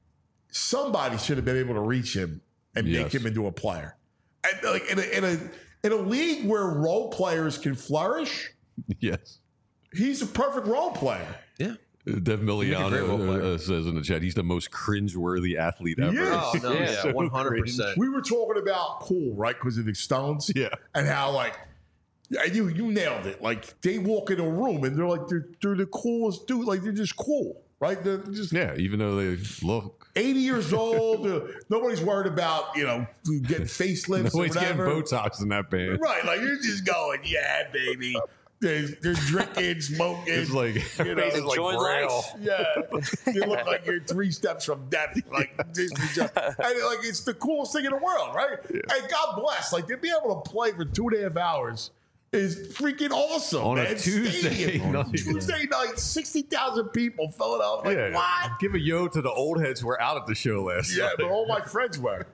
Somebody should have been able to reach him and make him into a player. And like in a league where role players can flourish, Yes. he's a perfect role player. Yeah. Dev great role Miliano player. says in the chat, he's the most cringeworthy athlete ever. Yes. Oh no, yeah, So 100%. We were talking about cool, right? Because of the Stones. Yeah. And how and you nailed it. Like they walk in a room and they're like they're the coolest dude. Like they're just cool, right? They're just Yeah, even though they look. 80 years old. Nobody's worried about getting facelifts or Nobody's getting whatever. Botox in that band. Right? Like you're just going, yeah, baby. They're drinking, smoking. It's like, Enjoy life. Yeah, you look like you're 3 steps from death. Like this, and like it's the coolest thing in the world, right? And God bless, like to be able to play for 2.5 hours is freaking awesome On a man. Tuesday Stadium. night. Tuesday night, 60,000 people filling up. Like what? Give a yo to the old heads who were out at the show last Yeah, night. but all my friends were.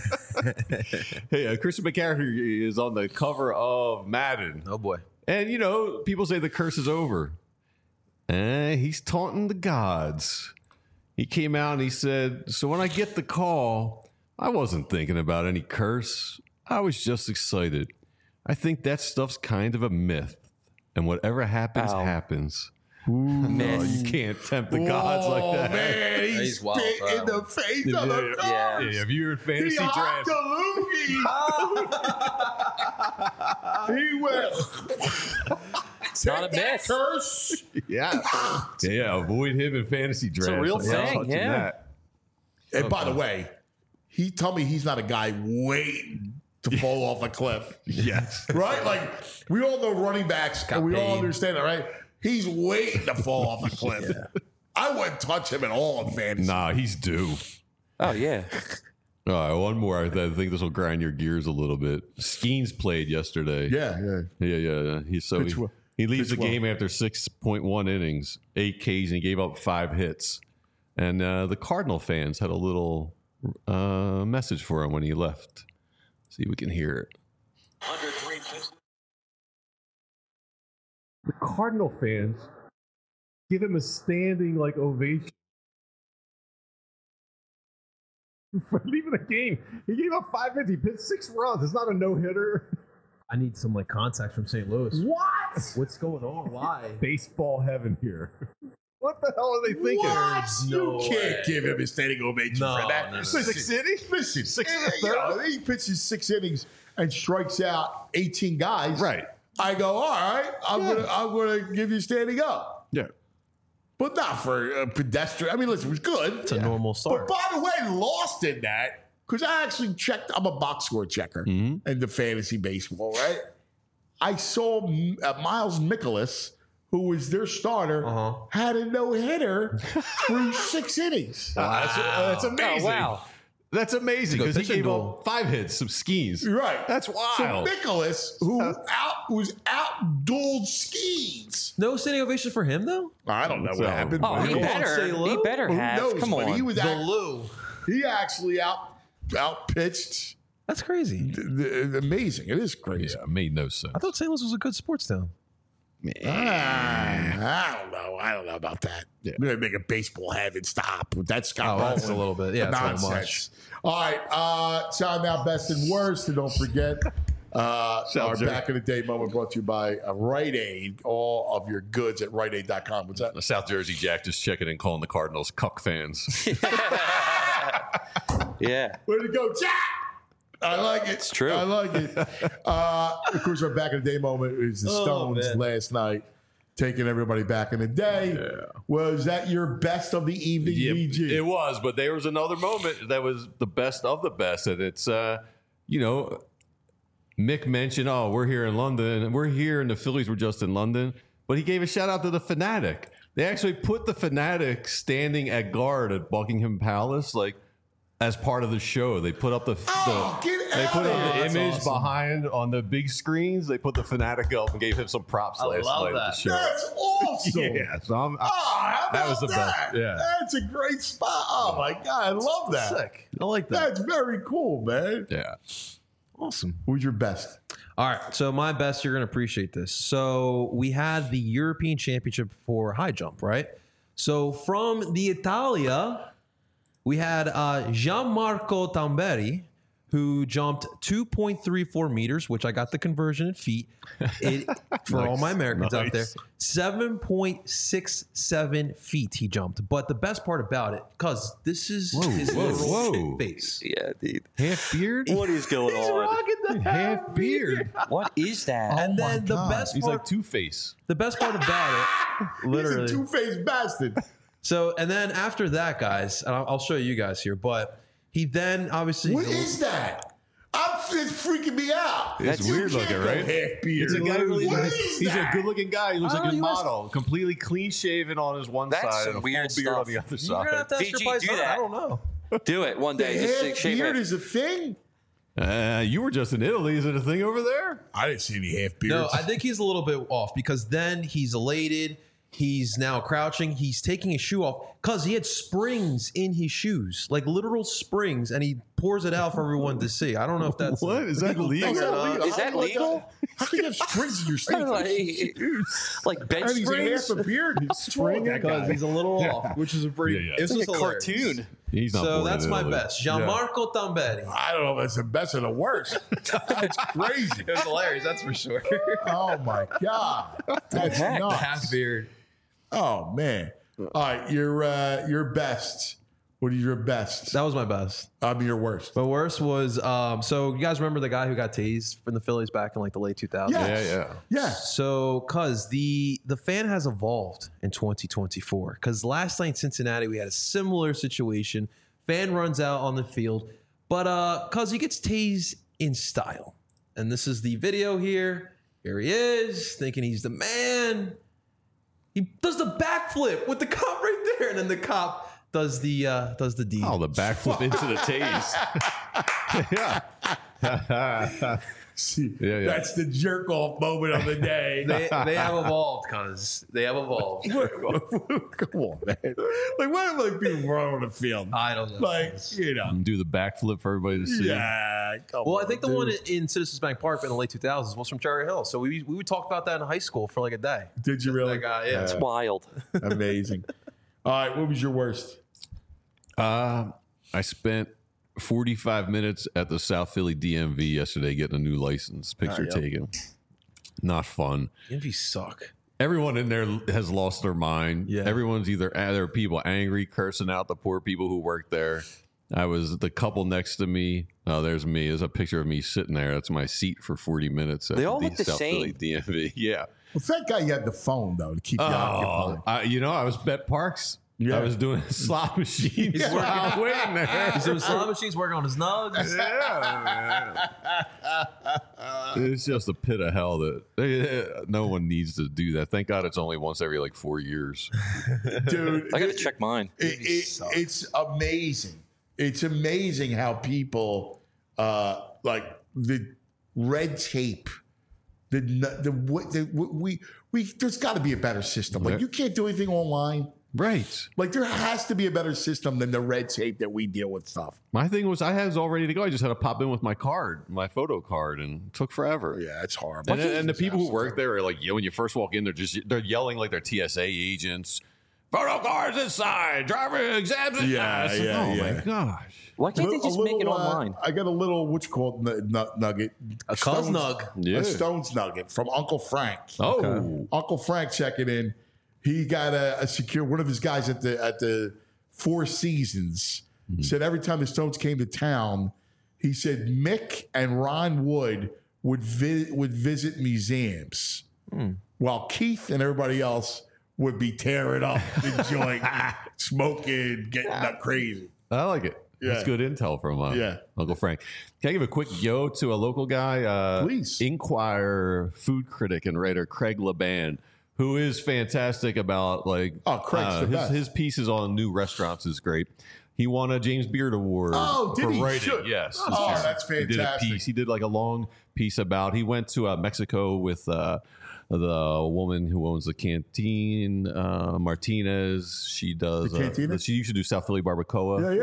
Hey, Christian McCaffrey is on the cover of Madden. Oh boy. And, people say the curse is over. He's taunting the gods. He came out and he said, so when I get the call, I wasn't thinking about any curse. I was just excited. I think that stuff's kind of a myth. And whatever happens, Ow. happens. Myth. You can't tempt the gods like Oh, that. man, he's He's wild spit for in that the face of the Yeah. gods. Yeah, if you're in fantasy He hopped draft, a loogie. He went. It's not a myth. Curse. yeah, avoid him in fantasy draft. a real thing, yeah. And by the way, he told me he's not a guy waiting to fall off a cliff. Yes. Right? Like, we all know running backs, and we all paid. understand that, right? He's waiting to fall off a cliff. I wouldn't touch him at all in fantasy. Nah, he's due. Oh yeah. All right, one more. I think this will grind your gears a little bit. Skeens played yesterday. Yeah. Yeah. He leaves the game after 6.1 innings, 8 Ks, and he gave up 5 hits. And the Cardinal fans had a little message for him when he left. See if we can hear it. The Cardinal fans give him a standing ovation for leaving the game. He gave up 5 hits. He pitched 6 runs. It's not a no hitter. I need some context from St. Louis. What? What's going on? Why? Baseball heaven here. What the hell are they thinking? What? No You can't way. give him a standing ovation for that. no. 6 innings? Listen, 6 in the third? he pitches 6 innings and strikes out 18 guys. Right. I go, all right, I'm gonna give you standing up. Yeah. But not for a pedestrian. I mean, listen, it was good. It's a normal start. But by the way, lost in that, because I actually checked, I'm a box score checker in the fantasy baseball, right? I saw Miles Mikolas, who was their starter, had a no-hitter through 6 innings. That's amazing. Oh, wow. That's amazing because he pitching gave duel. up 5 hits, some skis. Right. That's So wild. Mikolas, who was out-dueled Skeens. No standing ovation for him, though? I don't know So- what happened. Oh, but he who better. He better have. knows? Come But on. he was Lou. he actually out-pitched. That's crazy. Amazing. It is crazy. Yeah, made no sense. I thought St. Louis was a good sports town. I don't know. I don't know about that. Yeah. We're gonna make a baseball heaven stop. That's Scott That's a Baldwin. little bit. Yeah, it's not Nonsense. much. All right. Time now, best and worst, and don't forget our Jersey. back in the day moment brought to you by Rite Aid. All of your goods at RiteAid.com. What's that? The South Jersey Jack just checking in, calling the Cardinals cuck fans. Yeah. Way to go, Jack! I like it. It's true. I like it. Of course, our back in the day moment is the Stones man. last night, taking everybody back in the day. Was that your best of the evening, VG? It was, but there was another moment that was the best of the best. And it's, Mick mentioned, we're here in London. We're here, and the Phillies were just in London. But he gave a shout out to the Fanatic. They actually put the Fanatic standing at guard at Buckingham Palace, as part of the show. They put up get they out put of up here. the That's image awesome. behind on the big screens. They put the Fanatic up and gave him some props last love night at the that. show. That's awesome. Yeah, so I'm, How that was about the best. Yeah. That's a great spot. Oh, my God. I love that. Sick. I like that. That's very cool, man. yeah. Awesome. Who's your best? All right. So my best, you're going to appreciate this. So we had the European Championship for high jump, right? So from the Italia, we had Gianmarco Tamberi, who jumped 2.34 meters, which I got the conversion in feet. For all my Americans out there, 7.67 feet he jumped. But the best part about it, because this is his literal shit face. Yeah, dude. Half beard? What is going He's on? rocking the Half beard. What is that? And then the best He's part, like Two-Face. the best part about it, literally. He's a two-faced bastard. So, and then after that, guys, and I'll show you guys here, but he then obviously. What is that? It's freaking me out. It's You weird can't looking, go right? half beard. It's a guy who What is he's that? a good-looking guy. He looks like a you asked- model, completely clean-shaven on his one That's side some and a weird full beard on stuff. the other You're gonna have side. to ask your VG, place do out. that. I don't know. Do it one The day. Just half shave beard it. is a thing? You were just in Italy. Is it a thing over there? I didn't see any half beards. No, I think he's a little bit off because then he's elated. He's now crouching. He's taking his shoe off because he had springs in his shoes, like literal springs, and he pours it out for everyone to see. I don't know if that's What? Is that legal? Is that legal? How can you have springs in your sneakers? like bench And he's a half springs? a beard. He's spring that because guy. he's a little off, which is a pretty. Yeah. It's Like just a hilarious. cartoon. He's not So born that's in my Italy. best, Gianmarco Tamberi. I don't know if it's the best or the worst. That's crazy. It was hilarious, that's for sure. Oh my God. That's nuts. Half beard. Oh man. All right, your best. What is your best? That was my best. Your worst. My worst was so you guys remember the guy who got tased from the Phillies back in like the late 2000s? Yes. Yeah. Yes. So, cause the fan has evolved in 2024. Cause last night in Cincinnati we had a similar situation. Fan runs out on the field, but cause he gets tased in style. And this is the video here. Here he is, thinking he's the man. He does the backflip with the cop right there, and then the cop does the deed. Oh, the backflip into the tase. Yeah. See, Yeah. that's the jerk off moment of the day. They have evolved, cuz. They have evolved. Come on, man. Like, why am I being wrong on the field? I don't know. Like, you know. Do the backflip for everybody to see. Yeah. Come Well, on, I think the dude. one in Citizens Bank Park in the late 2000s was from Cherry Hill. So we would talk about that in high school for like a day. Did you really? That guy, yeah. It's wild. Amazing. All right, what was your worst? I spent 45 minutes at the South Philly DMV yesterday getting a new license, picture taken. Not fun. DMV suck. Everyone in there has lost their mind. Yeah. Everyone's there are people angry, cursing out the poor people who work there. I was the couple next to me. Oh, there's me. There's a picture of me sitting there. That's my seat for 40 minutes. At They all look the South Philly same. DMV. Yeah. Well, thank God you had the phone, though, to keep you occupied. I was Bet Parks. Yeah. I was doing slot machines. He's working- while waiting there. He's doing slot machines, working on his nugs. It's just a pit of hell that no one needs to do that. Thank God it's only once every like 4 years. Dude, I got to check mine. it's amazing. It's amazing how people like the red tape. We there's got to be a better system. Like, you can't do anything online. Right. Like, there has to be a better system than the red tape that we deal with stuff. My thing was I was all ready to go. I just had to pop in with my card, my photo card, and it took forever. Yeah, it's horrible. And the people who work there are like, when you first walk in, they're yelling like they're TSA agents. Photo cards inside, driver exams inside. Yeah, oh yeah. my gosh. Why can't they just make it online? I got a little, what's it called, nugget. A cuz nug. Yeah. A Stones nugget from Uncle Frank. Oh. Uncle Frank checking in. He got a secure, one of his guys at the Four Seasons said every time the Stones came to town, he said Mick and Ron Wood would visit museums while Keith and everybody else would be tearing up the joint, smoking, getting up crazy. I like it. Yeah. That's good intel from Uncle Frank. Can I give a quick yo to a local guy? Please. Inquirer food critic and writer Craig Laban, who is fantastic about Craig's the best. his pieces on new restaurants is great. He won a James Beard Award Oh, did for he? writing. Should. Yes. this Oh, year. that's He did a fantastic. piece. He did like a long piece about. He went to Mexico with the woman who owns the canteen, Martinez. She does. The Cantina? She used to do South Philly barbacoa.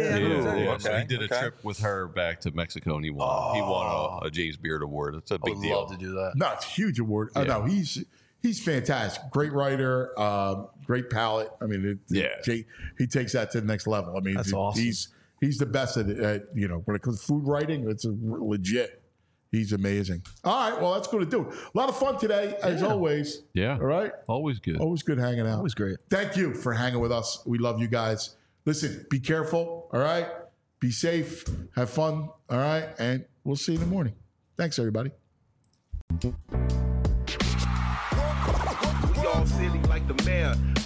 Yeah. So he did a trip with her back to Mexico, and he won. He won a James Beard Award. It's a big deal. Love to do that. No, it's a huge award. Yeah. No, he's fantastic. Great writer, great palate. I mean, he takes that to the next level. I mean, That's awesome. He's the best at when it comes to food writing. It's legit. He's amazing. All right, well, that's going to do it. A lot of fun today, as always. Yeah. All right. Always good. Always good hanging out. Always great. Thank you for hanging with us. We love you guys. Listen, be careful. All right. Be safe. Have fun. All right. And we'll see you in the morning. Thanks, everybody. We all silly like the mayor.